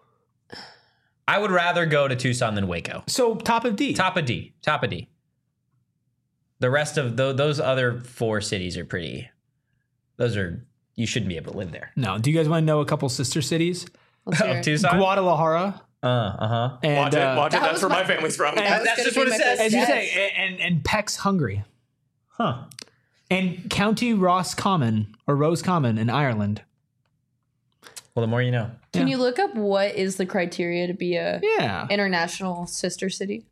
Speaker 1: I would rather go to Tucson than Waco.
Speaker 2: So top of D.
Speaker 1: Top of D. Top of D. The rest of tho- those other four cities are pretty. Those are, you shouldn't be able to live there.
Speaker 2: No. Do you guys want to know a couple sister cities?
Speaker 3: Let's hear
Speaker 1: Oh,
Speaker 3: it.
Speaker 1: Tucson?
Speaker 2: Guadalajara.
Speaker 1: Uh, uh-huh.
Speaker 2: And,
Speaker 4: watch it,
Speaker 2: uh,
Speaker 4: watch it.
Speaker 3: that
Speaker 4: That's
Speaker 3: was
Speaker 4: where my
Speaker 3: my-
Speaker 4: family's from.
Speaker 2: And-
Speaker 3: That was
Speaker 1: That's
Speaker 3: gonna
Speaker 1: just
Speaker 3: be
Speaker 1: what it
Speaker 3: my
Speaker 1: says.
Speaker 3: first
Speaker 2: As you
Speaker 3: guess.
Speaker 2: say, and, and Peck's Hungary.
Speaker 1: Huh.
Speaker 2: And County Ross Common or Rose Common in Ireland.
Speaker 1: Well, the more you know.
Speaker 3: Can
Speaker 2: Yeah.
Speaker 3: you look up what is the criteria to be a
Speaker 2: Yeah.
Speaker 3: international sister city?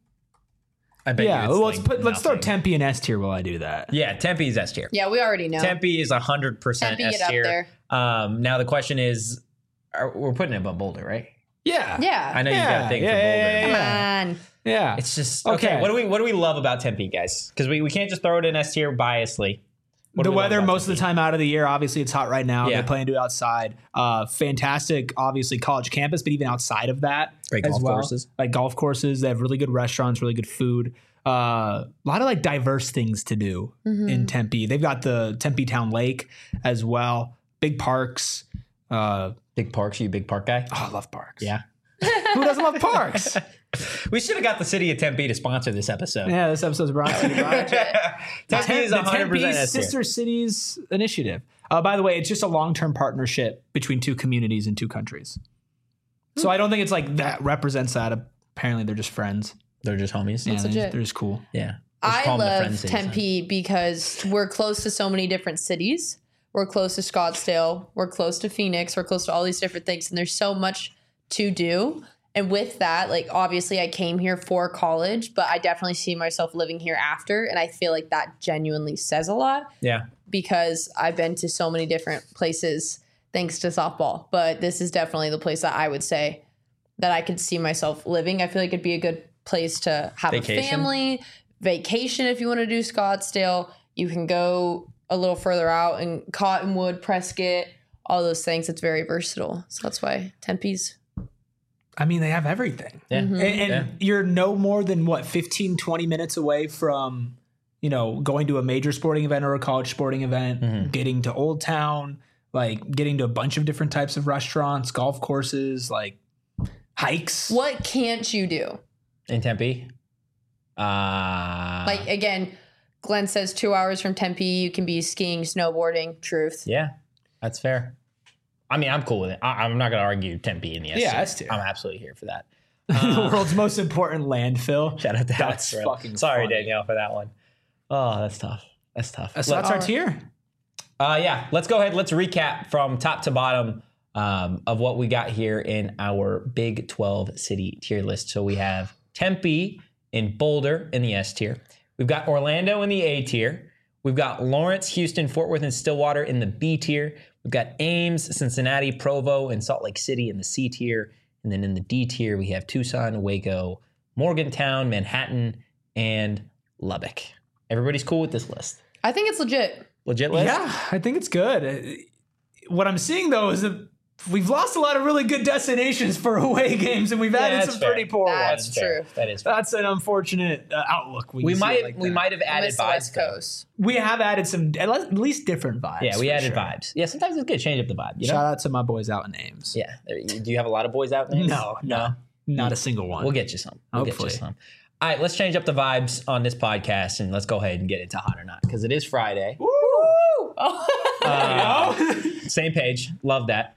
Speaker 1: I bet
Speaker 2: Yeah.
Speaker 1: you it's
Speaker 2: Well, let's
Speaker 1: like
Speaker 2: put let's throw
Speaker 1: nothing.
Speaker 2: Tempe in S tier while I do that.
Speaker 1: Yeah, Tempe is S tier.
Speaker 3: Yeah, we already know.
Speaker 1: Tempe is one hundred percent
Speaker 3: Tempe,
Speaker 1: S
Speaker 3: get up
Speaker 1: tier.
Speaker 3: there.
Speaker 1: Um, now the question is, are, we're putting it above Boulder, right?
Speaker 2: Yeah.
Speaker 3: Yeah.
Speaker 1: I know you got
Speaker 2: Yeah,
Speaker 1: a thing
Speaker 2: yeah,
Speaker 1: for Boulder.
Speaker 2: yeah,
Speaker 3: Come
Speaker 2: yeah.
Speaker 3: on.
Speaker 2: Yeah.
Speaker 1: It's just okay.
Speaker 2: Okay.
Speaker 1: What do we what do we love about Tempe, guys? Because we, we can't just throw it in S tier biasly. What do
Speaker 2: The
Speaker 1: we love
Speaker 2: weather
Speaker 1: about
Speaker 2: most of the
Speaker 1: Tempe?
Speaker 2: time out of the year, obviously it's hot right now.
Speaker 1: Yeah.
Speaker 2: They're planning to do it outside. Uh, fantastic, obviously college campus, but even outside of that,
Speaker 1: Great
Speaker 2: as
Speaker 1: golf
Speaker 2: well.
Speaker 1: courses.
Speaker 2: Like golf courses, they have really good restaurants, really good food. Uh, a lot of like diverse things to do in Tempe. They've got the Tempe Town Lake as well. Big parks. Uh,
Speaker 1: Big parks. You a big park guy?
Speaker 2: oh, I love parks.
Speaker 1: Yeah.
Speaker 2: Who doesn't love parks?
Speaker 1: We should have got the city of Tempe to sponsor this episode.
Speaker 2: Yeah, this episode's brought to you by
Speaker 1: Tempe is
Speaker 2: the
Speaker 1: one hundred percent
Speaker 2: Tempe
Speaker 1: S tier.
Speaker 2: Sister Cities Initiative. Uh, by the way, it's just a long-term partnership between two communities and two countries. So I don't think it's like that represents that. Apparently, they're just friends.
Speaker 1: They're just homies.
Speaker 2: Yeah,
Speaker 1: Yeah.
Speaker 2: they're,
Speaker 3: legit.
Speaker 2: just, they're just cool.
Speaker 1: Let's
Speaker 3: I
Speaker 1: call them the
Speaker 3: love
Speaker 1: friend cities, huh?
Speaker 3: Tempe because we're close to so many different cities. We're close to Scottsdale. We're close to Phoenix. We're close to all these different things. And there's so much to do. And with that, like, obviously, I came here for college, but I definitely see myself living here after. And I feel like that genuinely says a lot
Speaker 1: Yeah.
Speaker 3: because I've been to so many different places thanks to softball. But this is definitely the place that I would say that I could see myself living. I feel like it'd be a good place to have
Speaker 1: Vacation?
Speaker 3: a family, vacation if you want to do Scottsdale. You can go a little further out in Cottonwood, Prescott, all those things. It's very versatile. So that's why Tempe's.
Speaker 2: I mean, they have everything.
Speaker 1: Yeah.
Speaker 3: Mm-hmm.
Speaker 2: And, and
Speaker 1: Yeah.
Speaker 2: you're no more than, what, fifteen, twenty minutes away from, you know, going to a major sporting event or a college sporting event,
Speaker 1: Mm-hmm.
Speaker 2: getting to Old Town, like getting to a bunch of different types of restaurants, golf courses, like hikes.
Speaker 3: What can't you do?
Speaker 1: In Tempe. Uh,
Speaker 3: Like, again, Glenn says two hours from Tempe, you can be skiing, snowboarding. Truth.
Speaker 1: yeah, that's fair. I mean, I'm cool with it. I, I'm not going to argue Tempe in the S
Speaker 2: Yeah,
Speaker 1: tier.
Speaker 2: S tier.
Speaker 1: I'm absolutely here for that.
Speaker 2: the world's most important landfill.
Speaker 1: Shout out to
Speaker 2: That's
Speaker 1: Alex Ferrell.
Speaker 2: fucking
Speaker 1: Sorry,
Speaker 2: funny.
Speaker 1: Danielle, for that one. Oh, that's tough. That's tough.
Speaker 2: So that's our
Speaker 3: Alright.
Speaker 2: tier.
Speaker 1: Uh, yeah, let's go ahead. Let's recap from top to bottom um, of what we got here in our Big twelve city tier list. So we have Tempe in Boulder in the S tier. We've got Orlando in the A tier. We've got Lawrence, Houston, Fort Worth, and Stillwater in the B tier. We've got Ames, Cincinnati, Provo, and Salt Lake City in the C tier. And then in the D tier, we have Tucson, Waco, Morgantown, Manhattan, and Lubbock. Everybody's cool with this list.
Speaker 3: I think it's legit.
Speaker 1: Legit list?
Speaker 2: Yeah, I think it's good. Uh, What I'm seeing though is that we've lost a lot of really good destinations for away games, and we've
Speaker 1: Yeah,
Speaker 2: added
Speaker 1: that's
Speaker 2: some
Speaker 1: fair.
Speaker 2: pretty poor
Speaker 3: That's
Speaker 2: ones.
Speaker 3: true.
Speaker 1: That is fair.
Speaker 2: That's an unfortunate uh, outlook. when
Speaker 1: We
Speaker 2: you see
Speaker 1: might
Speaker 2: it like
Speaker 1: we
Speaker 2: that.
Speaker 1: might have
Speaker 3: I
Speaker 1: added
Speaker 3: miss the
Speaker 1: vibes.
Speaker 3: West
Speaker 1: though.
Speaker 3: Coast.
Speaker 2: We have added some, at least different vibes.
Speaker 1: Yeah, we
Speaker 2: for
Speaker 1: added
Speaker 2: sure.
Speaker 1: vibes. Yeah, sometimes it's good to change up the vibe. You know?
Speaker 2: Shout out to my boys out in Ames.
Speaker 1: Yeah. There- Do you have a lot of boys out there?
Speaker 2: No, no, not a single one.
Speaker 1: We'll get you some. We'll
Speaker 2: Hopefully.
Speaker 1: get you some. All right, let's change up the vibes on this podcast and let's go ahead and get into hot or not because it is Friday. Uh, same page. Love that.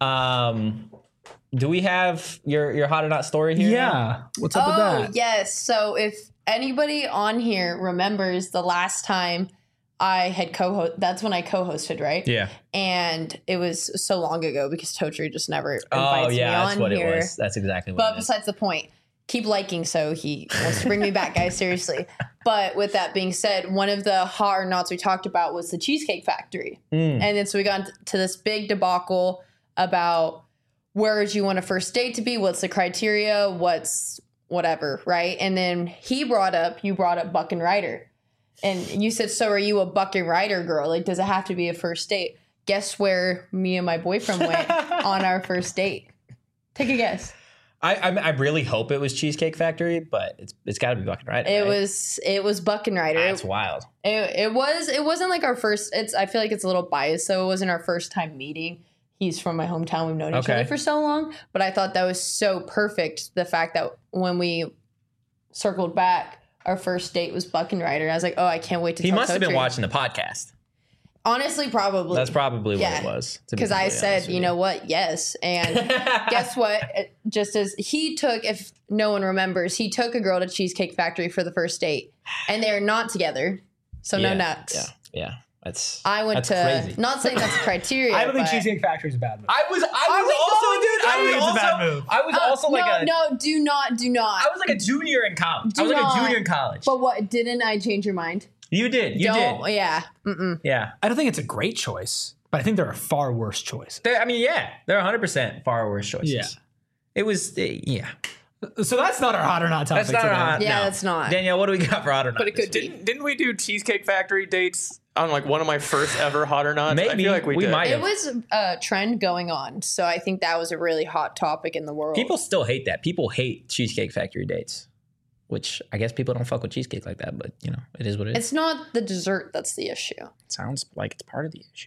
Speaker 1: Um, do we have your your hot or not story here?
Speaker 2: Yeah. What's up with
Speaker 3: Oh,
Speaker 2: that?
Speaker 3: yes. So if anybody on here remembers the last time I had co-host, that's when I co-hosted, right?
Speaker 1: Yeah.
Speaker 3: And it was so long ago because Totri just never invites
Speaker 1: Oh
Speaker 3: me
Speaker 1: yeah,
Speaker 3: on
Speaker 1: that's what
Speaker 3: here.
Speaker 1: it was. That's exactly what
Speaker 3: But
Speaker 1: it is.
Speaker 3: besides the point, keep liking so he wants to bring me back, guys. Seriously. But with that being said, one of the hot or nots we talked about was the Cheesecake Factory.
Speaker 1: Mm.
Speaker 3: And then so we got to this big debacle about where would you want a first date to be? What's the criteria? What's whatever, right? And then he brought up, you brought up Buck and Ryder. And you said, so are you a Buck and Ryder girl? Like, does it have to be a first date? Guess where me and my boyfriend went on our first date? Take a guess.
Speaker 1: I, I I really hope it was Cheesecake Factory, but it's it's got to be Buck and Ryder.
Speaker 3: It
Speaker 1: right?
Speaker 3: was it was Buck and Ryder.
Speaker 1: That's wild.
Speaker 3: It, it was it wasn't like our first. It's I feel like it's a little biased, so it wasn't our first time meeting. He's from my hometown. We've known each
Speaker 1: Okay.
Speaker 3: other for so long, but I thought that was so perfect. The fact that when we circled back, our first date was Buck and Ryder. I was like, oh, I can't wait to.
Speaker 1: He
Speaker 3: tell
Speaker 1: must have been
Speaker 3: Totri.
Speaker 1: watching the podcast.
Speaker 3: Honestly, probably.
Speaker 1: That's probably what
Speaker 3: Yeah.
Speaker 1: it was. to be
Speaker 3: Because I
Speaker 1: completely
Speaker 3: said,
Speaker 1: honest with
Speaker 3: you know what? Yes. And guess what? It- Just as he took, if no one remembers, he took a girl to Cheesecake Factory for the first date, and they're not together, so
Speaker 1: Yeah,
Speaker 3: no nuts.
Speaker 1: Yeah, yeah. That's.
Speaker 3: I went
Speaker 1: that's
Speaker 3: to
Speaker 1: crazy.
Speaker 3: not saying that's a criteria.
Speaker 2: I don't think
Speaker 3: but-
Speaker 2: Cheesecake Factory is a bad move.
Speaker 1: I was. I was
Speaker 3: Are we
Speaker 1: also,
Speaker 3: going
Speaker 1: dude.
Speaker 3: to
Speaker 1: I
Speaker 2: I
Speaker 1: was
Speaker 2: think it's a
Speaker 1: also.
Speaker 2: bad move.
Speaker 1: I was
Speaker 3: Uh,
Speaker 1: also like
Speaker 3: no,
Speaker 1: a.
Speaker 3: no, do not, do not.
Speaker 1: I was like a junior in college.
Speaker 3: Do
Speaker 1: I was like
Speaker 3: not.
Speaker 1: a junior in college.
Speaker 3: But what? Didn't I change your mind?
Speaker 1: You did. You
Speaker 3: Don't.
Speaker 1: did.
Speaker 3: Yeah. Mm-mm.
Speaker 1: Yeah.
Speaker 2: I don't think it's a great choice, but I think there are far worse choices.
Speaker 1: They're, I mean, yeah. They're one hundred percent far worse choices.
Speaker 2: Yeah.
Speaker 1: It was. Uh, yeah.
Speaker 2: So that's not our hot or not topic
Speaker 1: That's not
Speaker 2: today.
Speaker 1: our hot.
Speaker 3: Yeah,
Speaker 1: no.
Speaker 3: that's not.
Speaker 1: Danielle, what do we got for hot or not?
Speaker 3: But it
Speaker 1: this
Speaker 3: could
Speaker 1: week?
Speaker 3: be.
Speaker 4: Didn't, didn't we do Cheesecake Factory dates on like one of my first ever hot or nots? I
Speaker 1: Maybe.
Speaker 4: feel like we,
Speaker 1: We
Speaker 4: did.
Speaker 1: might
Speaker 3: It
Speaker 1: have.
Speaker 3: was a trend going on, so I think that was a really hot topic in the world.
Speaker 1: People still hate that. People hate Cheesecake Factory dates, which I guess people don't fuck with cheesecake like that, but you know, it is what it is.
Speaker 3: It's not the dessert that's the issue.
Speaker 1: It sounds like it's part of the issue.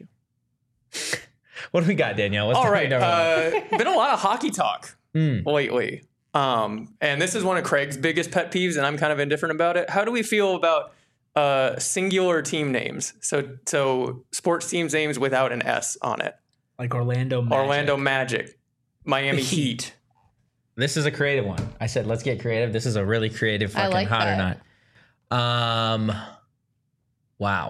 Speaker 1: What do we got, Danielle? What's
Speaker 4: All
Speaker 1: the
Speaker 4: right.
Speaker 1: number one?
Speaker 4: Uh, been a lot of hockey talk
Speaker 1: Mm.
Speaker 4: lately. Um, and this is one of Craig's biggest pet peeves, and I'm kind of indifferent about it. How do we feel about uh, singular team names? So, so sports teams names without an S on it.
Speaker 2: Like Orlando Magic.
Speaker 4: Orlando Magic, Miami
Speaker 2: The
Speaker 4: Heat.
Speaker 2: Heat.
Speaker 1: This is a creative one. I said, let's get creative. This is a really creative
Speaker 3: I
Speaker 1: fucking
Speaker 3: like
Speaker 1: hot or
Speaker 3: that.
Speaker 1: not. Um, wow.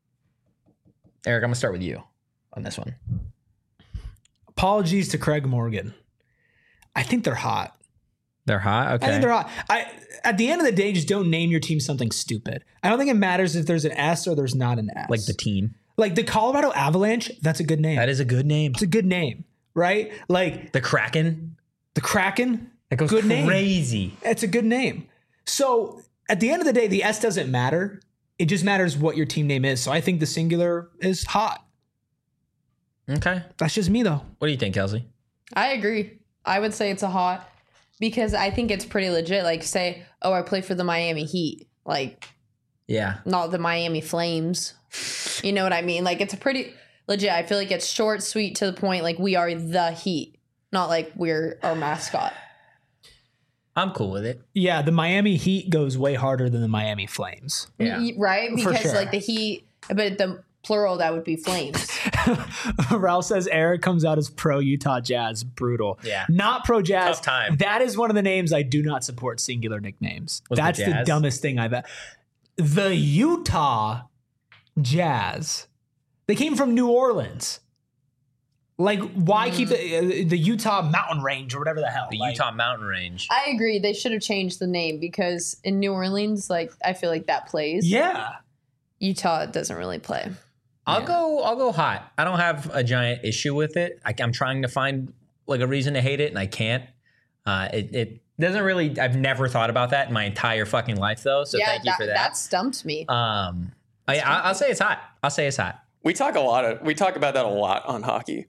Speaker 1: Eric, I'm gonna start with you on this one.
Speaker 2: Apologies to Craig Morgan. I think they're hot.
Speaker 1: They're hot. Okay.
Speaker 2: I think they're hot. I at the end of the day, just don't name your team something stupid. I don't think it matters if there's an S or there's not an S.
Speaker 1: like the team.
Speaker 2: like the Colorado Avalanche. That's a good name.
Speaker 1: That is a good name.
Speaker 2: It's a good name, right? Like
Speaker 1: The Kraken.
Speaker 2: the Kraken.
Speaker 1: That goes
Speaker 2: Good name.
Speaker 1: crazy.
Speaker 2: It's a good name. So at the end of the day, the S doesn't matter. It just matters what your team name is. So I think the singular is hot.
Speaker 1: Okay.
Speaker 2: That's just me though.
Speaker 1: What do you think, Kelsey?
Speaker 3: I agree. I would say it's a hot because I think it's pretty legit. Like, say, oh, I play for the Miami Heat. Like,
Speaker 1: Yeah.
Speaker 3: not the Miami Flames. You know what I mean? Like, it's a pretty legit. I feel like it's short, sweet, to the point. Like, we are the Heat, not like we're our mascot.
Speaker 1: I'm cool with it.
Speaker 2: Yeah, the Miami Heat goes way harder than the Miami Flames.
Speaker 1: Yeah.
Speaker 3: Y- Right?
Speaker 2: For
Speaker 3: Because,
Speaker 2: sure.
Speaker 3: like, the Heat, but the plural, that would be Flames.
Speaker 2: Ralph says Eric comes out as pro Utah Jazz. Brutal.
Speaker 1: Yeah.
Speaker 2: Not pro Jazz.
Speaker 1: Tough time.
Speaker 2: That is one of the names I do not support singular nicknames.
Speaker 1: Was the
Speaker 2: That's the,
Speaker 1: Jazz?
Speaker 2: dumbest thing I've ever. The Utah Jazz. They came from New Orleans. Like, why keep the uh, the Utah Mountain Range or whatever the hell?
Speaker 1: The
Speaker 2: Like,
Speaker 1: Utah Mountain Range.
Speaker 3: I agree. They should have changed the name because in New Orleans, like, I feel like that plays.
Speaker 2: Yeah.
Speaker 3: Utah doesn't really play.
Speaker 1: I'll
Speaker 2: Yeah.
Speaker 1: go. I'll go hot. I don't have a giant issue with it. I, I'm trying to find like a reason to hate it, and I can't. Uh, it, it doesn't really. I've never thought about that in my entire fucking life, though. So
Speaker 3: yeah,
Speaker 1: thank you
Speaker 3: that,
Speaker 1: for that.
Speaker 3: that stumped me.
Speaker 1: um, I, I, I'll say it's hot. I'll say it's hot.
Speaker 4: We talk a lot of we talk about that a lot on hockey.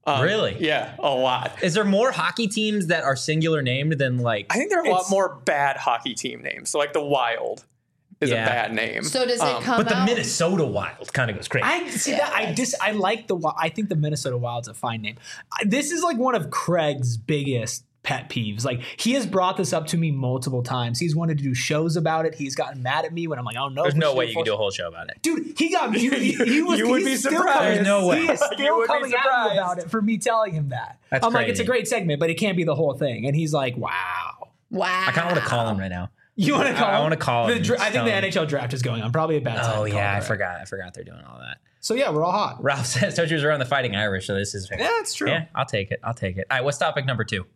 Speaker 4: Um,
Speaker 1: Really?
Speaker 4: Yeah, a lot.
Speaker 1: Is there more hockey teams that are singular named than like?
Speaker 4: I think there are a lot
Speaker 2: It's-
Speaker 4: more bad hockey team names. So like the Wild is
Speaker 1: Yeah.
Speaker 4: a bad name.
Speaker 3: So does it
Speaker 4: Um,
Speaker 3: come
Speaker 1: But the
Speaker 3: out?
Speaker 1: Minnesota Wild kind of goes crazy.
Speaker 2: I see that. I dis. I like the. Wi- I think the Minnesota Wild's a fine name. I- This is like one of Craig's biggest pet peeves. Like he has brought this up to me multiple times. He's wanted to do shows about it. He's gotten mad at me when I'm like, oh no.
Speaker 1: There's
Speaker 2: we
Speaker 1: no
Speaker 2: should
Speaker 1: way you can do a
Speaker 2: force-
Speaker 1: whole show about it.
Speaker 2: Dude, he got he, he, he was.
Speaker 4: You would
Speaker 2: he's
Speaker 4: be
Speaker 2: still
Speaker 4: surprised.
Speaker 2: coming-
Speaker 1: There's no way.
Speaker 2: He is
Speaker 4: You
Speaker 2: still
Speaker 4: would be
Speaker 2: coming at me
Speaker 4: surprised.
Speaker 2: about it for me telling him that.
Speaker 1: That's
Speaker 2: I'm like, it's a
Speaker 1: crazy.
Speaker 2: great segment, but it can't be the whole thing. And he's like, wow.
Speaker 3: Wow.
Speaker 1: I kind of want to call him right now.
Speaker 2: You want to call?
Speaker 1: I
Speaker 2: him?
Speaker 1: wanna call him
Speaker 2: The dra-
Speaker 1: and
Speaker 2: I think
Speaker 1: tell
Speaker 2: the
Speaker 1: him.
Speaker 2: N H L draft is going on. Probably a bad time.
Speaker 1: Oh
Speaker 2: to call
Speaker 1: yeah, I
Speaker 2: it, right?
Speaker 1: forgot. I forgot they're doing all that.
Speaker 2: So yeah, we're all hot.
Speaker 1: Ralph says Tochies are on the Fighting Irish, so this is fair.
Speaker 2: Yeah, that's true.
Speaker 1: Yeah, I'll take it. I'll take it. All right, what's topic number two?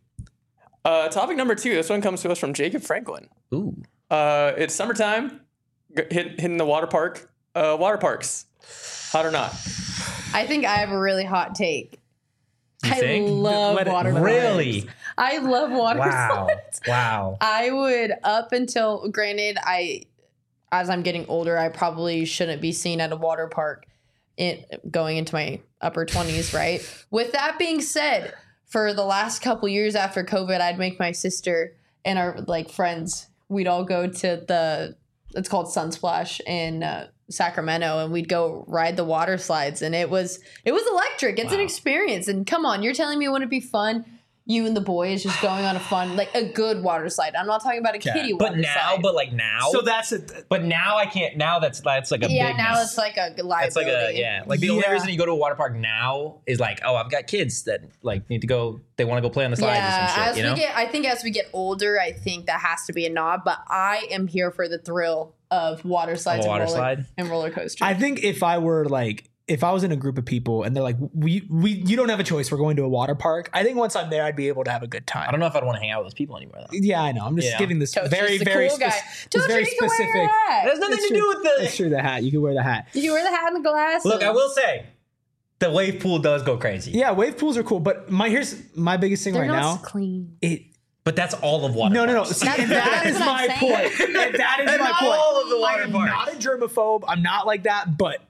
Speaker 4: uh, topic number two. This one comes to us from Jacob Franklin.
Speaker 1: Ooh,
Speaker 4: Uh, it's summertime. G- hit, hitting the water park. Uh, water parks. Hot or not?
Speaker 3: I think I have a really hot take.
Speaker 1: You
Speaker 3: I
Speaker 1: think?
Speaker 3: love
Speaker 2: Let it-
Speaker 3: water
Speaker 1: really?
Speaker 3: slides. I love water
Speaker 1: Wow,
Speaker 3: slides.
Speaker 1: wow.
Speaker 3: I would up until granted I as I'm getting older, I probably shouldn't be seen at a water park in going into my upper twenties, right? With that being said, for the last couple years after COVID, I'd make my sister and our like friends, we'd all go to the it's called Sunsplash in uh, Sacramento, and we'd go ride the water slides, and it was it was electric. It's an
Speaker 1: Wow.
Speaker 3: experience. And come on, you're telling me it wouldn't be fun? You and the boys just going on a fun, like a good water slide. I'm not talking about a kiddie water
Speaker 1: But now,
Speaker 3: slide.
Speaker 1: but like now,
Speaker 2: So that's it.
Speaker 1: but now I can't. Now that's that's like a
Speaker 3: yeah,
Speaker 1: big
Speaker 3: now
Speaker 1: no.
Speaker 3: it's like a liability.
Speaker 1: It's like a yeah. Like the only
Speaker 2: Yeah.
Speaker 1: reason you go to a water park now is like, oh, I've got kids that like need to go. They want to go play on the slides or
Speaker 3: Yeah,
Speaker 1: some shit.
Speaker 3: as
Speaker 1: You know.
Speaker 3: we get, I think as we get older, I think that has to be a nod. But I am here for the thrill of water slides
Speaker 1: water
Speaker 3: and, roller,
Speaker 1: slide?
Speaker 3: and roller coasters.
Speaker 2: I think if I were like, if I was in a group of people and they're like, we, we, you don't have a choice. We're going to a water park. I think once I'm there, I'd be able to have a good time.
Speaker 1: I don't know if I'd want to hang out with those people anymore though.
Speaker 2: Yeah, I know. I'm just
Speaker 1: Yeah.
Speaker 2: giving this
Speaker 3: Tochi's
Speaker 2: very,
Speaker 3: the
Speaker 2: very,
Speaker 3: cool guy.
Speaker 2: spec-
Speaker 3: Tochi,
Speaker 2: this very
Speaker 3: you can wear
Speaker 2: specific.
Speaker 3: your hat.
Speaker 1: It has nothing
Speaker 2: That's
Speaker 1: to
Speaker 2: true.
Speaker 1: do with the.
Speaker 2: That's true. The hat. You can wear the hat.
Speaker 3: You can wear the hat and the glasses.
Speaker 1: Look, I will say, the wave pool does go crazy.
Speaker 2: Yeah, wave pools are cool, but my here's my biggest thing
Speaker 3: They're
Speaker 2: right
Speaker 3: not
Speaker 2: now.
Speaker 3: clean.
Speaker 2: It
Speaker 1: But that's all of water.
Speaker 2: no, no, no.
Speaker 1: parks.
Speaker 2: See,
Speaker 3: That's-
Speaker 2: and that
Speaker 3: that's
Speaker 2: is
Speaker 3: what I'm
Speaker 2: my
Speaker 3: saying.
Speaker 2: point. And that is
Speaker 1: And
Speaker 2: my
Speaker 1: not
Speaker 2: point.
Speaker 1: all of the
Speaker 2: I
Speaker 1: water
Speaker 2: am
Speaker 1: parks.
Speaker 2: not a germaphobe. I'm not like that, but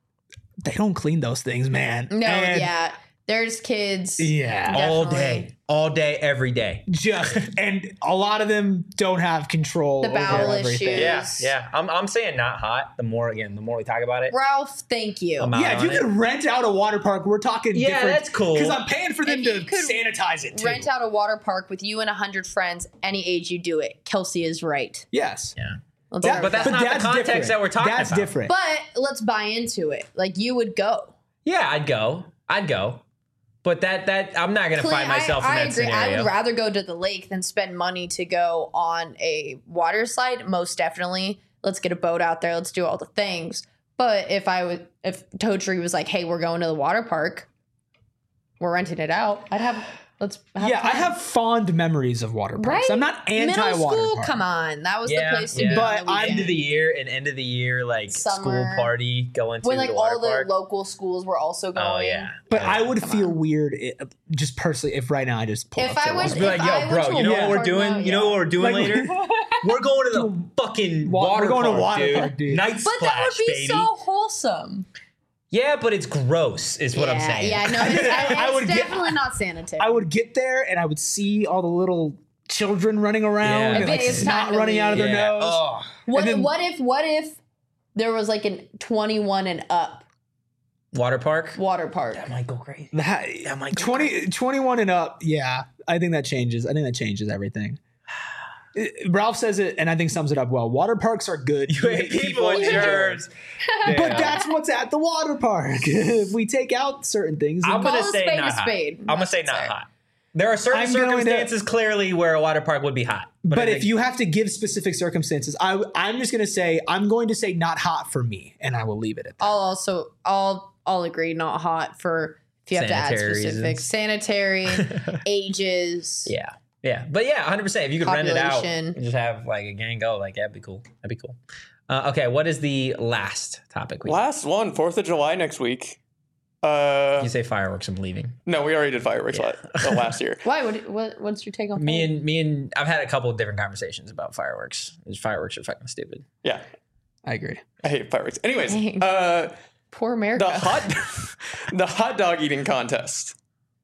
Speaker 2: they don't clean those things, man.
Speaker 3: No,
Speaker 2: And
Speaker 3: yeah. There's kids.
Speaker 2: Yeah.
Speaker 1: all
Speaker 3: Definitely.
Speaker 1: day, all day, every day.
Speaker 2: Just and a lot of them don't have control
Speaker 3: The
Speaker 2: over
Speaker 3: bowel
Speaker 2: everything.
Speaker 3: issues.
Speaker 1: Yeah, yeah. I'm, I'm saying not hot. The more again, the more we talk about it.
Speaker 3: Ralph, thank you.
Speaker 1: I'm out
Speaker 2: Yeah, if you
Speaker 1: on it.
Speaker 2: could rent out a water park, we're talking
Speaker 1: Yeah,
Speaker 2: different.
Speaker 1: that's cool.
Speaker 2: Because I'm paying for them
Speaker 3: If
Speaker 2: to
Speaker 3: you could
Speaker 2: sanitize it too.
Speaker 3: Rent out a water park with you and a hundred friends, any age you do it. Kelsey is right.
Speaker 2: Yes.
Speaker 1: Yeah.
Speaker 3: Let's
Speaker 2: That-
Speaker 3: start
Speaker 1: But
Speaker 3: with
Speaker 1: that's
Speaker 3: that.
Speaker 1: not the context
Speaker 2: different.
Speaker 1: that we're talking
Speaker 2: That's
Speaker 1: about.
Speaker 2: different.
Speaker 3: But let's buy into it. Like you would go.
Speaker 1: Yeah, I'd go. I'd go. But that that I'm not gonna
Speaker 3: Clean-
Speaker 1: find myself
Speaker 3: I,
Speaker 1: in
Speaker 3: I
Speaker 1: that
Speaker 3: agree. I
Speaker 1: scenario.
Speaker 3: would rather go to the lake than spend money to go on a water slide. Most definitely. Let's get a boat out there. Let's do all the things. But if I would, if Toadtree was like, "Hey, we're going to the water park. We're renting it out," I'd have. Let's. Have
Speaker 2: yeah, I
Speaker 3: fun.
Speaker 2: have fond memories of water parks.
Speaker 3: Right?
Speaker 2: I'm not
Speaker 3: Middle
Speaker 2: anti-water
Speaker 3: school.
Speaker 2: park.
Speaker 3: Come on, that was
Speaker 1: yeah,
Speaker 3: the place to
Speaker 1: yeah.
Speaker 3: be.
Speaker 2: But
Speaker 3: on the
Speaker 2: I'm-
Speaker 1: end
Speaker 3: weekend.
Speaker 1: of the year, an end of the year like school
Speaker 3: Summer.
Speaker 1: party going to
Speaker 3: when like
Speaker 1: the water
Speaker 3: all the
Speaker 1: park.
Speaker 3: local schools were also going.
Speaker 1: Oh yeah.
Speaker 2: But
Speaker 1: Yeah.
Speaker 2: I would
Speaker 3: Come
Speaker 2: feel
Speaker 3: on.
Speaker 2: weird, i- just personally, if right now I just pull
Speaker 3: If
Speaker 2: up to
Speaker 3: I
Speaker 2: a
Speaker 3: was-
Speaker 2: water
Speaker 1: Be
Speaker 2: park.
Speaker 1: like,
Speaker 3: If I
Speaker 1: yo,
Speaker 3: went
Speaker 1: bro,
Speaker 3: to a
Speaker 1: you know
Speaker 3: water
Speaker 1: what we're
Speaker 3: park
Speaker 1: doing?
Speaker 3: now,
Speaker 1: You know
Speaker 3: yeah.
Speaker 1: what we're doing
Speaker 2: Like-
Speaker 1: later? We're going to the fucking
Speaker 2: Wa-
Speaker 1: water
Speaker 2: we're going to
Speaker 1: park,
Speaker 2: water
Speaker 1: dude.
Speaker 2: park, dude.
Speaker 1: Night
Speaker 3: But
Speaker 1: splash,
Speaker 3: that would be
Speaker 1: baby.
Speaker 3: so wholesome.
Speaker 1: Yeah, but it's gross, is what I'm
Speaker 3: yeah,
Speaker 1: saying.
Speaker 3: Yeah, no, it's, it's
Speaker 2: I would get-
Speaker 3: definitely not sanitary.
Speaker 2: I would get there and I would see all the little children running around
Speaker 1: Yeah.
Speaker 2: and like
Speaker 3: It's time
Speaker 2: snot
Speaker 3: to
Speaker 2: running out of their
Speaker 1: Yeah.
Speaker 2: nose.
Speaker 1: Oh.
Speaker 3: What,
Speaker 2: and then-
Speaker 3: what if what if there was like a twenty-one and up
Speaker 1: Water park?
Speaker 3: water park?
Speaker 1: That might go crazy.
Speaker 2: That,
Speaker 1: That might go
Speaker 2: twenty, twenty-one and up, yeah. I think that changes. I think that changes everything. It- Ralph says it, and I think sums it up well. Water parks are good.
Speaker 1: You hate people and germs.
Speaker 2: But that's what's at the water park. If we take out certain things,
Speaker 1: I'm
Speaker 3: Call
Speaker 1: gonna
Speaker 3: a
Speaker 1: say
Speaker 3: spade
Speaker 1: not
Speaker 3: a
Speaker 1: hot.
Speaker 3: spade.
Speaker 1: I'm gonna say not
Speaker 3: Sorry.
Speaker 1: hot. There are certain
Speaker 2: I'm going to-
Speaker 1: circumstances clearly where a water park would be hot.
Speaker 2: but
Speaker 1: I
Speaker 2: if
Speaker 1: think-
Speaker 2: you have to give specific circumstances, I, I'm just going to say, I'm going to say not hot for me, and I will leave it at that.
Speaker 3: I'll also I'll I'll agree not hot for if you have to add
Speaker 1: Sanitary
Speaker 3: specifics.
Speaker 1: reasons.
Speaker 3: Sanitary, ages.
Speaker 1: yeah, yeah, but yeah, one hundred percent. If you could rent it out
Speaker 3: Population.
Speaker 1: and just have like a gang go, like that'd be cool. That'd be cool. Uh, okay, what is the last topic? We
Speaker 4: Last one, Fourth of July next week. Uh,
Speaker 1: you say fireworks. I'm leaving.
Speaker 4: no, we already did fireworks
Speaker 1: Yeah.
Speaker 4: la- uh, last year.
Speaker 3: Why? What, what what's your take on
Speaker 1: Me
Speaker 3: fireworks?
Speaker 1: and me and I've had a couple of different conversations about fireworks. Fireworks are fucking stupid.
Speaker 4: Yeah,
Speaker 2: I agree.
Speaker 4: I hate fireworks. Anyways,
Speaker 3: Dang.
Speaker 4: uh,
Speaker 3: Poor America?
Speaker 4: the hot the hot dog eating contest.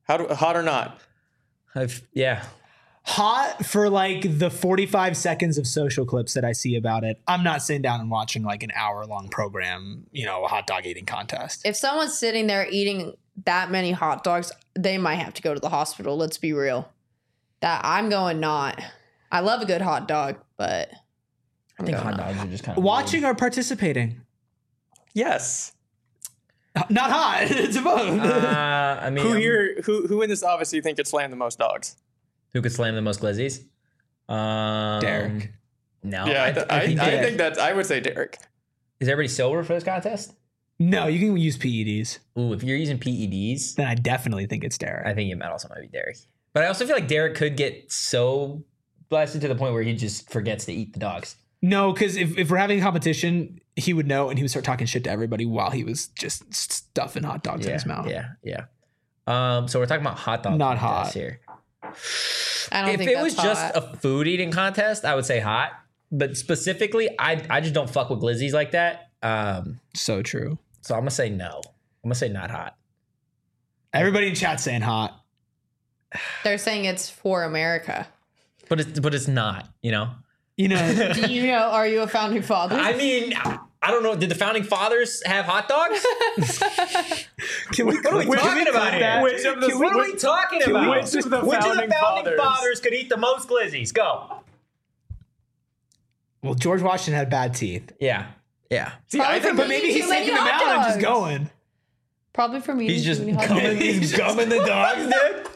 Speaker 4: How do, hot or not?
Speaker 1: I've, yeah.
Speaker 2: Hot for like the forty-five seconds of social clips that I see about it. I'm not sitting down and watching like an hour long program, you know, a hot dog eating contest.
Speaker 3: If someone's sitting there eating that many hot dogs, they might have to go to the hospital. Let's be real. That I'm going not. I love a good hot dog, but
Speaker 1: I think hot dogs are just kind of
Speaker 2: Watching or participating?
Speaker 4: Yes.
Speaker 2: Not hot. It's both.
Speaker 1: Uh, I mean,
Speaker 4: Who
Speaker 1: um,
Speaker 4: here? Who who in this office do you think could slam the most dogs?
Speaker 1: Who could slam the most glizzies? Um,
Speaker 2: Derek.
Speaker 1: No.
Speaker 4: yeah, I, th- I, I, think,
Speaker 2: Derek.
Speaker 4: I think that's. I would say Derek.
Speaker 1: Is everybody sober for this contest?
Speaker 2: No, you can use P E Ds.
Speaker 1: Ooh, if you're using P E Ds,
Speaker 2: Then I definitely think it's Derek.
Speaker 1: I think it might also might be Derek. But I also feel like Derek could get so blasted to the point where he just forgets to eat the dogs.
Speaker 2: No, because if, if we're having a competition, he would know and he would start talking shit to everybody while he was just stuffing hot dogs in
Speaker 1: Yeah,
Speaker 2: his mouth.
Speaker 1: yeah, yeah. Um, so we're talking about hot dogs.
Speaker 2: Not
Speaker 1: contest
Speaker 2: hot.
Speaker 1: here.
Speaker 3: I don't
Speaker 1: If
Speaker 3: think
Speaker 1: it
Speaker 3: that's
Speaker 1: was just
Speaker 3: hot.
Speaker 1: a food eating contest, I would say hot. But specifically, I I just don't fuck with glizzies like that. Um,
Speaker 2: So true.
Speaker 1: so I'm gonna say no. I'm gonna say not hot.
Speaker 2: Everybody in chat saying hot.
Speaker 3: They're saying it's for America.
Speaker 1: But it's but it's not. You know.
Speaker 2: You know,
Speaker 3: Do you know, are you a founding father?
Speaker 1: I mean, I don't know. Did the founding fathers have hot dogs?
Speaker 2: can we,
Speaker 1: What are we
Speaker 2: can
Speaker 1: talking
Speaker 2: we
Speaker 1: about
Speaker 2: cut
Speaker 1: here?
Speaker 2: that?
Speaker 4: Which of the-
Speaker 2: Can we-
Speaker 1: What are we talking
Speaker 2: Can we-
Speaker 1: about?
Speaker 2: which of
Speaker 4: the founding fathers?
Speaker 1: fathers could eat the most glizzies? Go.
Speaker 2: Well, George Washington had bad teeth.
Speaker 1: Yeah. Yeah.
Speaker 4: See,
Speaker 3: Probably
Speaker 4: I think,
Speaker 3: for
Speaker 2: But maybe
Speaker 3: Eating
Speaker 2: he's
Speaker 3: too many
Speaker 2: taking them
Speaker 3: hot
Speaker 2: out and just
Speaker 3: dogs.
Speaker 2: going.
Speaker 3: Probably from eating
Speaker 1: He's
Speaker 3: too
Speaker 1: just
Speaker 3: many hot
Speaker 1: gumming,
Speaker 3: dogs.
Speaker 1: he's gumming the dogs, dude.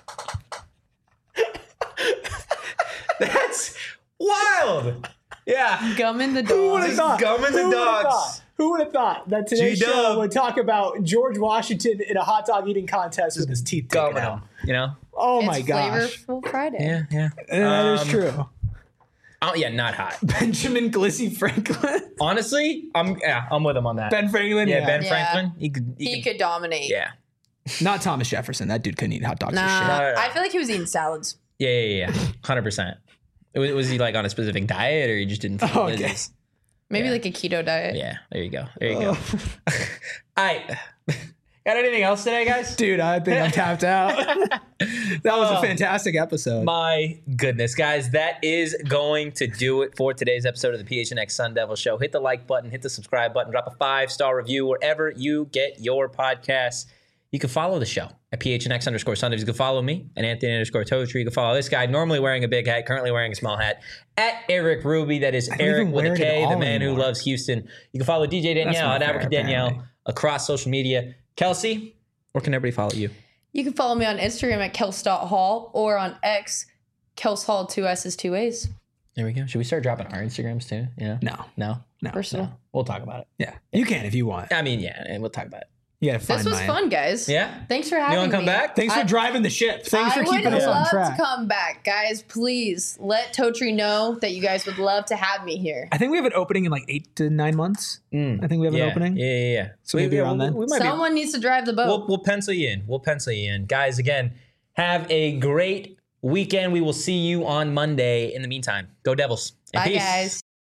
Speaker 1: That's wild. Yeah.
Speaker 3: Gumming the
Speaker 2: Who would
Speaker 3: dogs.
Speaker 2: have thought?
Speaker 1: gumming the
Speaker 2: Who would've
Speaker 1: dogs.
Speaker 2: thought? Who would have thought that today's
Speaker 1: G-Dub.
Speaker 2: show would talk about George Washington in a hot dog eating contest with his teeth taken
Speaker 1: Gumming
Speaker 2: out?
Speaker 1: them. You know?
Speaker 2: Oh
Speaker 3: It's
Speaker 2: my gosh.
Speaker 3: Flavorful Friday.
Speaker 1: Yeah. Yeah.
Speaker 2: That is
Speaker 1: Um,
Speaker 2: true.
Speaker 1: Oh yeah, not hot.
Speaker 2: Benjamin Glizzy Franklin.
Speaker 1: Honestly, I'm yeah, I'm with him on that.
Speaker 2: Ben Franklin.
Speaker 1: yeah,
Speaker 2: Yeah,
Speaker 1: Ben
Speaker 3: Yeah.
Speaker 1: Franklin. He could. He,
Speaker 3: He
Speaker 1: could.
Speaker 3: could dominate.
Speaker 1: Yeah.
Speaker 2: Not Thomas Jefferson. That dude couldn't eat hot dogs
Speaker 3: Nah,
Speaker 2: for shit.
Speaker 1: No, no, no.
Speaker 3: I feel like he was eating salads.
Speaker 1: Yeah. Yeah. Yeah. Hundred percent. Was, was he like on a specific diet, or he just didn't? fuck with
Speaker 2: Okay.
Speaker 1: glizzies?
Speaker 3: Maybe
Speaker 1: Yeah.
Speaker 3: like a keto diet.
Speaker 1: Yeah. There you go. There you go. All right. Got anything else today, guys?
Speaker 2: Dude, I think I'm tapped out. That was a
Speaker 1: Oh.
Speaker 2: fantastic episode.
Speaker 1: My goodness, guys, that is going to do it for today's episode of the P H N X Sun Devil Show. Hit the like button, hit the subscribe button, drop a five-star review wherever you get your podcasts. You can follow the show at P H N X underscore Sun Devils. You can follow me at Anthony underscore Totri. You can follow this guy, normally wearing a big hat, currently wearing a small hat, at Eric Ruby. That is
Speaker 2: don't
Speaker 1: Eric
Speaker 2: even
Speaker 1: with a
Speaker 2: wear it
Speaker 1: K,
Speaker 2: at
Speaker 1: the
Speaker 2: all
Speaker 1: man who
Speaker 2: anymore.
Speaker 1: loves Houston. You can follow D J Danielle
Speaker 2: not
Speaker 1: at
Speaker 2: fair,
Speaker 1: Abrica Danielle
Speaker 2: apparently.
Speaker 1: across social media. Kelsey, where can everybody follow you?
Speaker 3: You can follow me on Instagram at kels.hall or on X, Kels Hall, two S's, two A's.
Speaker 1: There we go. Should we start dropping our Instagrams too? Yeah.
Speaker 2: No,
Speaker 1: No?
Speaker 2: no.
Speaker 3: Personal.
Speaker 1: We'll talk about it.
Speaker 2: Yeah, you can if you want.
Speaker 1: I mean, yeah, and we'll talk about it.
Speaker 2: You gotta find
Speaker 3: This was
Speaker 2: mine.
Speaker 3: fun, guys.
Speaker 1: Yeah?
Speaker 3: Thanks for having
Speaker 1: You
Speaker 3: me.
Speaker 1: want to come back?
Speaker 2: Thanks for
Speaker 3: I-
Speaker 2: driving the ship. Thanks
Speaker 3: I
Speaker 2: for keeping
Speaker 3: would
Speaker 2: us on
Speaker 3: love
Speaker 2: track.
Speaker 3: to come back. Guys, please let Totri know that you guys would love to have me here.
Speaker 2: I think we have an opening in like eight to nine months.
Speaker 1: Mm.
Speaker 2: I think we have
Speaker 1: Yeah,
Speaker 2: an opening.
Speaker 1: yeah, yeah, yeah.
Speaker 2: So maybe around
Speaker 1: we'll,
Speaker 2: then?
Speaker 1: we might be,
Speaker 3: Someone needs to drive the boat.
Speaker 1: we'll, we'll pencil you in. We'll pencil you in. Guys, again, have a great weekend. We will see you on Monday. In the meantime, go Devils. And
Speaker 3: Bye,
Speaker 1: peace.
Speaker 3: guys.